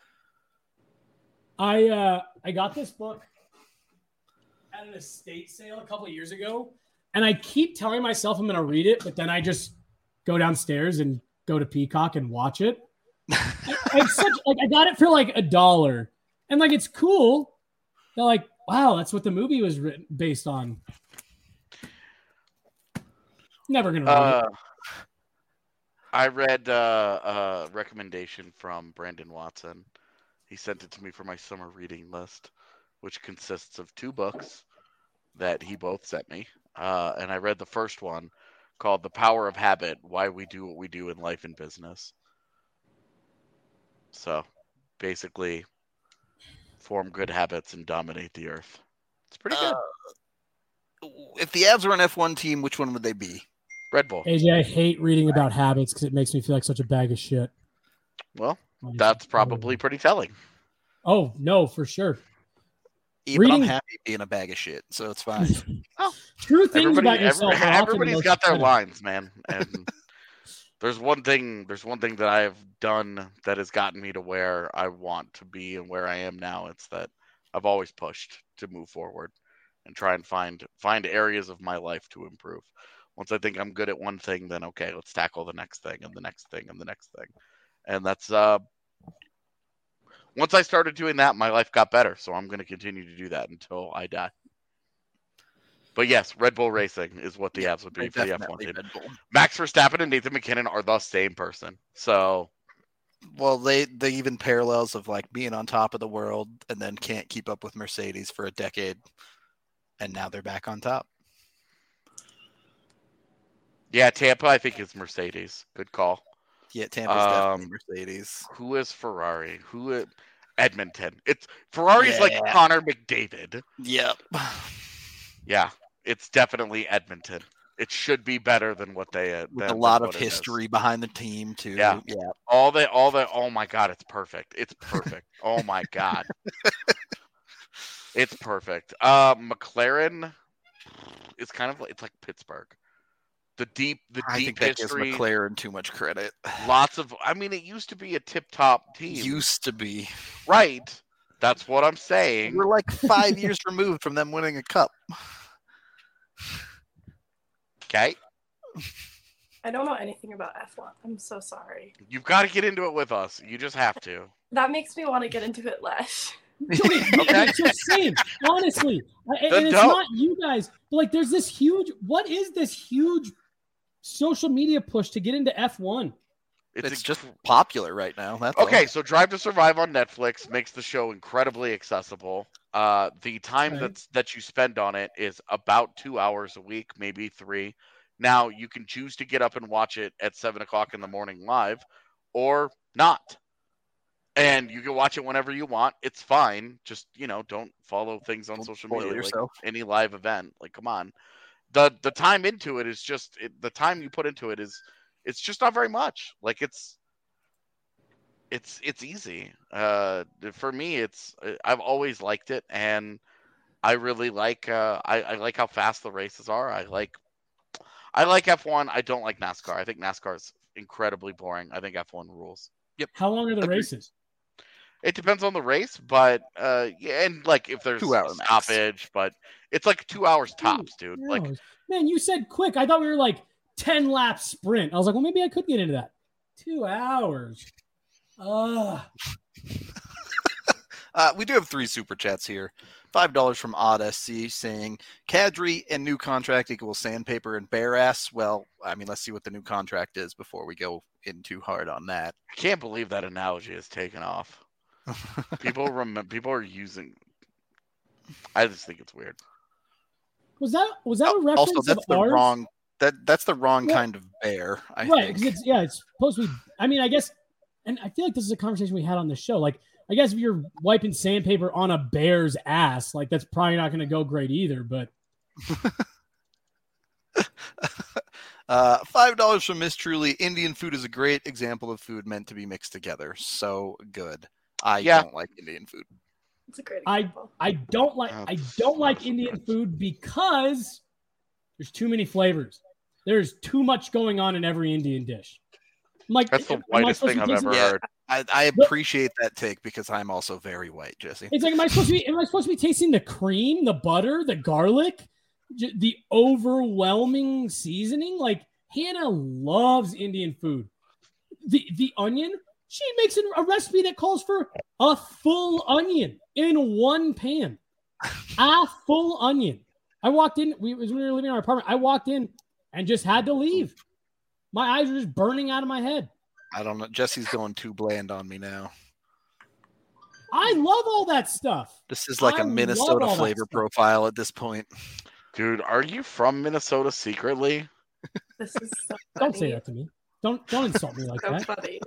Speaker 3: I uh I got this book at an estate sale a couple of years ago, and I keep telling myself I'm gonna read it, but then I just go downstairs and go to Peacock and watch it. It's such like I got it for like a dollar, and like it's cool. They're like, wow, that's what the movie was written based on. Never gonna read
Speaker 5: Uh,
Speaker 3: it.
Speaker 5: I read uh, a recommendation from Brandon Watson. He sent it to me for my summer reading list, which consists of two books that he both sent me. Uh, and I read the first one called The Power of Habit, Why We Do What We Do in Life and Business. So basically, form good habits and dominate the earth. It's pretty good.
Speaker 1: Uh, if the Avs were an F one team, which one would they be?
Speaker 5: Red Bull.
Speaker 3: A J, I hate reading about habits because it makes me feel like such a bag of shit.
Speaker 5: Well, that's probably pretty telling.
Speaker 3: Oh no, for sure.
Speaker 1: Even
Speaker 3: Reading-
Speaker 1: I'm happy being a bag of shit, so it's fine.
Speaker 3: True things
Speaker 5: Everybody,
Speaker 3: about yourself.
Speaker 5: every-
Speaker 3: are often
Speaker 5: everybody's
Speaker 3: most
Speaker 5: got their
Speaker 3: pathetic.
Speaker 5: lines, man. And there's one thing. There's one thing that I have done that has gotten me to where I want to be and where I am now. It's that I've always pushed to move forward and try and find find areas of my life to improve. Once I think I'm good at one thing, then okay, let's tackle the next thing and the next thing and the next thing. And that's uh once I started doing that, my life got better. So I'm going to continue to do that until I die. But yes, Red Bull Racing is what the
Speaker 1: Yeah,
Speaker 5: Avs would be for the F one
Speaker 1: Definitely
Speaker 5: team.
Speaker 1: Red Bull.
Speaker 5: Max Verstappen and Nathan McKinnon are the same person. So
Speaker 1: Well, they they even parallels of like being on top of the world and then can't keep up with Mercedes for a decade, and now they're back on top.
Speaker 5: yeah, Tampa, I think is Mercedes. Good call.
Speaker 1: Yeah, Tampa's
Speaker 5: Um,
Speaker 1: definitely Mercedes.
Speaker 5: Who is Ferrari? Who is Edmonton? It's Ferrari's like
Speaker 1: Yeah.
Speaker 5: Connor McDavid.
Speaker 1: Yep.
Speaker 5: Yeah, it's definitely Edmonton. It should be better than what they uh,
Speaker 1: With
Speaker 5: than-
Speaker 1: a lot
Speaker 5: than
Speaker 1: of
Speaker 5: what it is.
Speaker 1: history behind the team too.
Speaker 5: Yeah.
Speaker 1: Yeah.
Speaker 5: All the all the oh my god, it's perfect. It's perfect. Oh my god. It's perfect. Uh McLaren is kind of like it's like Pittsburgh. The deep the
Speaker 1: I
Speaker 5: deep
Speaker 1: think that gives
Speaker 5: history.
Speaker 1: McLaren too much credit.
Speaker 5: Lots of I mean it used to be a tip top team.
Speaker 1: Used to be.
Speaker 5: Right. That's what I'm saying.
Speaker 1: We're like five years removed from them winning a cup.
Speaker 5: Okay.
Speaker 2: I don't know anything about F one. I'm so sorry.
Speaker 5: You've got to get into it with us. You just have to.
Speaker 2: That makes me want to get into it less.
Speaker 5: Okay.
Speaker 3: It's just saying, honestly, I- and,
Speaker 5: Then
Speaker 3: it's
Speaker 5: don't.
Speaker 3: not you guys, but like, there's this huge. What is this huge social media push to get into F one?
Speaker 5: It's,
Speaker 1: It's
Speaker 5: a-
Speaker 1: just popular right now. That's all.
Speaker 5: Okay, so Drive to Survive on Netflix makes the show incredibly accessible. Uh, the time
Speaker 3: Right.
Speaker 5: that's that you spend on it is about two hours a week, maybe three. Now you can choose to get up and watch it at seven o'clock in the morning live, or not, and you can watch it whenever you want. It's fine. Just you know, don't follow things on
Speaker 1: Don't
Speaker 5: social
Speaker 1: spoil
Speaker 5: media
Speaker 1: yourself.
Speaker 5: like any live event. Like, come on, the the time into it is just it, the time you put into it is it's just not very much. Like it's. It's it's easy. Uh, for me, it's I've always liked it, and I really like uh, I, I like how fast the races are. I like I like F one. I don't like NASCAR. I think NASCAR is incredibly boring. I think F one rules.
Speaker 3: How long are the
Speaker 1: Agreed.
Speaker 3: races?
Speaker 5: It depends on the race, but uh, yeah, and like if there's
Speaker 1: Two hour
Speaker 5: a
Speaker 1: max.
Speaker 5: stoppage, but it's like two hours tops, dude.
Speaker 3: Two
Speaker 5: Like
Speaker 3: hours. Man, you said quick. I thought we were like ten lap sprint. I was like, well, maybe I could get into that. Two hours. Ugh.
Speaker 1: Uh, we do have three super chats here. five dollars from Odd S C saying, Kadri and new contract equals sandpaper and bare ass. Well, I mean, let's see what the new contract is before we go in too hard on that.
Speaker 5: I can't believe that analogy has taken off. People remember. People are using. I just think it's weird.
Speaker 3: Was that was that a reference
Speaker 1: Also, that's
Speaker 3: of
Speaker 1: the
Speaker 3: ours?
Speaker 1: wrong that that's the wrong
Speaker 3: Well,
Speaker 1: kind of bear. I
Speaker 3: right?
Speaker 1: think.
Speaker 3: Because it's yeah, it's supposed to be. I mean, I guess, and I feel like this is a conversation we had on the show. Like, I guess if you're wiping sandpaper on a bear's ass, like that's probably not going to go great either. But
Speaker 1: uh, five dollars from Miss Truly. Indian food is a great example of food meant to be mixed together. So good. I
Speaker 5: Yeah.
Speaker 1: don't like Indian food.
Speaker 2: It's a great
Speaker 3: I
Speaker 2: example.
Speaker 3: I don't like
Speaker 5: Oh,
Speaker 3: I don't like
Speaker 5: so
Speaker 3: Indian
Speaker 5: good.
Speaker 3: food because there's too many flavors. There's too much going on in every Indian dish. I'm like,
Speaker 5: That's the
Speaker 3: am I
Speaker 5: whitest
Speaker 3: supposed
Speaker 5: thing
Speaker 3: to
Speaker 5: I've
Speaker 3: taste
Speaker 5: ever
Speaker 3: it?
Speaker 1: Yeah.
Speaker 5: heard.
Speaker 1: I, I
Speaker 3: But-
Speaker 1: appreciate that take because I'm also very white, Jesse.
Speaker 3: It's like, am I supposed to be? Am I supposed to be tasting the cream, the butter, the garlic, j- the overwhelming seasoning? Like Hannah loves Indian food. The the onion, she makes a recipe that calls for a full onion in one pan. A full onion. I walked in. We was when we were living in our apartment. I walked in and just had to leave. My eyes were just burning out of my head.
Speaker 1: I don't know. Jesse's going too bland on me now.
Speaker 3: I love all that stuff.
Speaker 1: This is like
Speaker 3: I
Speaker 1: a
Speaker 3: love
Speaker 1: Minnesota
Speaker 3: all that
Speaker 1: flavor
Speaker 3: stuff.
Speaker 1: profile at this point.
Speaker 5: Dude, are you from Minnesota secretly?
Speaker 2: This is so funny.
Speaker 3: Don't say that to me. Don't don't insult me like
Speaker 2: So
Speaker 3: that.
Speaker 2: funny.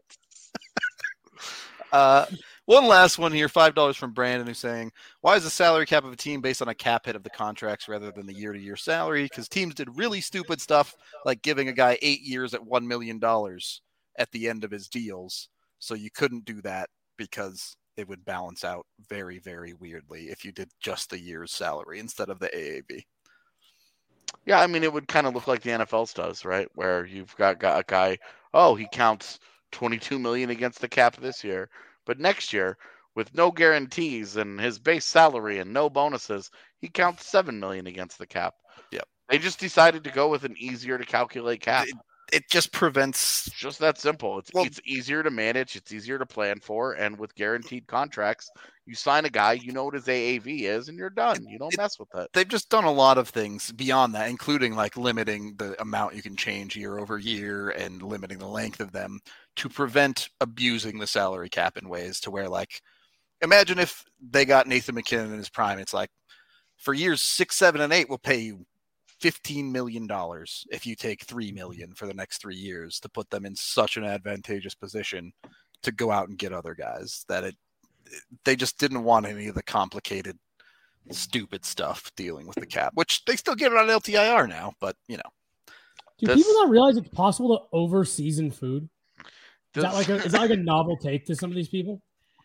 Speaker 1: Uh, one last one here, five dollars from Brandon, who's saying, why is the salary cap of a team based on a cap hit of the contracts rather than the year-to-year salary? Because teams did really stupid stuff like giving a guy eight years at one million dollars at the end of his deals. So you couldn't do that because it would balance out very, very weirdly if you did just the year's salary instead of the A A V.
Speaker 5: Yeah, I mean, it would kind of look like the N F L's does, right? Where you've got, got a guy, oh, he counts twenty-two million against the cap this year, but next year, with no guarantees and his base salary and no bonuses, he counts seven million against the cap.
Speaker 1: Yep.
Speaker 5: They just decided to go with an easier to calculate cap.
Speaker 1: It, it just prevents.
Speaker 5: It's just that simple. It's
Speaker 1: Well-
Speaker 5: it's easier to manage, it's easier to plan for, and with guaranteed contracts, you sign a guy, you know what his A A V is, and you're done. You don't
Speaker 1: it-
Speaker 5: mess with it.
Speaker 1: They've just done a lot of things beyond that, including like limiting the amount you can change year over year and limiting the length of them to prevent abusing the salary cap in ways to where, like, imagine if they got Nathan McKinnon in his prime. It's like for years six, seven, and eight, we'll pay you fifteen million dollars if you take three million dollars for the next three years to put them in such an advantageous position to go out and get other guys that it, they just didn't want any of the complicated stupid stuff dealing with the cap, which they still get it on L T I R now, but you know.
Speaker 3: Do
Speaker 5: This-
Speaker 3: people not realize it's possible to over season food? Is that
Speaker 5: This-
Speaker 3: like a is that like a novel take to some of these people?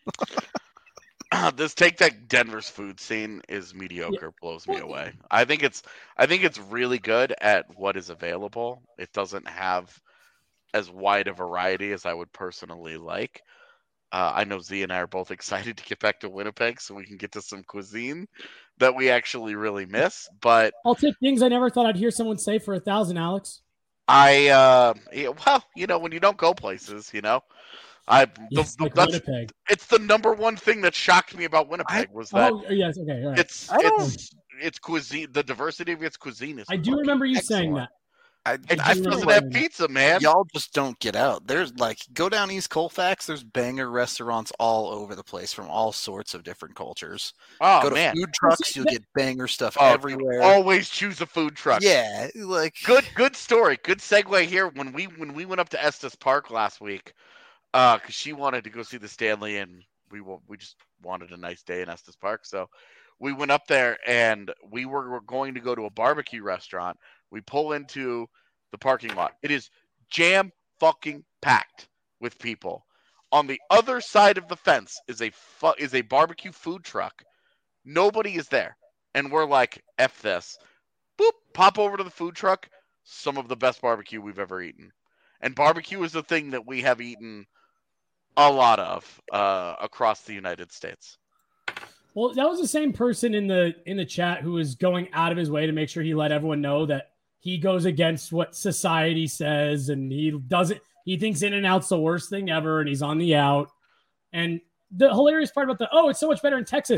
Speaker 5: This take that Denver's food scene is mediocre, blows me
Speaker 3: Well,
Speaker 5: away. I think it's I think it's really good at what is available. It doesn't have as wide a variety as I would personally like. Uh, I know Z and I are both excited to get back to Winnipeg so we can get to some cuisine that we actually really miss. But
Speaker 3: I'll take things I never thought I'd hear someone say for a thousand, Alex.
Speaker 5: I, uh, yeah, well, you know, when you don't go places, you know, I the,
Speaker 3: Yes,
Speaker 5: the-
Speaker 3: like
Speaker 5: that's,
Speaker 3: Winnipeg.
Speaker 5: it's the number one thing that shocked me about Winnipeg was that
Speaker 3: Oh yes, okay, all right.
Speaker 5: it's
Speaker 1: I don't-
Speaker 5: it's it's cuisine. The diversity of its cuisine is.
Speaker 3: I do
Speaker 5: fucking
Speaker 3: remember you saying
Speaker 5: excellent.
Speaker 3: that.
Speaker 1: I,
Speaker 5: It
Speaker 1: I
Speaker 5: just
Speaker 1: feel
Speaker 5: doesn't
Speaker 1: like
Speaker 5: have pizza, man.
Speaker 1: y'all just don't get out. There's like go down East Colfax. There's banger restaurants all over the place from all sorts of different cultures.
Speaker 5: Oh
Speaker 1: go to
Speaker 5: man,
Speaker 1: food trucks,
Speaker 3: see,
Speaker 1: you'll
Speaker 3: that-
Speaker 1: get banger stuff
Speaker 5: Oh,
Speaker 1: everywhere.
Speaker 5: always choose a food truck.
Speaker 1: Yeah, like
Speaker 5: Good good story. Good segue here. When we when we went up to Estes Park last week, uh, because she wanted to go see the Stanley, and we wa- we just wanted a nice day in Estes Park, so we went up there, and we were, were going to go to a barbecue restaurant. We pull into the parking lot. It is jam fucking packed with people. On the other side of the fence is a fu- is a barbecue food truck. Nobody is there, and we're like, "F this." Boop, pop over to the food truck. Some of the best barbecue we've ever eaten. And barbecue is a thing that we have eaten a lot of uh, across the United States.
Speaker 3: Well, that was the same person in the in the chat who was going out of his way to make sure he let everyone know that he goes against what society says and he doesn't he thinks In-N-Out's the worst thing ever and he's on the out. And the hilarious part about the oh, it's so much better in Texas.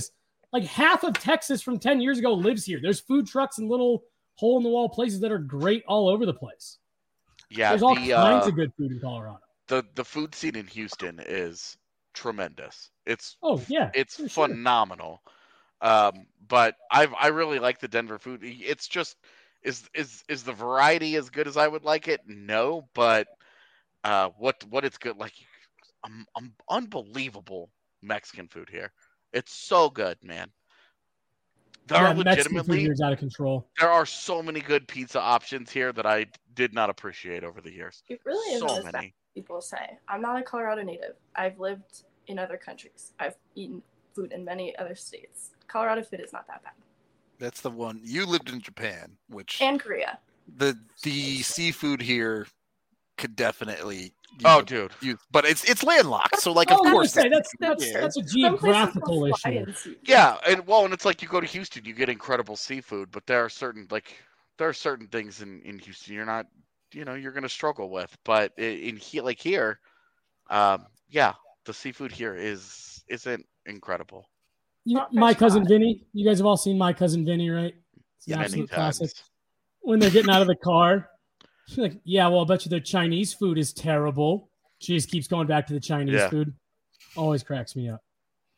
Speaker 3: like half of Texas from ten years ago lives here. There's food trucks and little hole in the wall places that are great all over the place.
Speaker 5: Yeah,
Speaker 3: There's all
Speaker 5: the,
Speaker 3: kinds
Speaker 5: uh,
Speaker 3: of good food in Colorado.
Speaker 5: the the food scene in Houston is tremendous. It's
Speaker 3: Oh yeah,
Speaker 5: it's
Speaker 3: for sure.
Speaker 5: phenomenal. Um, but I I really like the Denver food. It's just is is is the variety as good as I would like it? No, but uh, what what it's good like, um, um, unbelievable Mexican food here. It's so good, man. There
Speaker 3: Yeah,
Speaker 5: are
Speaker 3: Mexican food
Speaker 5: legitimately
Speaker 3: here is out of control.
Speaker 5: there are so many good pizza options here that I did not appreciate over the years.
Speaker 2: It really isn't
Speaker 5: So
Speaker 2: as bad
Speaker 5: many.
Speaker 2: as people say. I'm not a Colorado native. I've lived in other countries. I've eaten food in many other states. Colorado food is not that bad.
Speaker 1: That's the one. You lived in Japan, which
Speaker 2: And Korea.
Speaker 1: the the seafood here could definitely. use
Speaker 5: Oh,
Speaker 1: a-
Speaker 5: dude.
Speaker 1: use- but it's it's landlocked, so like
Speaker 3: I
Speaker 1: of
Speaker 3: was gonna
Speaker 1: course
Speaker 3: say, that's
Speaker 2: That's
Speaker 3: that's
Speaker 1: yeah.
Speaker 3: that's a
Speaker 2: Some places
Speaker 3: geographical
Speaker 2: will fly
Speaker 3: issue.
Speaker 2: in seafood.
Speaker 5: Yeah, and well, and it's like you go to Houston, you get incredible seafood, but there are certain like there are certain things in, in Houston you're not, you know, you're gonna struggle with. But i- in here, like here, um, yeah, the seafood here is isn't incredible.
Speaker 3: You,
Speaker 2: Not
Speaker 3: my
Speaker 2: fresh
Speaker 3: cousin
Speaker 2: cod.
Speaker 3: Vinny. You guys have all seen My Cousin Vinny, right? It's an
Speaker 1: Yeah,
Speaker 5: Many
Speaker 3: absolute
Speaker 5: times.
Speaker 3: classic. When they're getting out of the car, she's like, "Yeah, well, I bet you their Chinese food is terrible." She just keeps going back to the Chinese
Speaker 5: Yeah.
Speaker 3: food. Always cracks me up.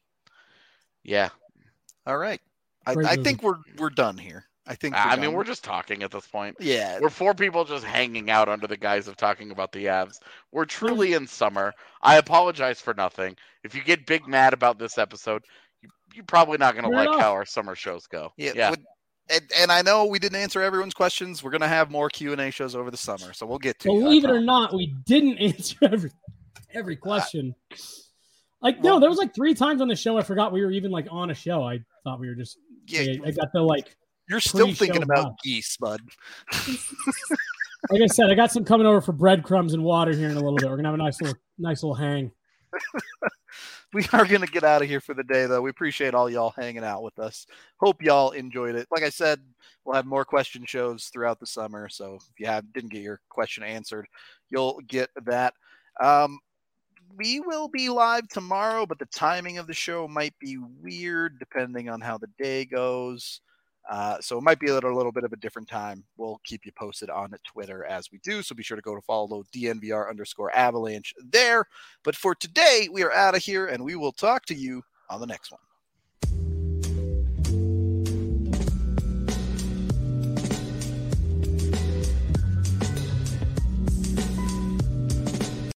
Speaker 5: Yeah,
Speaker 1: All right, I,
Speaker 3: Great
Speaker 1: I
Speaker 3: movie.
Speaker 1: think we're we're done here. I think.
Speaker 5: I
Speaker 1: done.
Speaker 5: mean we're just talking at this point.
Speaker 1: yeah.
Speaker 5: We're four people just hanging out under the guise of talking about the Avs. We're truly in summer. I apologize for nothing. If you get big mad about this episode, you, you're probably not going to
Speaker 3: Fair
Speaker 5: like
Speaker 3: enough.
Speaker 5: how our summer shows go.
Speaker 1: Yeah,
Speaker 5: Yeah.
Speaker 1: would- and, and I know we didn't answer everyone's questions. We're gonna have more Q and A shows over the summer, so we'll get to. you, I
Speaker 3: Believe it or
Speaker 1: promise.
Speaker 3: not, we didn't answer every every question. Like no,
Speaker 1: well-
Speaker 3: there was like three times on the show I forgot we were even like on a show. I thought we were just.
Speaker 1: Yeah,
Speaker 3: I, I got the like.
Speaker 1: you're still
Speaker 3: pre-show
Speaker 1: thinking about
Speaker 3: vibe.
Speaker 1: geese, bud.
Speaker 3: Like I said, I got some coming over for breadcrumbs and water here in a little bit. We're gonna have a nice little nice little hang.
Speaker 1: We are going to get out of here for the day, though. We appreciate all y'all hanging out with us. Hope y'all enjoyed it. Like I said, we'll have more question shows throughout the summer. So if you have didn't get your question answered, you'll get that. Um, we will be live tomorrow, but the timing of the show might be weird depending on how the day goes. Uh, so it might be at a little bit of a different time. We'll keep you posted on Twitter as we do. So be sure to go to follow D N V R underscore avalanche there. But for today, we are out of here and we will talk to you on the next one.